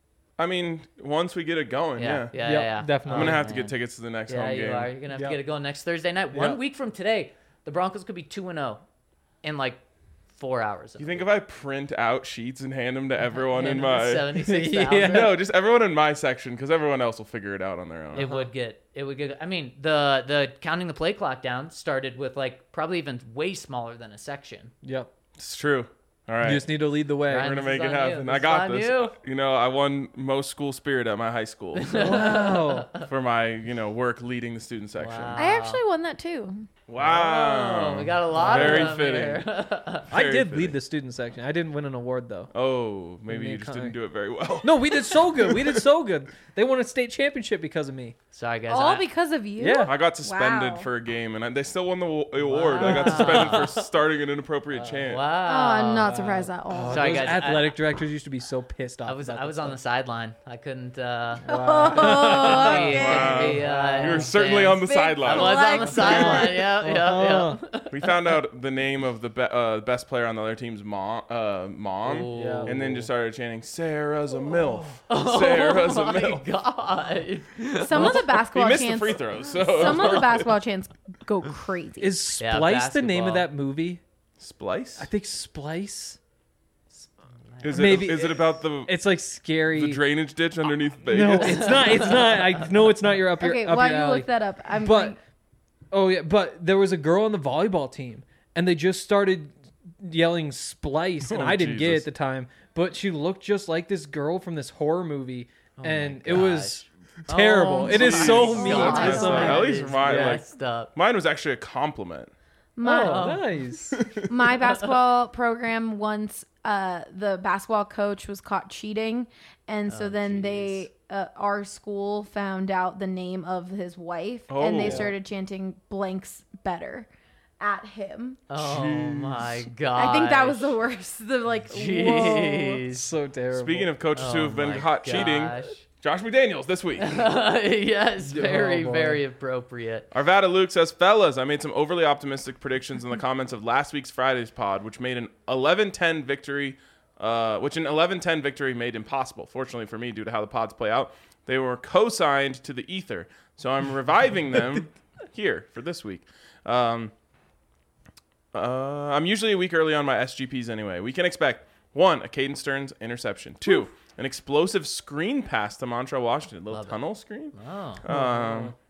Speaker 2: I mean, once we get it going,
Speaker 4: Yeah,
Speaker 2: yeah.
Speaker 4: yeah,
Speaker 3: Yep,
Speaker 4: yeah.
Speaker 3: definitely.
Speaker 2: I'm gonna
Speaker 4: Oh,
Speaker 2: have to
Speaker 4: man.
Speaker 2: get tickets to the next
Speaker 4: Yeah,
Speaker 2: home
Speaker 4: you
Speaker 2: game.
Speaker 4: are. You're gonna have
Speaker 3: Yep.
Speaker 4: to get it going next Thursday night. One
Speaker 3: Yep.
Speaker 4: week from today, the Broncos could be two and zero in like four hours.
Speaker 2: You think if I print out sheets and hand them to everyone in my
Speaker 4: seventy-six
Speaker 3: Yeah.
Speaker 4: thousand?
Speaker 2: no, just everyone in my section because everyone else will figure it out on their own.
Speaker 4: It would get. It would get. I mean, the the counting the play clock down started with like probably even way smaller than a section.
Speaker 3: Yep.
Speaker 2: It's true. All right.
Speaker 3: You just need to lead the way.
Speaker 4: Ryan,
Speaker 2: We're gonna
Speaker 4: this
Speaker 2: make
Speaker 4: is
Speaker 2: it
Speaker 4: on you.
Speaker 2: happen.
Speaker 4: This
Speaker 2: I
Speaker 4: is
Speaker 2: got
Speaker 4: on
Speaker 2: this.
Speaker 4: you.
Speaker 2: You know, I won most school spirit at my high school so
Speaker 3: Wow.
Speaker 2: for my, you know, work leading the student section.
Speaker 4: Wow.
Speaker 5: I actually won that too.
Speaker 2: Wow.
Speaker 4: Oh, we got a lot
Speaker 2: Very
Speaker 4: of them
Speaker 2: fitting.
Speaker 4: here.
Speaker 3: I
Speaker 2: Very
Speaker 3: did
Speaker 2: fitting.
Speaker 3: lead the student section. I didn't win an award though.
Speaker 2: Oh, maybe
Speaker 3: made
Speaker 2: you just
Speaker 3: con-
Speaker 2: didn't do it very well.
Speaker 3: No, we did so good. We did so good. They won a state championship because of me.
Speaker 4: Sorry, guys.
Speaker 5: All
Speaker 4: I-
Speaker 5: because of you?
Speaker 3: Yeah.
Speaker 2: I got suspended
Speaker 5: Wow.
Speaker 2: for a game, and I, they still won the wa- award. I got suspended for starting an inappropriate chant.
Speaker 5: Oh,
Speaker 4: wow.
Speaker 5: I'm not surprised at all.
Speaker 4: Sorry,
Speaker 3: Those
Speaker 4: guys, I-
Speaker 3: athletic directors used to be so pissed off.
Speaker 4: I was
Speaker 3: about
Speaker 4: I was
Speaker 3: that
Speaker 4: on the
Speaker 3: stuff.
Speaker 4: sideline. I couldn't. Uh,
Speaker 5: Oh,
Speaker 4: couldn't be-
Speaker 5: okay.
Speaker 4: couldn't be, uh,
Speaker 2: You were
Speaker 4: in
Speaker 2: certainly on the
Speaker 5: Big
Speaker 2: sideline.
Speaker 4: I was on the
Speaker 5: Flex.
Speaker 4: sideline. Yeah, yeah,
Speaker 3: Uh-huh.
Speaker 4: yeah.
Speaker 2: We found out the name of the be- uh, best player on the other team's mom, uh, mom,
Speaker 3: Yeah.
Speaker 2: and then just started chanting, "Sarah's a milf, Sarah's a
Speaker 4: Oh my
Speaker 2: milf."
Speaker 4: god.
Speaker 5: Some of the
Speaker 2: He
Speaker 5: basketball
Speaker 2: missed the
Speaker 5: chants.
Speaker 2: free throws. So
Speaker 5: Some of the basketball chants go crazy.
Speaker 3: Is
Speaker 4: Yeah,
Speaker 3: Splice the name of
Speaker 4: basketball.
Speaker 3: that movie?
Speaker 2: Splice.
Speaker 3: I think Splice.
Speaker 2: Is it
Speaker 3: maybe-
Speaker 2: is it about the
Speaker 3: It's like scary.
Speaker 2: the drainage ditch underneath
Speaker 3: no,
Speaker 2: Vegas?
Speaker 3: it's not. It's not. I know it's not your up your
Speaker 5: Okay,
Speaker 3: up
Speaker 5: while
Speaker 3: your
Speaker 5: you
Speaker 3: alley.
Speaker 5: look that up, I'm
Speaker 3: But
Speaker 5: going,
Speaker 3: oh yeah, but there was a girl on the volleyball team, and they just started yelling "Splice," and
Speaker 2: Oh,
Speaker 3: I didn't get it
Speaker 2: Jesus.
Speaker 3: at the time. But she looked just like this girl from this horror movie,
Speaker 4: Oh
Speaker 3: and it was
Speaker 4: gosh.
Speaker 3: terrible.
Speaker 4: Oh
Speaker 3: it is
Speaker 4: my
Speaker 3: so
Speaker 5: God.
Speaker 3: mean
Speaker 5: That's
Speaker 3: to
Speaker 5: right.
Speaker 3: someone.
Speaker 2: At least
Speaker 4: It's
Speaker 2: mine, like-
Speaker 4: messed up.
Speaker 2: Mine was actually a compliment.
Speaker 5: my,
Speaker 3: Oh, nice.
Speaker 5: my basketball program once uh, the basketball coach was caught cheating, and so
Speaker 4: Oh,
Speaker 5: then
Speaker 4: jeez.
Speaker 5: they uh, our school found out the name of his wife, and they
Speaker 2: Oh.
Speaker 5: started chanting blanks better at him.
Speaker 4: Oh my god.
Speaker 5: I think that was the worst. The like, whoa.
Speaker 3: It's
Speaker 4: Jeez.
Speaker 3: so terrible.
Speaker 2: Speaking of coaches who
Speaker 4: Oh
Speaker 2: have been
Speaker 4: my
Speaker 2: caught cheating,
Speaker 4: gosh.
Speaker 2: Josh McDaniels this week.
Speaker 4: Yes, very,
Speaker 3: Oh, boy.
Speaker 4: very appropriate.
Speaker 2: Arvada Luke says, fellas, I made some overly optimistic predictions in the comments of last week's Friday's pod, which made an eleven ten victory, uh, which an eleven ten victory made impossible. Fortunately for me, due to how the pods play out, they were co-signed to the ether. So I'm reviving them here for this week. Um, uh, I'm usually a week early on my S G Ps anyway. We can expect, one, a Caden Stearns interception. Two, an explosive screen pass to Montrell Washington. A little
Speaker 4: Love it.
Speaker 2: tunnel screen.
Speaker 4: Oh.
Speaker 2: Um,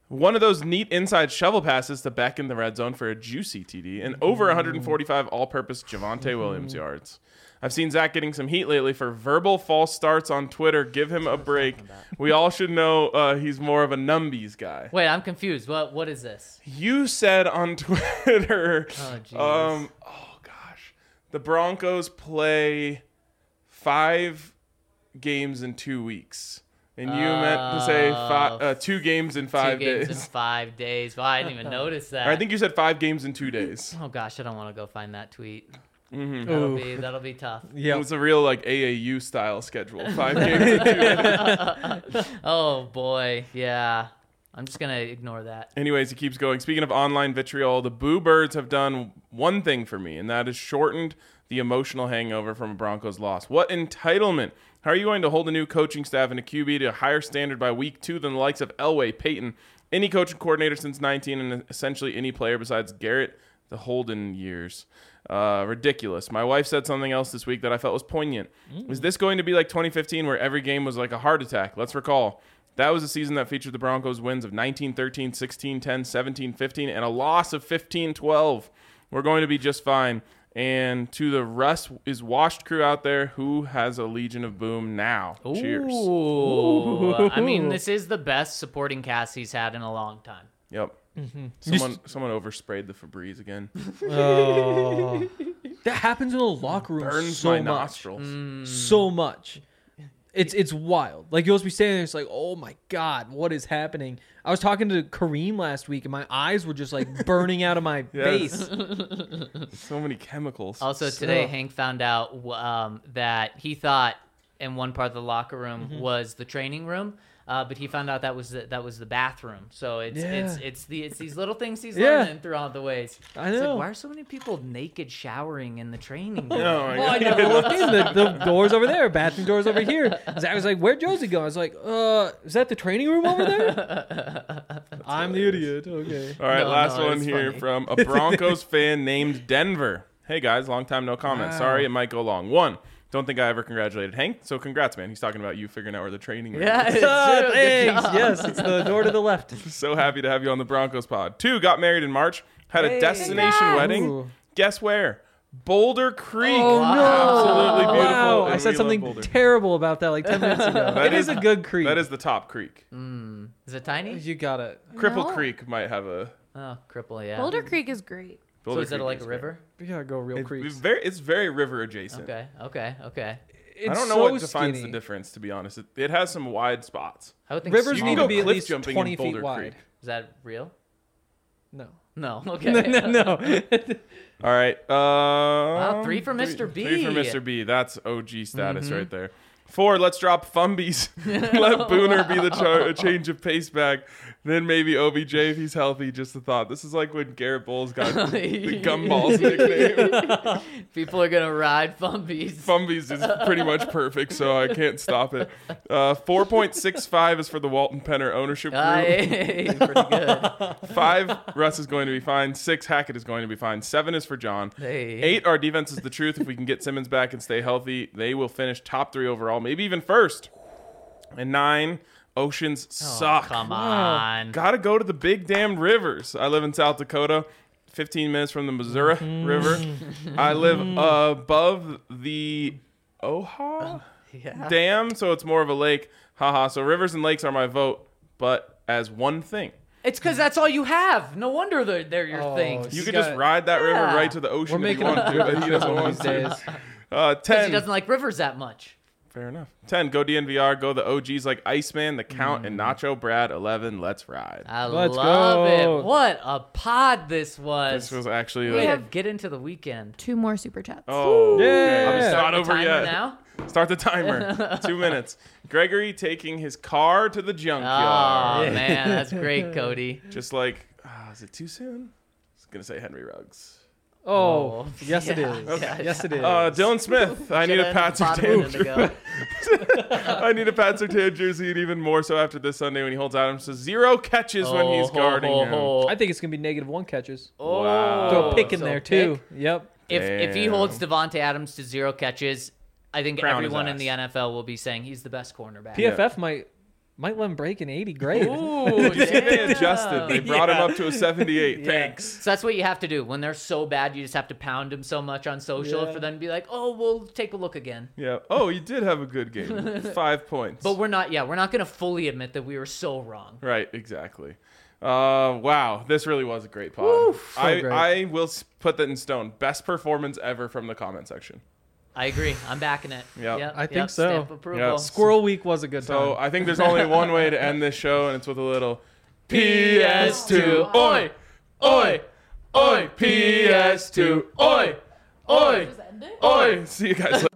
Speaker 2: One of those neat inside shovel passes to Beck in the red zone for a juicy T D, and over one forty-five all-purpose Javonte Williams yards. I've seen Zach getting some heat lately for verbal false starts on Twitter. Give him a break. We all should know uh, he's more of a numbies guy.
Speaker 4: Wait, I'm confused. What What is this?
Speaker 2: You said on Twitter,
Speaker 4: Oh, Jesus.
Speaker 2: um, oh gosh, the Broncos play five games in two weeks. And you meant to say five, uh, two games in five
Speaker 4: Two games
Speaker 2: days.
Speaker 4: in five days. Well, I didn't even notice that.
Speaker 2: Or I think you said five games in two days.
Speaker 4: Oh gosh, I don't want to go find that tweet.
Speaker 2: Mm-hmm.
Speaker 4: That'll
Speaker 3: Ooh.
Speaker 4: be that'll be tough.
Speaker 2: It
Speaker 3: Yeah.
Speaker 2: was a real like A A U style schedule. Five games in two days.
Speaker 4: Oh boy, yeah. I'm just gonna ignore that.
Speaker 2: Anyways, he keeps going. Speaking of online vitriol, the Boo Birds have done one thing for me, and that is shortened the emotional hangover from a Broncos loss. What entitlement! How are you going to hold a new coaching staff and a Q B to a higher standard by week two than the likes of Elway, Peyton, any coaching coordinator since nineteen, and essentially any player besides Garrett, the Holden years? Uh, ridiculous. My wife said something else this week that I felt was poignant. Mm. Is this going to be like twenty fifteen where every game was like a heart attack? Let's recall. That was a season that featured the Broncos' wins of nineteen thirteen, sixteen ten, seventeen fifteen, and a loss of fifteen twelve. We're going to be just fine. And to the Russ is washed crew out there, who has a Legion of Boom now? Cheers.
Speaker 4: Ooh. I mean, this is the best supporting cast he's had in a long time.
Speaker 2: Yep. Mm-hmm. Someone someone oversprayed the Febreze again.
Speaker 3: Oh. That happens in the locker room
Speaker 2: Burns
Speaker 3: so
Speaker 2: my
Speaker 3: much.
Speaker 2: nostrils.
Speaker 3: So much. It's it's wild. Like, you'll just be standing there, it's like, oh my God, what is happening? I was talking to Kareem last week, and my eyes were just like burning out of my
Speaker 2: Yes.
Speaker 3: face.
Speaker 2: So many chemicals.
Speaker 4: Also today,
Speaker 3: So-
Speaker 4: Hank found out um, that he thought in one part of the locker room
Speaker 3: Mm-hmm.
Speaker 4: was the training room, uh, but he found out that was the, that was the bathroom. So it's
Speaker 3: Yeah.
Speaker 4: it's it's the it's these little things he's
Speaker 3: Yeah.
Speaker 4: learning throughout the ways.
Speaker 3: I
Speaker 4: It's
Speaker 3: know.
Speaker 4: like, why are so many people naked showering in the training room?
Speaker 2: Oh, my
Speaker 3: Well, I
Speaker 2: God.
Speaker 3: never looked in. The, the door's over there. Bathroom door's over here. Zach was like, where'd Josie go? I was like, uh, is that the training room over there? I'm the idiot. Okay.
Speaker 2: All right,
Speaker 4: No,
Speaker 2: last
Speaker 4: no,
Speaker 2: one
Speaker 4: it's
Speaker 2: here
Speaker 4: funny.
Speaker 2: from a Broncos fan named Denver. Hey, guys, long time no comment.
Speaker 3: Wow.
Speaker 2: Sorry, it might go long. One, don't think I ever congratulated Hank, so congrats, man. He's talking about you figuring out where the training room
Speaker 4: Yeah,
Speaker 2: is.
Speaker 4: it's
Speaker 3: Ah,
Speaker 4: true. Good
Speaker 3: thanks.
Speaker 4: job.
Speaker 3: Yes, it's the door to the left.
Speaker 2: So happy to have you on the Broncos pod. Two, got married in March, had a
Speaker 4: Hey.
Speaker 2: destination
Speaker 5: Congrats.
Speaker 2: wedding.
Speaker 3: Ooh.
Speaker 2: Guess where? Boulder Creek.
Speaker 3: Oh, no.
Speaker 2: Absolutely beautiful.
Speaker 3: Wow.
Speaker 2: and
Speaker 3: I
Speaker 2: we
Speaker 3: said
Speaker 2: love
Speaker 3: something
Speaker 2: Boulder.
Speaker 3: terrible about that like ten minutes ago.
Speaker 2: That
Speaker 3: It is
Speaker 2: is-
Speaker 3: a good creek.
Speaker 2: That is the top creek.
Speaker 4: Is it tiny?
Speaker 3: You got it.
Speaker 2: Cripple
Speaker 5: No.
Speaker 2: Creek might have a.
Speaker 4: Oh, cripple, yeah.
Speaker 5: Boulder Creek is great.
Speaker 4: So
Speaker 2: Boulder
Speaker 4: is it
Speaker 2: Creek
Speaker 4: like a
Speaker 2: great.
Speaker 4: river?
Speaker 3: We gotta go real
Speaker 2: It's,
Speaker 3: creeks.
Speaker 2: it's very, it's very river adjacent.
Speaker 4: Okay, okay, okay.
Speaker 3: It's
Speaker 2: I don't know
Speaker 3: so
Speaker 2: what defines
Speaker 3: skinny.
Speaker 2: the difference, to be honest. It, it has some wide spots.
Speaker 4: I would think
Speaker 3: Rivers
Speaker 2: You
Speaker 3: need
Speaker 2: can
Speaker 3: to
Speaker 2: go
Speaker 3: be at
Speaker 2: cliff
Speaker 3: least
Speaker 2: jumping in
Speaker 3: twenty
Speaker 2: Boulder
Speaker 3: feet wide.
Speaker 2: Creek.
Speaker 4: Is that real?
Speaker 3: No.
Speaker 4: No. Okay.
Speaker 3: no, no.
Speaker 2: All right. Uh, wow,
Speaker 4: three for Mister B.
Speaker 2: Three for Mister B. That's O G status right there. Four, let's drop Fumbies. Let Booner be the char- change of pace back. Then maybe O B J if he's healthy. Just a thought. This is like when Garrett Bowles got the, the Gumballs nickname.
Speaker 4: People are gonna ride Fumbies.
Speaker 2: Fumbies is pretty much perfect, so I can't stop it. Uh, four point six five is for the Walton Penner ownership group.
Speaker 4: Aye, pretty good.
Speaker 2: Five, Russ is going to be fine. Six, Hackett is going to be fine. Seven is for John.
Speaker 4: Hey.
Speaker 2: Eight, our defense is the truth. If we can get Simmons back and stay healthy, they will finish top three overall, maybe even first. And nine, Oceans suck.
Speaker 4: Oh, come on.
Speaker 2: Gotta go to the big damn rivers. I live in South Dakota, fifteen minutes from the Missouri River. I live above the Oha
Speaker 4: Yeah.
Speaker 2: Dam, so it's more of a lake. Haha. So rivers and lakes are my vote, but as one thing.
Speaker 4: It's because that's all you have. No wonder they're, they're your
Speaker 3: Oh,
Speaker 4: things.
Speaker 2: You
Speaker 3: You
Speaker 2: could
Speaker 3: got-
Speaker 2: just ride that river
Speaker 4: Yeah.
Speaker 2: right to the ocean
Speaker 3: We're
Speaker 2: if you
Speaker 3: making
Speaker 2: want to, but he doesn't want
Speaker 3: these
Speaker 2: to.
Speaker 3: days.
Speaker 2: Uh,
Speaker 4: Because
Speaker 2: ten.
Speaker 4: he doesn't like rivers that much.
Speaker 2: Fair enough. ten. Go D N V R. Go the O Gs like Iceman, the Count, and Nacho Brad. eleven. Let's ride.
Speaker 4: I
Speaker 3: Let's
Speaker 4: love
Speaker 3: go.
Speaker 4: it. What a pod this was.
Speaker 2: This was actually
Speaker 4: Way
Speaker 2: like,
Speaker 4: to
Speaker 5: have-
Speaker 4: get into the weekend.
Speaker 5: Two more super chats.
Speaker 2: oh,
Speaker 3: Yeah.
Speaker 2: okay.
Speaker 3: Are we
Speaker 2: It's
Speaker 4: Start
Speaker 2: not
Speaker 4: the
Speaker 2: over
Speaker 4: timer
Speaker 2: yet.
Speaker 4: now?
Speaker 2: Start the timer. Two minutes. Gregory taking his car to the
Speaker 4: Oh,
Speaker 2: junkyard.
Speaker 4: man. That's great, Cody.
Speaker 2: Just like, ah, is it too soon? I was gonna say Henry Ruggs.
Speaker 3: Oh,
Speaker 4: Oh,
Speaker 3: yes, it
Speaker 4: yeah,
Speaker 3: is.
Speaker 4: yeah,
Speaker 3: yes, it is.
Speaker 2: Uh, Dylan Smith. I need a Pat Surtain.
Speaker 4: Surtain.
Speaker 2: I need a Pat Surtain jersey, and even more so after this Sunday when he holds Adams to zero catches when he's guarding him.
Speaker 3: I think it's gonna be negative one catches.
Speaker 4: Oh,
Speaker 2: Wow.
Speaker 3: Throw a pick in
Speaker 4: so
Speaker 3: there
Speaker 4: pick.
Speaker 3: too. Yep.
Speaker 4: If if he
Speaker 2: Damn.
Speaker 4: holds Devontae Adams to zero catches, I think
Speaker 2: Crown his
Speaker 4: everyone in
Speaker 2: ass.
Speaker 4: the N F L will be saying he's the best cornerback.
Speaker 3: P F F might Might let him break an eighty. Great.
Speaker 4: Ooh,
Speaker 2: You see, they
Speaker 4: damn.
Speaker 2: adjusted. They brought him
Speaker 3: Yeah.
Speaker 2: up to a seventy-eight.
Speaker 4: Yeah.
Speaker 2: Thanks.
Speaker 4: So that's what you have to do. When they're so bad, you just have to pound them so much on social
Speaker 3: Yeah.
Speaker 4: for them to be like, oh, we'll take a look again.
Speaker 2: Yeah. Oh, you did have a good game. Five points.
Speaker 4: But we're not, yeah, we're not going to fully admit that we were so wrong.
Speaker 2: Right, exactly. Uh, wow, this really was a great pod.
Speaker 3: Woo, so
Speaker 2: I,
Speaker 3: great.
Speaker 2: I will s- put that in stone. Best performance ever from the comment section.
Speaker 4: I agree. I'm backing it.
Speaker 2: Yep.
Speaker 4: Yep,
Speaker 3: I think
Speaker 4: yep,
Speaker 3: so.
Speaker 4: Stamp approval.
Speaker 2: Yeah.
Speaker 3: Squirrel Week was a good
Speaker 2: So
Speaker 3: time.
Speaker 2: I think there's only one way to end this show, and it's with a little
Speaker 4: P S two. Oi! Oi! Oi! P S two. Oi! Oi!
Speaker 5: Just end it?
Speaker 2: Oi! See you guys later.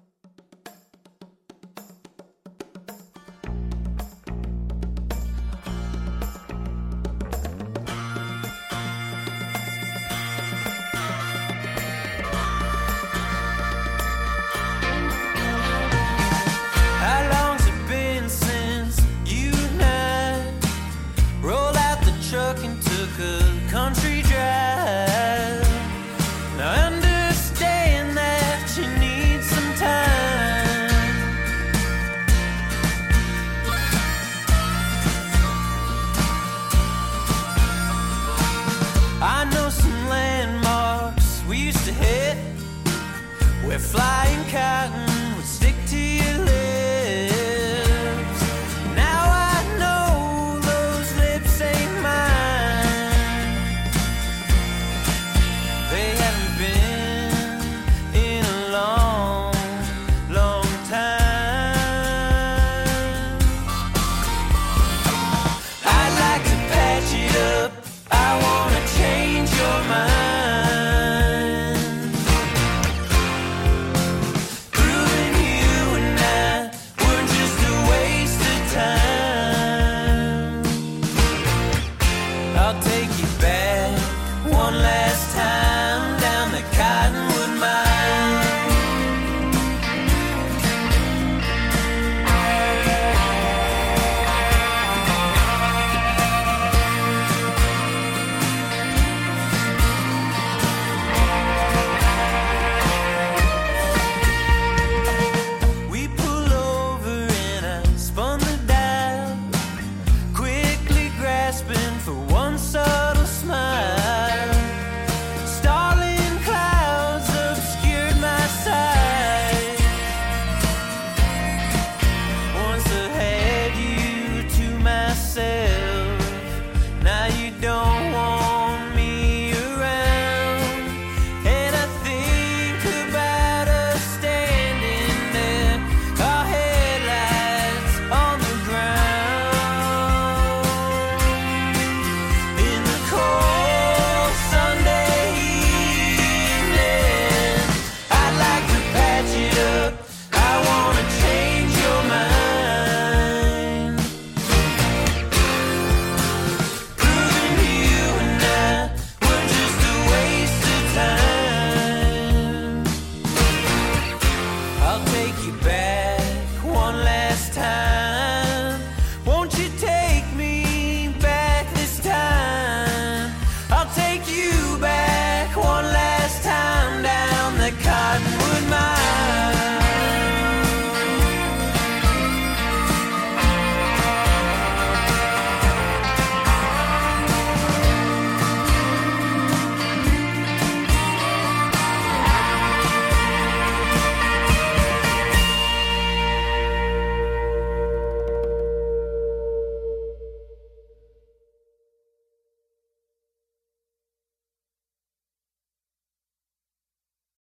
Speaker 1: How long's it been since you and I rolled out the truck and took a country drive? Now I understand that you need some time. I know some landmarks we used to hit where flying cotton would stick to your lips. Now I know those lips ain't mine. They haven't been in a long, long time. I'd like to patch it up. I wanna change your mind. Proving you and I were just a waste of time. I'll take you back